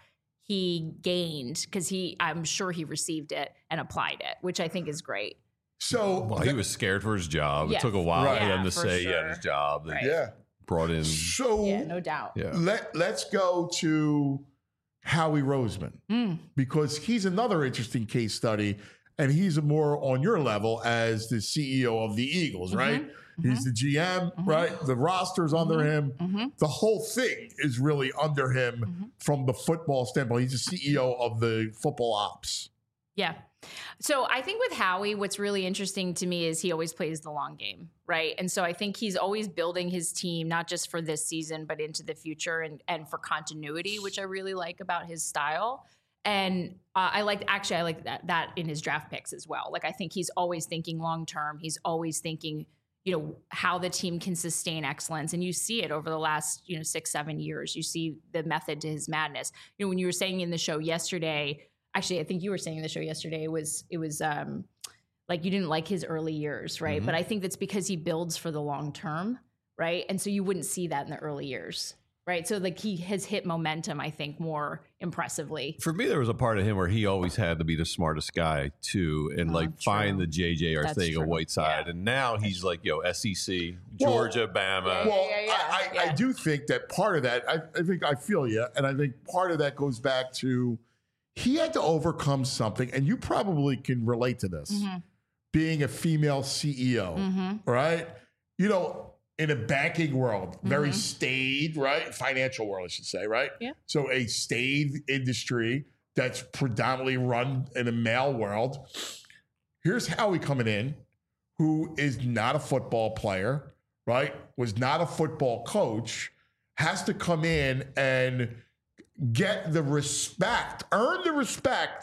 he gained because he, I'm sure he received it and applied it, which I think is great. So, Well, he was scared for his job. Yeah. It took a while Right. for them Yeah, to for say he had sure. his job. They Right. yeah. brought in. So Yeah, no doubt. Yeah. let let's go to Howie Roseman Mm. because he's another interesting case study, and he's more on your level as the C E O of the Eagles, right? He's the G M, right? The roster's under him. Mhm. The whole thing is really under him Mm-hmm. from the football standpoint. He's the C E O of the football ops. Yeah. So I think with Howie, what's really interesting to me is he always plays the long game, right? And so I think he's always building his team, not just for this season, but into the future and, and for continuity, which I really like about his style. And uh, I like, actually, I like that, that in his draft picks as well. Like, I think he's always thinking long term. He's always thinking, you know, how the team can sustain excellence. And you see it over the last, you know, six, seven years. You see the method to his madness. You know, when you were saying in the show yesterday, actually, I think you were saying in the show yesterday, it was, it was um, like you didn't like his early years, right? Mhm. But I think that's because he builds for the long term, right? And so you wouldn't see that in the early years, right? So like he has hit momentum, I think, more impressively. For me, there was a part of him where he always had to be the smartest guy too, and Oh, like find true. the J J That's Arcega true. Whiteside. Yeah. And now he's like, yo, S E C, Well, Georgia, Bama. Yeah, Well, yeah, yeah, I, I, I yeah. do think that part of that, I, I think I feel you. And I think part of that goes back to he had to overcome something, and you probably can relate to this Mhm. being a female C E O, Mhm. right? You know, in a banking world, very Mhm. staid, right? Financial world, I should say, right? Yeah. So a staid industry that's predominantly run in a male world. Here's Howie coming in, who is not a football player, right? Was not a football coach, has to come in and get the respect, earn the respect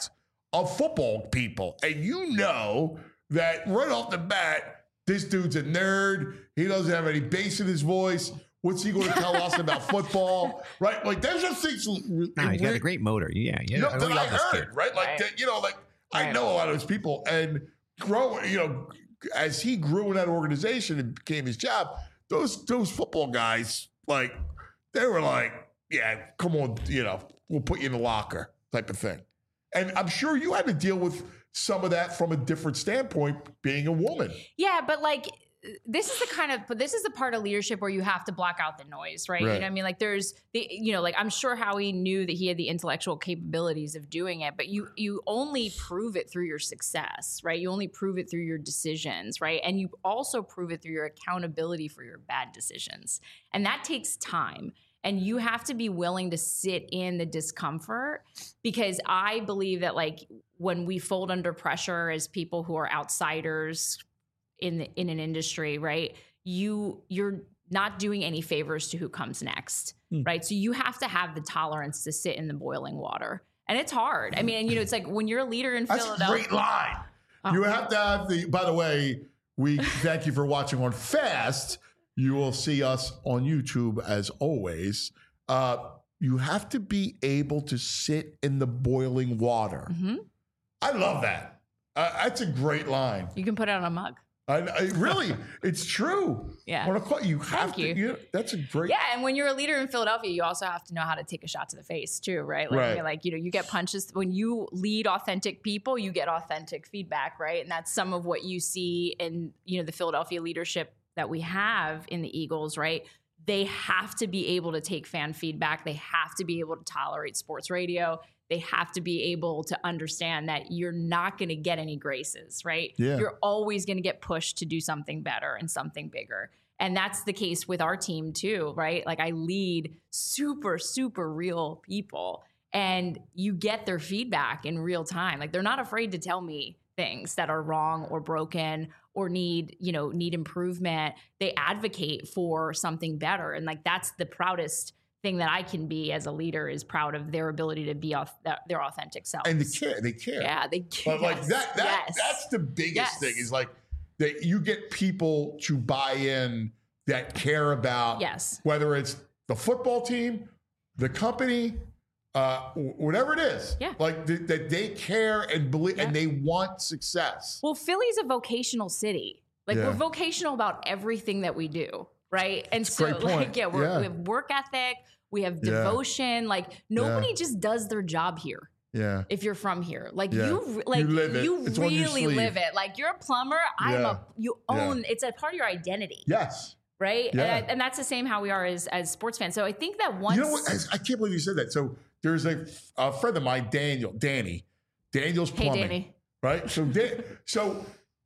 of football people. And you know that right off the bat, this dude's a nerd. He doesn't have any bass in his voice. What's he going to tell us about football? Right? Like, there's just things. No, he's got a great motor. Yeah, yeah. You know, I that I love this heard, kid. right? Like, Right. that, you know, like, I Right. know a lot of those people. And growing, you know, as he grew in that organization and became his job, those those football guys, like, they were like, yeah, come on, you know, we'll put you in the locker type of thing. And I'm sure you had to deal with some of that from a different standpoint, being a woman. Yeah, but like this is the kind of but this is the part of leadership where you have to block out the noise, right? You Right. know what I mean? Like there's the you know, like I'm sure Howie knew that he had the intellectual capabilities of doing it, but you you only prove it through your success, right? You only prove it through your decisions, right? And you also prove it through your accountability for your bad decisions. And that takes time. And you have to be willing to sit in the discomfort, because I believe that like when we fold under pressure as people who are outsiders in the, in an industry, right? You you're not doing any favors to who comes next, Hmm. right? So you have to have the tolerance to sit in the boiling water, and it's hard. I mean, and you know, it's like when you're a leader in That's Philadelphia. a great line. Oh. You have to have the, by the way, we thank you for watching on Fast. You will see us on YouTube as always. Uh, you have to be able to sit in the boiling water. Mhm. I love that. Uh, that's a great line. You can put it on a mug. I, I really, it's true. Yeah. When I call you, have Thank to. you. You know, that's a great. Yeah, and when you're a leader in Philadelphia, you also have to know how to take a shot to the face too, right? Like, I Right. mean, like you know, you get punches when you lead authentic people, you get authentic feedback, right? And that's some of what you see in you know the Philadelphia leadership that we have in the Eagles, right? They have to be able to take fan feedback. They have to be able to tolerate sports radio. They have to be able to understand that you're not going to get any graces, right? Yeah. You're always going to get pushed to do something better and something bigger. And that's the case with our team too, right? Like I lead super, super real people, and you get their feedback in real time. Like they're not afraid to tell me things that are wrong or broken or need, you know, need improvement. They advocate for something better. And like that's the proudest thing that I can be as a leader, is proud of their ability to be auth- their authentic selves. And they care. They care. Yeah, they care. But like that, that yes. that's the biggest Yes. thing, is like that you get people to buy in that care about Yes. whether it's the football team, the company, uh, wh- whatever it is. Yeah. Like th- that they care and believe Yeah. and they want success. Well, Philly's a vocational city. Like Yeah. we're vocational about everything that we do, right? And That's a so, great point. like, yeah, we're, Yeah. we have work ethic, we have Yeah. devotion. Like nobody just does their job here. Yeah. If you're from here, like Yeah. you, re- like You live it. you It's on your really sleeve. live it. Like you're a plumber. I'm Yeah. a. You Yeah. own. It's a part of your identity, Yes. right? Yeah. And, I, and that's the same how we are as as sports fans. So I think that once You know what? I, I can't believe you said that. So there's a, a friend of mine, Daniel, Danny, Daniel's Hey, plumbing. Danny. Right? So, Dan, so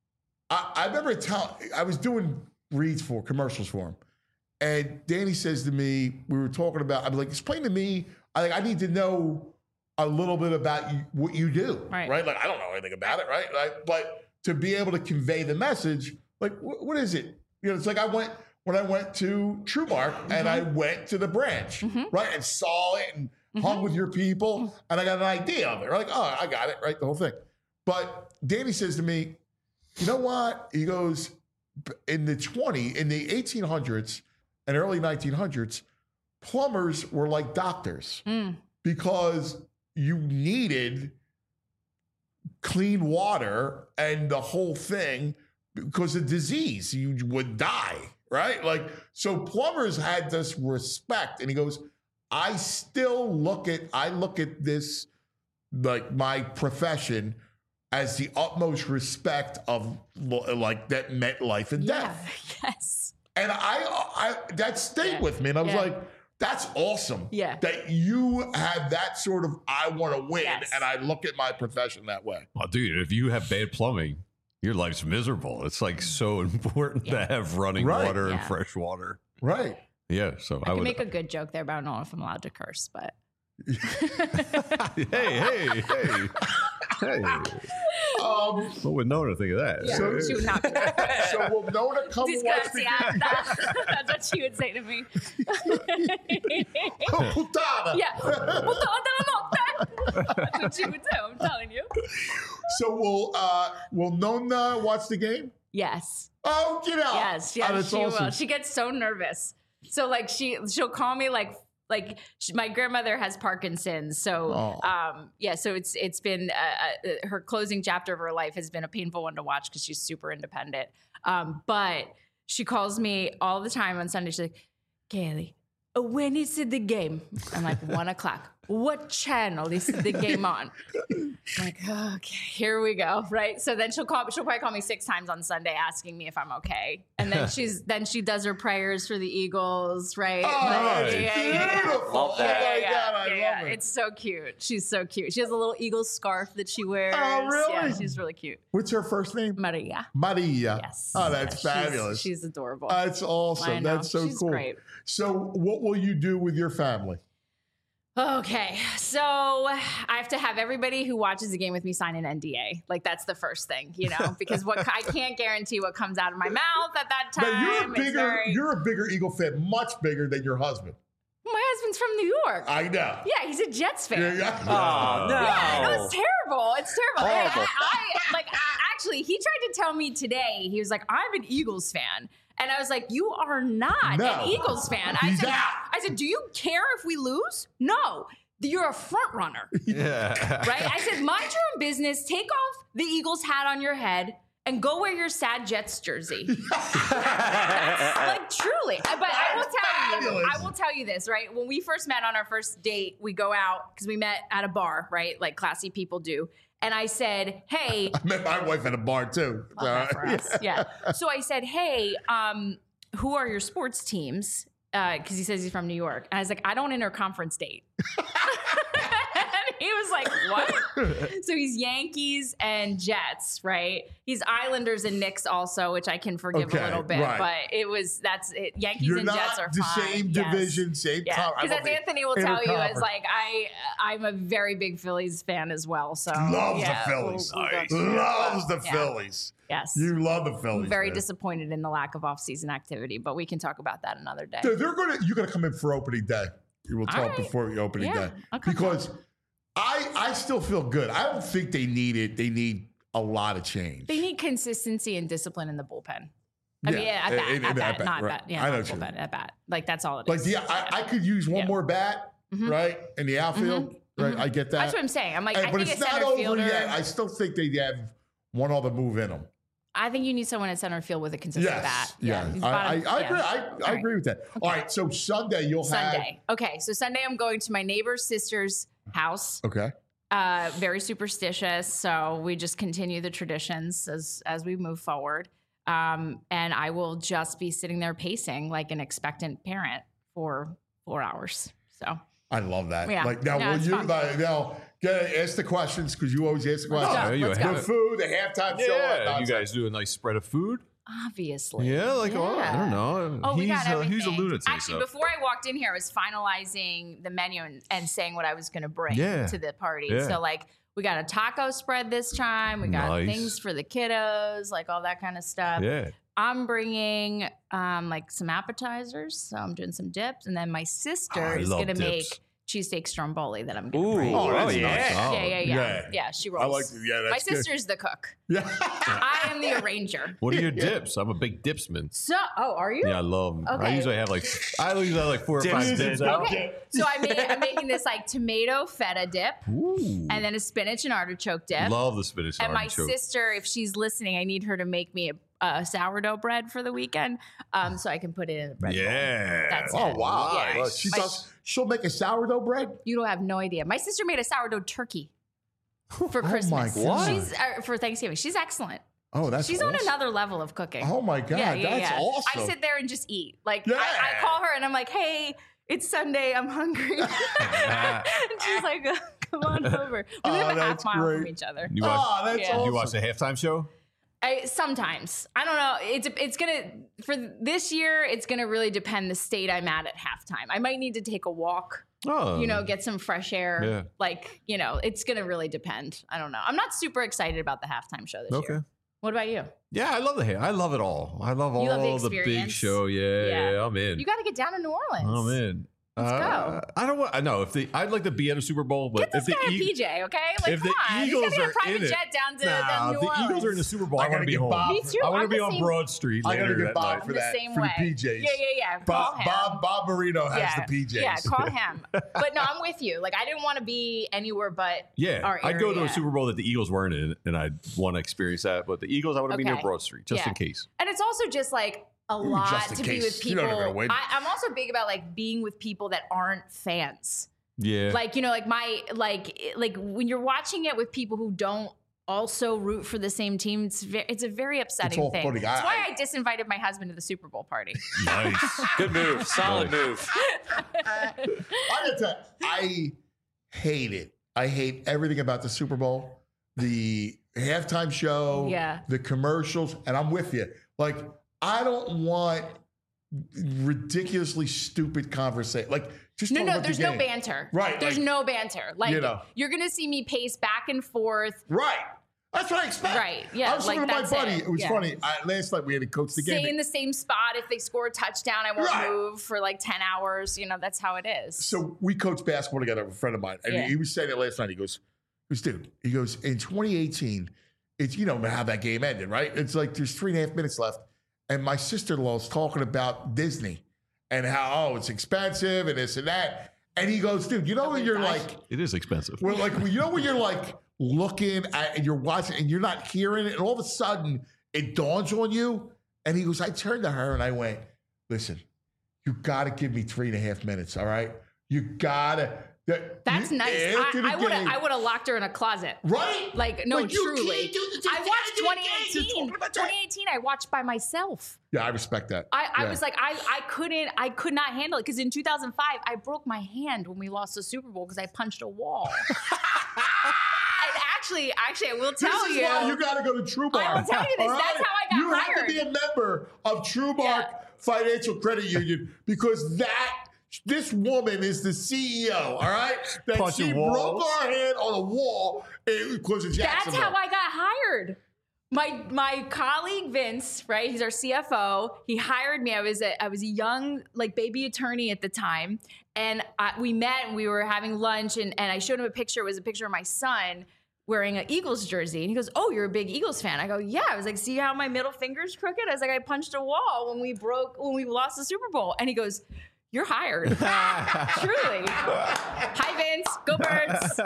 I, I remember telling, I was doing reads for commercials for him, and Danny says to me, we were talking about, I'm like, explain to me, I like, I need to know a little bit about you, what you do, Right. Like, I don't know anything about it, right? Like, but to be able to convey the message, like, wh- what is it? You know, it's like I went when I went to TrueMark and I went to the branch, Mhm. right, and saw it and hung with your people, and I got an idea of it. Like, oh, I got it, right, the whole thing. But Danny says to me, you know what? He goes, in the twenty, in the eighteen hundreds and early nineteen hundreds, plumbers were like doctors Mm. because you needed clean water and the whole thing because of disease. You would die, right? Like, so plumbers had this respect. And he goes, I still look at, I look at this, like my profession, as the utmost respect of lo- like that meant life and Yeah. death. Yes. And I, I that stayed Yeah. with me. And I was Yeah. like, that's awesome. Yeah. That you have that sort of, I want to win. Yes. And I look at my profession that way. Oh, dude, if you have bad plumbing, your life's miserable. It's like so important Yeah. to have running Right. water and Yeah. fresh water. Right. Yeah, so I I, can would. make a good joke there, but I don't know if I'm allowed to curse. But hey, hey, hey, hey! Um, What would Nona think of that? yeah, So- she would not. Be so will Nona come and watch the game? Disgraziata. That's what she would say to me. Oh, putana. Yeah. Puttana della notte. That's what she would do. I'm telling you. So will uh, will Nona watch the game? Yes. Oh, get out! Yes. Oh, Yes. that's she awesome. will. She gets so nervous. So like she she'll call me like like she, my grandmother has Parkinson's. So Oh. um yeah. So it's it's been uh, uh, her closing chapter of her life has been a painful one to watch because she's super independent. Um, but she calls me all the time on Sunday. She's like, Kaylee, when is the game? I'm like, one o'clock. What channel is the game on? I'm like, okay, here we go. Right. So then she'll call, she'll probably call me six times on Sunday asking me if I'm okay. And then she's, then she does her prayers for the Eagles. Right. Oh, Like, that's yeah, yeah, yeah. beautiful. Love that. Oh my Yeah, God, I yeah, love yeah. it. It's so cute. She's so cute. She has a little Eagles scarf that she wears. Oh, really? Yeah, she's really cute. What's her first name? Maria. Maria. Yes. Oh, that's Yeah, she's- fabulous. She's, adorable. That's I awesome. know. That's so She's cool. great. So, what will you do with your family? Okay, so I have to have everybody who watches the game with me sign an N D A. Like that's the first thing, you know, because what I can't guarantee what comes out of my mouth at that time. Now, you're a It's bigger, very- you're a bigger Eagle fan, much bigger than your husband. My husband's from New York. I know. Yeah, he's a Jets fan. Yeah, Yeah, yeah. Oh, no. no, it's terrible. It's terrible. I, Horrible. I, I like I- actually he tried to tell me today. He was like, "I'm an Eagles fan." And I was like, "You are not No. an Eagles fan." I He's said, out. I said, "Do you care if we lose?" No. You're a front runner. Yeah. Right? I said, mind your own business. Take off the Eagles hat on your head and go wear your sad Jets jersey. That's, like truly. I- But I will tell you, Fabulous. I will tell you this, right? When we first met on our first date, we go out because we met at a bar, right? Like classy people do. And I said, hey, I met my wife at a bar too. love that for us. Yeah. So I said, hey, um, who are your sports teams? Because he says he's from New York. And I was like, I don't interconference date. And he was like, what? So he's Yankees and Jets, right? He's Islanders and Knicks also, which I can forgive Okay, a little bit. right. But it was, that's it. Yankees You're and not Jets are the fine. same Yes. division, same Yeah, con- I because love as the Anthony will tell you, is interconference. like I, I'm a very big Phillies fan as well. So Loves yeah, the Phillies. we'll- we'll go Nice. to that. Loves the Yeah. Phillies. Yes. You love the Phillies. I'm very man. disappointed in the lack of off-season activity, but we can talk about that another day. Dude, they're gonna. You're gonna come in for opening day. We will All talk right. before the opening Yeah, day I'll come because I I still feel good. I don't think they need it. They need a lot of change. They need consistency and discipline in the bullpen. I Yeah, mean, yeah, at in- bat, in- at in- bat, at bat, not right. bat. Yeah, I know not what you bullpen, mean. at bat. Like that's all it Like is. yeah, I, I could use one Yeah. more bat, Mhm. right, in the outfield. Mhm. Right, Mhm. I get that. That's what I'm saying. I'm like, Hey, I but think it's a not center over fielder. yet. I still think they have one other move in them. I think you need someone at center field with a consistent Yes, bat. yeah, he's I, I, bottom- I yeah. agree. I, I All right. agree with that. All right, so Sunday you'll Sunday. Okay, so Sunday I'm going to my neighbor's sister's house. have okay. Uh, very superstitious, so we just continue the traditions as as we move forward. Um, and I will just be sitting there pacing like an expectant parent for four hours. So I love that. Yeah. Like now, No, will it's you fun. like, now get ask the questions because you always ask the questions. go. Oh, you Let's have The it. food, the halftime show. Yeah, you nonsense. guys do a nice spread of food. obviously, Yeah, like oh, I don't know. Oh, we he's got a, everything. he's a lunatic. Actually, so. before I walked in here, I was finalizing the menu and, and saying what I was going to bring Yeah. to the party. Yeah. So, like, we got a taco spread this time. We got Nice. things for the kiddos, like all that kind of stuff. yeah. I'm bringing um, like some appetizers. So I'm doing some dips. And then my sister I is love going to make dips. cheesesteak stromboli that I'm going to Ooh, bring. Oh, that's oh, yeah. nice. yeah, yeah, yeah, yeah. Yeah. Yeah, she rolls. I like. Yeah, my that's good. sister's the cook. Yeah. I am the arranger. What are your dips? I'm a big dipsman. So, oh, are you? Yeah, I love them. I Okay. usually have like I usually have like four or Dips five is dips dope. out. Okay, so I made, I'm making this like tomato feta dip, Ooh. and then a spinach and artichoke dip. Love the spinach and my artichoke. sister, if she's listening, I need her to make me a, a sourdough bread for the weekend, um, so I can put it in the bread bowl. Yeah. That's Oh it. wow! Yeah. Well, she My- does. She'll make a sourdough bread. You don't have no idea. My sister made a sourdough turkey for Oh, Christmas. my God. She's uh, for Thanksgiving. She's excellent. Oh, that's. She's on awesome. another level of cooking. Oh my god, yeah, yeah, that's yeah. awesome. I sit there and just eat. Like Yeah. I, I call her and I'm like, "Hey, it's Sunday. I'm hungry." and she's like, "Come on over." We Oh, live a half that's mile from great. each other. You watch, Oh, that's Yeah. awesome. you watch the halftime show? I, sometimes I don't know. It's it's gonna for this year. It's gonna really depend the state I'm at at halftime. I might need to take a walk. Oh, You know, get some fresh air. Yeah. Like you know, it's gonna really depend. I don't know. I'm not super excited about the halftime show this Okay. year. What about you? Yeah, I love the hair. I love it all. I love all You love the the, big experience? show. Yeah, Yeah. yeah, I'm in. You got to get down to New Orleans. I'm in. Let's Uh, go. I don't want. I know if the I'd like to be at a Super Bowl, but Get this if the guy a Eag- P J, okay? Like, if come the on. Eagles He's got are a private in it, jet down to, nah, down to if New the Eagles are in the Orleans. Super Bowl, I I want gotta to be get home. Bob. Me too. I want I'm to be the on same- Broad Street. I gotta later get that Bob night. I'm for the that, same for way. the P Js. Yeah, yeah, yeah. Call Bob, him. Bob, Bob Marino has yeah. the P Js. Yeah, call him. But no, I'm with you. Like, I didn't want to be anywhere but Yeah, our I'd go to area. a Super Bowl that the Eagles weren't in, and I'd want to experience that. But the Eagles, I want to be near Okay. Broad Street just Yeah. in case. And it's also just like a Ooh, lot just in to be case. with You know people. they're gonna win. I, I'm also big about like being with people that aren't fans. Yeah, Like, you know, like my like like when you're watching it with people who don't also root for the same team, it's ve- it's a very upsetting all thing. funny. That's I- why I disinvited my husband to the Super Bowl party. nice. Good move. Solid move. I gotta tell you, I hate it. I hate everything about the Super Bowl, the halftime show, Yeah. the commercials, and I'm with you. Like, I don't want ridiculously stupid conversation. Like, just No, talk no, about the there's no game. banter. Right, There's like- no banter. Like, You know. you're going to see me pace back and forth. Right. That's what I expect. Right, yeah, I was like, talking to my that's buddy. it. It, was Yeah. funny. I, last night we had to coach the game. Stay in the same spot. If they score a touchdown, I won't Right. move for like ten hours. You know, that's how it is. So we coach basketball together with a friend of mine. And Yeah. he was saying it last night. He goes, he goes, dude, he goes, in twenty eighteen, it's, you know, how that game ended, right? It's like there's three and a half minutes left. And my sister-in-law is talking about Disney and how, oh, it's expensive and this and that. And he goes, dude, you know when you're like, It is expensive. well, like, you know when you're like looking at and you're watching and you're not hearing it, and all of a sudden it dawns on you. And he goes, I turned to her and I went, listen, you got to give me three and a half minutes, all right? You got to. That, That's you- nice. after the I would have game- I would have locked her in a closet. Right? Like, no, Like, you truly. can't do this. You I can't watched do the twenty game. You're eighteen. talking about that. twenty eighteen, I watched by myself. Yeah, I respect that. I, I Yeah. was like, I, I couldn't, I could not handle it because in two thousand five, I broke my hand when we lost the Super Bowl because I punched a wall. And actually, actually, I will tell This is you. why you got to go to TrueBar. I will tell you this. all That's how I got you hired. You have to be a member of TrueBar Yeah. Financial Credit Union because that this woman is the C E O. All right, that Punching she walls. broke our hand on a wall because of That's Jacksonville. how I got hired. My my colleague Vince, right? He's our C F O. He hired me. I was a I was a young like baby attorney at the time, and I, we met and we were having lunch, and and I showed him a picture. It was a picture of my son wearing an Eagles jersey, and he goes, "Oh, you're a big Eagles fan." I go, "Yeah." I was like, "See how my middle finger's crooked?" I was like, "I punched a wall when we broke when we lost the Super Bowl," and he goes, "You're hired." Truly. Hi, Vince. Go Birds.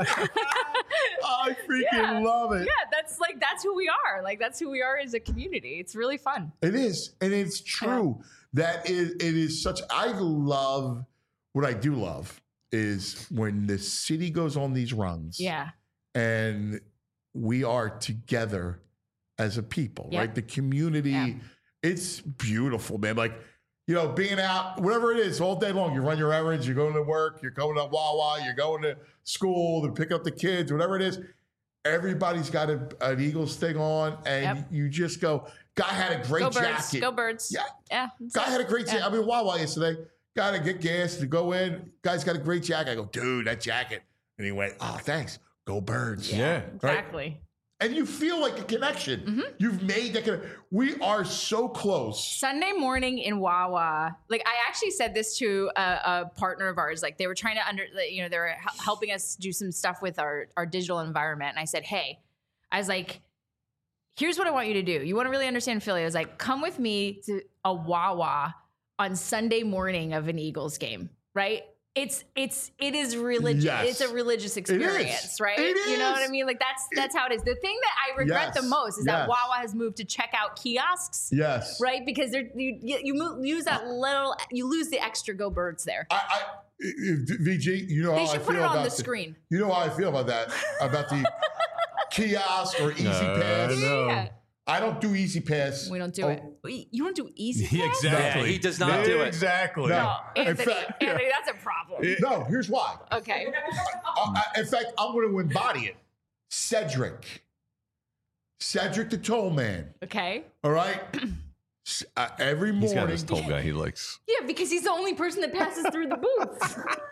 I freaking Yeah. love it. Yeah, that's like that's who we are. Like that's who we are as a community. It's really fun. It is, and it's true that it, it is such. I love what I do love is when the city goes on these runs. Yeah. And we are together as a people, Yeah. right? The community, Yeah. it's beautiful, man. Like, you know, being out, whatever it is, all day long. You run your errands, you're going to work, you're going to Wawa, you're going to school to pick up the kids, whatever it is. Everybody's got a, an Eagles thing on, and Yep. you just go, guy had a great Go Birds. jacket. Go Birds. Yeah. Yeah. that's Guy it. had a great jacket. Yeah. I mean, Wawa yesterday. Got to get gas to go in. Guy's got a great jacket. I go, dude, that jacket. And he went, oh, thanks. Go Birds. Yeah. Exactly. And you feel like a connection. Mm-hmm. You've made that connection. We are so close. Sunday morning in Wawa, like I actually said this to a, a partner of ours. Like they were trying to under, you know, they were hel- helping us do some stuff with our our digital environment. And I said, hey, I was like, here's what I want you to do. You want to really understand Philly? I was like, come with me to a Wawa on Sunday morning of an Eagles game, right? It's it's it is religious. Yes. It's a religious experience, right? It You know what I is. mean? Like that's that's how it is. The thing that I regret Yes. the most is that Yes. Wawa has moved to checkout kiosks. Yes. Right, because they're, you you, you mo- use that little, you lose the extra Go Birds there. I, I, V G, you know They how I should put feel it on about the screen. You know how I feel about that, about the kiosk or Easy No, Pass. no. Yeah, I don't do Easy Pass. we don't do Oh, it. Wait, You don't do Easy Pass? Yeah, exactly. Yeah, he does not do it. Exactly. No. No, In Anthony, fact- Anthony, that's a problem. No, here's why. Okay. Uh, I- in fact, I'm going to embody it. Cedric. Cedric the Toll Man. Okay. All right? S- uh, every He's got morning. this tall guy he likes. Yeah, because he's the only person that passes through the booth.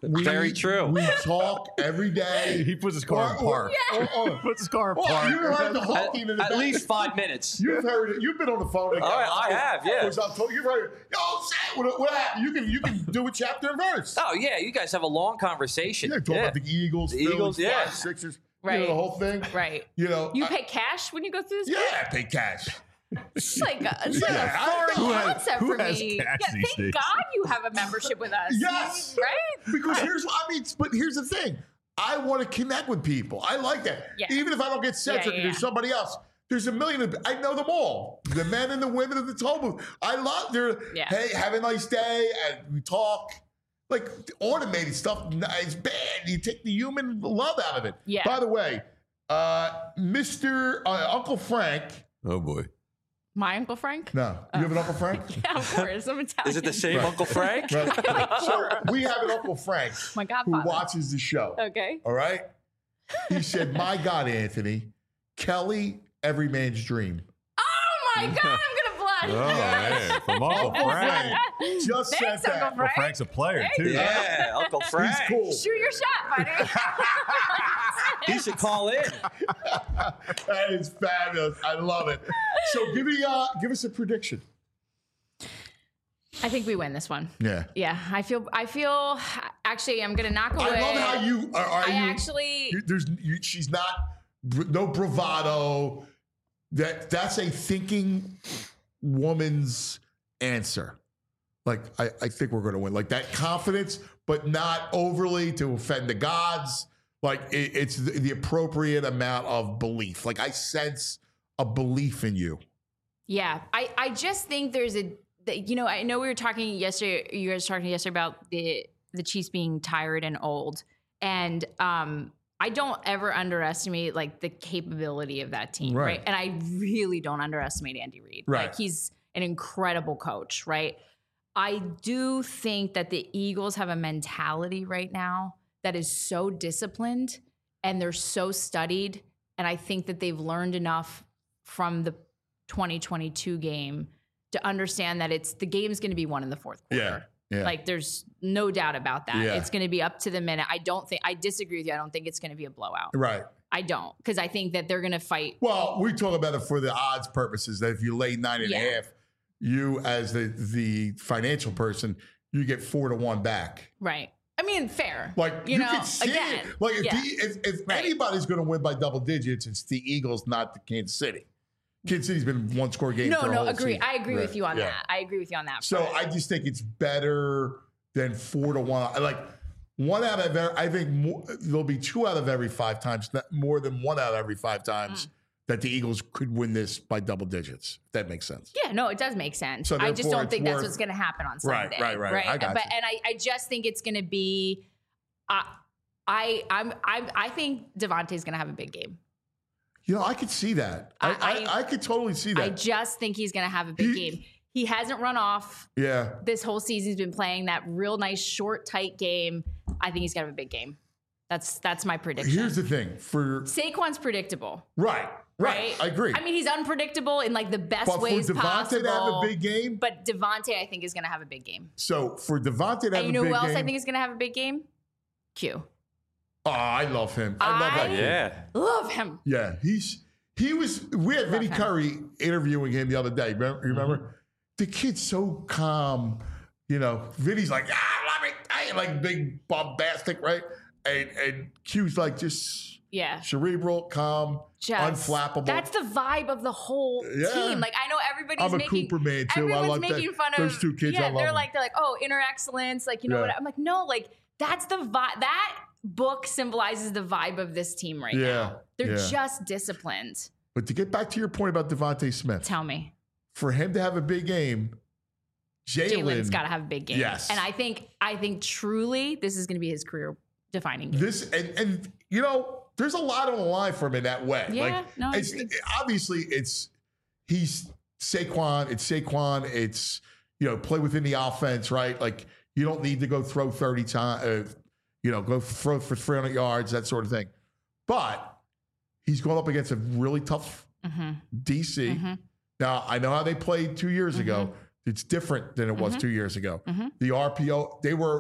We, Very true. We talk every day. He puts his car in Or- or- park. or- or- Puts his car in Well, park. you heard the whole At, team in the at back. least five minutes. You've heard it. You've been on the phone. All right, I have, yeah. You've heard it. Yo, say what, what happened? You can you can do a chapter and verse. Oh yeah, you guys have a long conversation. Yeah, talk Yeah. about the Eagles, The Phillies, Eagles, yeah. five, Sixers. You Right. know, the whole thing. Right. You know. You I- pay cash when you go through this? Yeah, I pay cash. It's like a, it's Yeah, like a I foreign know. Who has- concept who for has me. cash Yeah, these thank days? God you have a membership with us. Yes. Right? Because here's I mean, but here's the thing. I want to connect with people. I like that. Yeah. Even if I don't get Cedric Yeah, yeah, and there's yeah. somebody else. There's a million of I know them all. The men and the women of the toll booth. I love their Yeah. hey, have a nice day. And we talk. Like automated stuff is bad. You take the human love out of it. Yeah. By the way, uh, Mister Uh, Uncle Frank. Oh boy. My Uncle Frank? No. You have an Uncle Frank? Yeah, of course. I'm Italian. Is it the same Right. Uncle Frank? Right. So we have an Uncle Frank My who godfather. watches the show. Okay. All right. He said, "My God, Anthony, Kelly, every man's dream." Oh my God, I'm going to blush. Oh, man. From Uncle Frank. Just said Thanks, that. Uncle Well, Frank. Frank's a player, too. Yeah, Uncle Frank. He's cool. Shoot your shot, buddy. He should call in. That is fabulous. I love it. So give me, uh, give us a prediction. I think we win this one. Yeah. Yeah, I feel. I feel. Actually, I'm gonna knock away. I love how you are. are I you, actually. you- there's you, she's not br- no bravado. That that's a thinking woman's answer. Like I, I think we're going to win. Like that confidence, but not overly to offend the gods. Like it, it's the, the appropriate amount of belief. Like I sense a belief in you. Yeah, I. I just think there's a. the- You know, I know we were talking yesterday. You guys were talking yesterday about the the Chiefs being tired and old, and um, I don't ever underestimate like the capability of that team, right? Right. And I really don't underestimate Andy Reid. Right. Like he's an incredible coach, right? I do think that the Eagles have a mentality right now that is so disciplined and they're so studied, and I think that they've learned enough from the twenty twenty-two game to understand that it's the game's going to be won in the fourth quarter. Yeah. Like there's no doubt about that. Yeah. It's going to be up to the minute. I don't think I disagree with you. I don't think it's going to be a blowout. Right. I don't, because I think that they're going to fight. Well, we talk about it for the odds purposes. That if you lay nine and Yeah. a half, you as the the financial person, you get four to one back. Right. I mean, fair. Like you, you, know, can see again, it. Like if, yeah. the, if, if Right. anybody's going to win by double digits, it's the Eagles, not the Kansas City. Kansas City's been one score game. no, for a no, whole agree. season. I agree with Right. you on Yeah. that. I agree with you on that. So front. I just think it's better than four to one. Like one out of every, I think more, there'll be two out of every five times, not more than one out of every five times Mm. that the Eagles could win this by double digits. If that makes sense. Yeah, no, it does make sense. So I just therefore don't it's think that's worth- what's going to happen on Right, Sunday. right, right. I got but you. and I, I just think it's going to be. Uh, I I'm I I think Devontae's going to have a big game. You know, I could see that. I, I, I- I, could totally see that. I just think he's going to have a big He- game. He hasn't run off yeah. this whole season. He's been playing that real nice short tight game. I think he's going to have a big game. That's that's my prediction. Here's the thing for Saquon's predictable. right, right. Right? I agree. I mean, he's unpredictable in like the best but for ways Devontae possible. to have a big game, But Devontae, I think, is going to have a big game. so for Devontae to have And you a know big who else game, I think is going to have a big game? Q. oh, I love him. I love that. I- kid. Yeah. Love him. Yeah, he's he was. We had Vinny him. Curry interviewing him the other day. Remember? You remember? The kid's so calm. You know, Vinny's like, ah, love it. I ain't like big bombastic, right? And and Q's like just Yeah. cerebral, calm, Just, unflappable. That's the vibe of the whole Yeah. team. Like I know everybody's I'm a making Cooper man too. I everyone's like making that. fun of Those two kids. Yeah, I love they're them. like they're like, oh, inner excellence. Like you know Yeah. what? I'm like, no, like that's the vibe. That book symbolizes the vibe of this team right Yeah, now. They're yeah. just disciplined. But to get back to your point about Devontae Smith, Tell me, for him to have a big game, Jalen's Jalen, got to have a big game. Yes. and I think I think truly this is going to be his career defining game. this and and you know, there's a lot on the line for him in that way. Yeah, like, no, I it's agree. obviously it's he's Saquon. It's Saquon. It's you know, play within the offense, right? Like you don't need to go throw thirty times. Uh, you know, go throw for three hundred yards, that sort of thing. But he's going up against a really tough Mhm. D C. Mhm. Now, I know how they played two years ago. It's different than it was Mhm. two years ago. Mhm. The R P O, they were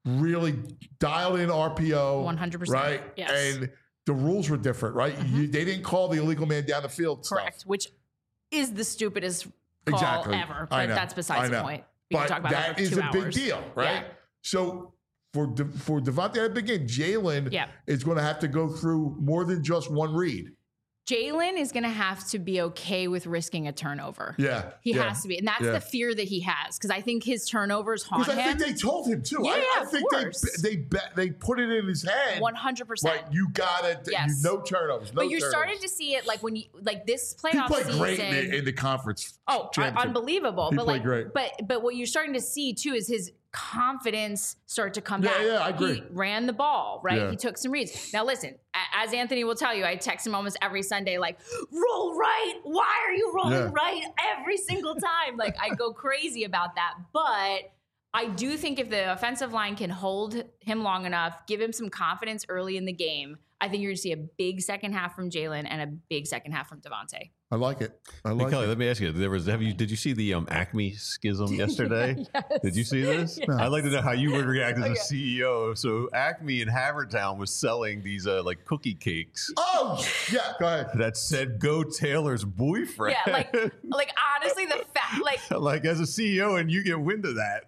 really dialed in R P O. one hundred percent. Right? Yes. And the rules were different, right? Mm-hmm. You, they didn't call the illegal man down the field Correct. stuff. Which is the stupidest call Exactly. ever. I But know. that's I besides the know. point. We But can talk about that that for is two a big hours. deal, right? Yeah. So for De, for Devontae at the beginning, Jalen Yeah. is going to have to go through more than just one read. Jalen is going to have to be okay with risking a turnover. Yeah. He yeah. has to be. And that's Yeah. the fear that he has because I think his turnovers haunt Because I him. think they told him too. Yeah, I, yeah, I of think course. they they bet they put it in his head. one hundred percent. Like you got it. Yes. You no turnovers. No but you're turnovers. starting to see it like when you like this He playoff played season. great in the, in the conference. Oh, championship. unbelievable! He but played like, great. but but what you're starting to see too is his confidence start to come Yeah, back. yeah, I agree. He ran the ball, right? Yeah. He took some reads. Now listen, a- as Anthony will tell you, I text him almost every Sunday, like, "Roll right. Why are you rolling Yeah. right every single time?" Like I go crazy about that, but. I do think if the offensive line can hold him long enough, give him some confidence early in the game, I think you're going to see a big second half from Jalen and a big second half from Devontae. I like it. I Hey, like Kelly, it. let me ask you: There was have you did you see the um, Acme schism yesterday? Yes. Did you see this? Yes. I'd like to know how you would react as Okay. a C E O. So Acme in Havertown was selling these uh, like cookie cakes Oh yeah. Go ahead. that said "Go Taylor's boyfriend." Yeah, like, like honestly, the fact, like, like as a C E O, and you get wind of that.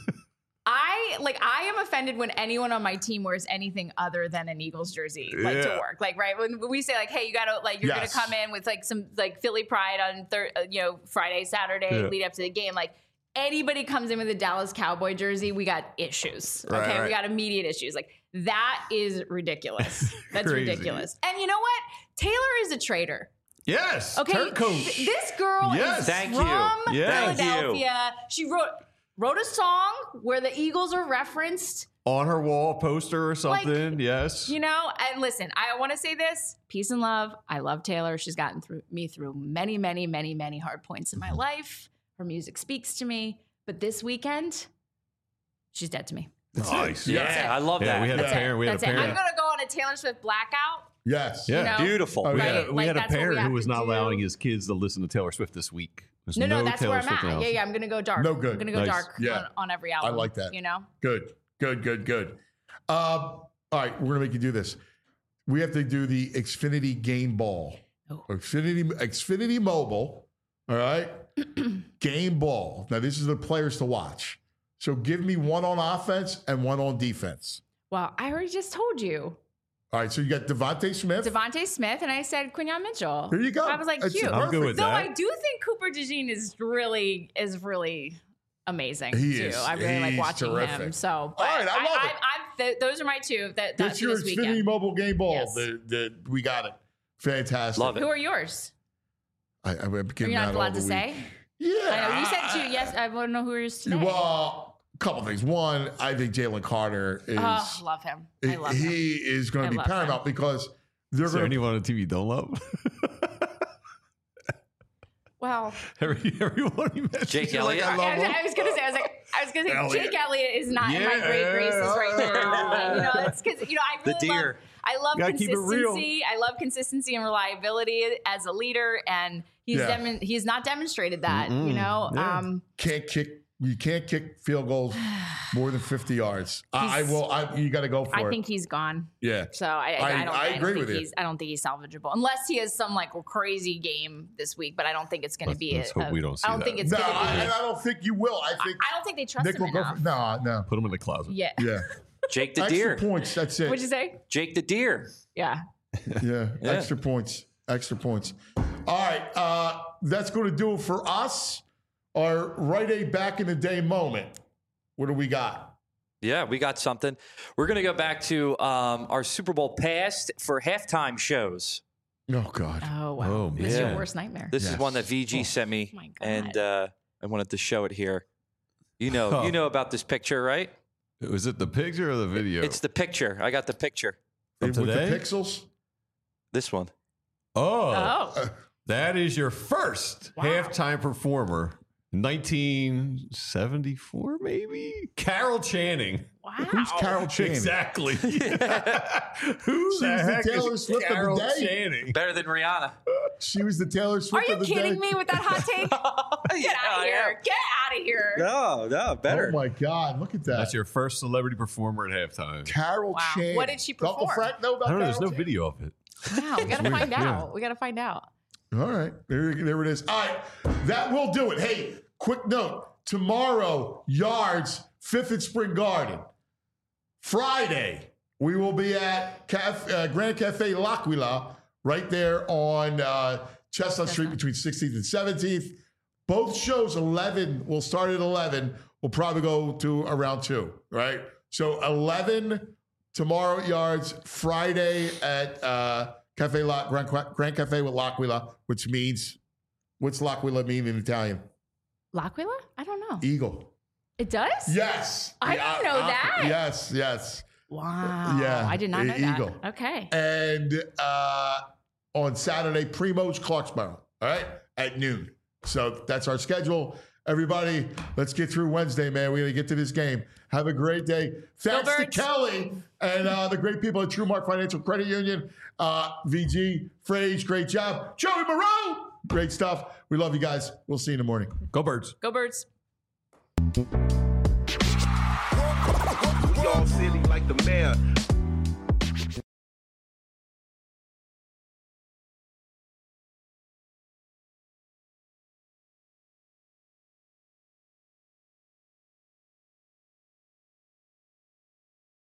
I like I am offended when anyone on my team wears anything other than an Eagles jersey, like to Yeah. work. Like, right when we say like, hey, you gotta like you're Yes. gonna come in with like some like Philly pride on thir- uh, you know Friday, Saturday, Yeah. lead up to the game. Like anybody comes in with a Dallas Cowboy jersey, we got issues. Okay, Right, right. we got immediate issues. Like that is ridiculous. That's Crazy. ridiculous. And you know what? Taylor is a traitor. Yes. Okay, Turncoat. th- this girl Yes. is Thank you. from Yeah. Thank you. Philadelphia. She wrote wrote a song where the Eagles are referenced. On her wall poster or Like, something. yes. You know, and listen, I want to say this: peace and love. I love Taylor. She's gotten through me through many, many, many, many hard points in my Mm-hmm. life. Her music speaks to me. But this weekend, she's dead to me. Nice. Yeah, I love Yeah, that. we had a That's parent. it. We had a That's it. I'm parent. gonna go on a Taylor Swift blackout. Yes. Yeah. You know? Beautiful. Oh, We yeah. had a, we Like, had a that's what we parent have who was to not do. allowing his kids to listen to Taylor Swift this week. There's No, no, that's Taylor where I'm Swift in the at. house. Yeah, yeah. I'm gonna go dark. No good. I'm gonna go Nice. dark Yeah. on, on every album. like that. You know. Good. Good. Good. Good. Um, all right, we're gonna make you do this. We have to do the Xfinity Game Ball. Oh. Xfinity Xfinity Mobile. All right. Game Ball. Now this is the players to watch. So give me one on offense and one on defense. Well, I already just told you. All right. So you got Devontae Smith. Devontae Smith, and I said Quinyon Mitchell. There you go. I was like, That's cute. I'm good with Though that. I do think Cooper DeJean is really is really amazing He too. is. I really like He's watching him. terrific. So, but All right, I love I, it. I'm, th- those are my two. That That's that's your this Xfinity weekend. Mobile Game Ball. Yes. The, the, we got it. Fantastic. Love it. Who are yours? I, I'm Are giving you not out all allowed the to week. say? Yeah. I know you said two. Yes, I want to know who yours today. Well, a couple things. One, I think Jalen Carter is. Oh, love him. I love him. he is going I to be love paramount because they're Is there going to. anyone on T V you don't love? Well, Every, everyone you mentioned. Jake you're like, Elliott? I I, love him. I was gonna say, I was like, I was gonna say, Elliott. Jake Elliott is not in my Yeah. great graces right now. You know, that's because you know I The really love. deer. I love Gotta keep it real. consistency. I love consistency and reliability as a leader, and he's Yeah. demo- he's not demonstrated that. Mm-mm. You know, Yeah. um, Can't kick. You can't kick field goals more than fifty yards. I, I He's- will. I, you got to go for I it. think he's gone. yeah. So I, I, I- I don't. I I, agree don't think with you. he's. I don't think he's salvageable unless he has some like crazy game this week. But I don't think it's going to Let's- be. let's a- hope we don't see I don't that. think it's No, going to be. I, and I don't think you will. I I, think I don't think they trust Nick him will go enough. for. No, no. Put him in the closet. Yeah. Yeah. Jake the Extra deer. points. That's it. What'd you say? Jake the deer. Yeah. Yeah, Yeah. extra points. Extra points. All right. Uh, that's going to do it for us. Our Rite Aid back in the day moment. What do we got? Yeah, we got something. We're going to go back to um, our Super Bowl past for halftime shows. Oh, God. Oh wow. Oh, This is yeah. your worst nightmare. This is Yes. one that V G sent me, Oh my God. and uh, I wanted to show it here. You know, Oh. you know about this picture, right? Was it the picture or the video? It's the picture. I got the picture. From With the today? pixels? This one. oh, Oh. that is your first Wow. halftime performer. nineteen seventy-four, maybe? Carol Channing. Wow. Who's Carol Channing? Exactly. Who She's the the heck Taylor is Swift of the Carol day. Channing? Better than Rihanna. She was the Taylor Are Swift you of the kidding day. me with that hot take? Get Yeah, out of I here. am. Get out of here. No, no, better. Oh my God! Look at that. That's your first celebrity performer at halftime. Carol Wow. Chan. What did she Uncle perform? Frank know about I don't know. Carol There's no Chan? video of it. Wow, we gotta find Yeah. out. We gotta find out. All right, there, there it is. All right, that will do it. Hey, quick note: tomorrow, Yards, Fifth and Spring Garden. Friday, we will be at Caf- uh, Grand Cafe L'Aquila, right there on uh, Chestnut Street between sixteenth and seventeenth. Both shows, eleven, will start at eleven. We'll probably go to around two, right? So eleven tomorrow at Yards, Friday at uh, Cafe La- Grand, Grand Cafe with L'Aquila, which means, what's L'Aquila mean in Italian? L'Aquila? I don't know. Eagle. It does? Yes. I The, didn't know uh, that. Yes, yes. Wow. Yeah, I did not know e- eagle. that. Okay. And uh, on Saturday, Primo's Clarksboro, all right, at noon. So that's our schedule. Everybody, let's get through Wednesday, man. We got to get to this game. Have a great day. Thanks to Birds. Kelly and uh, the great people at TrueMark Financial Credit Union. Uh, V G, Frage, great job. Joey Moreau, great stuff. We love you guys. We'll see you in the morning. Go Birds. Go Birds. We all silly like the mayor.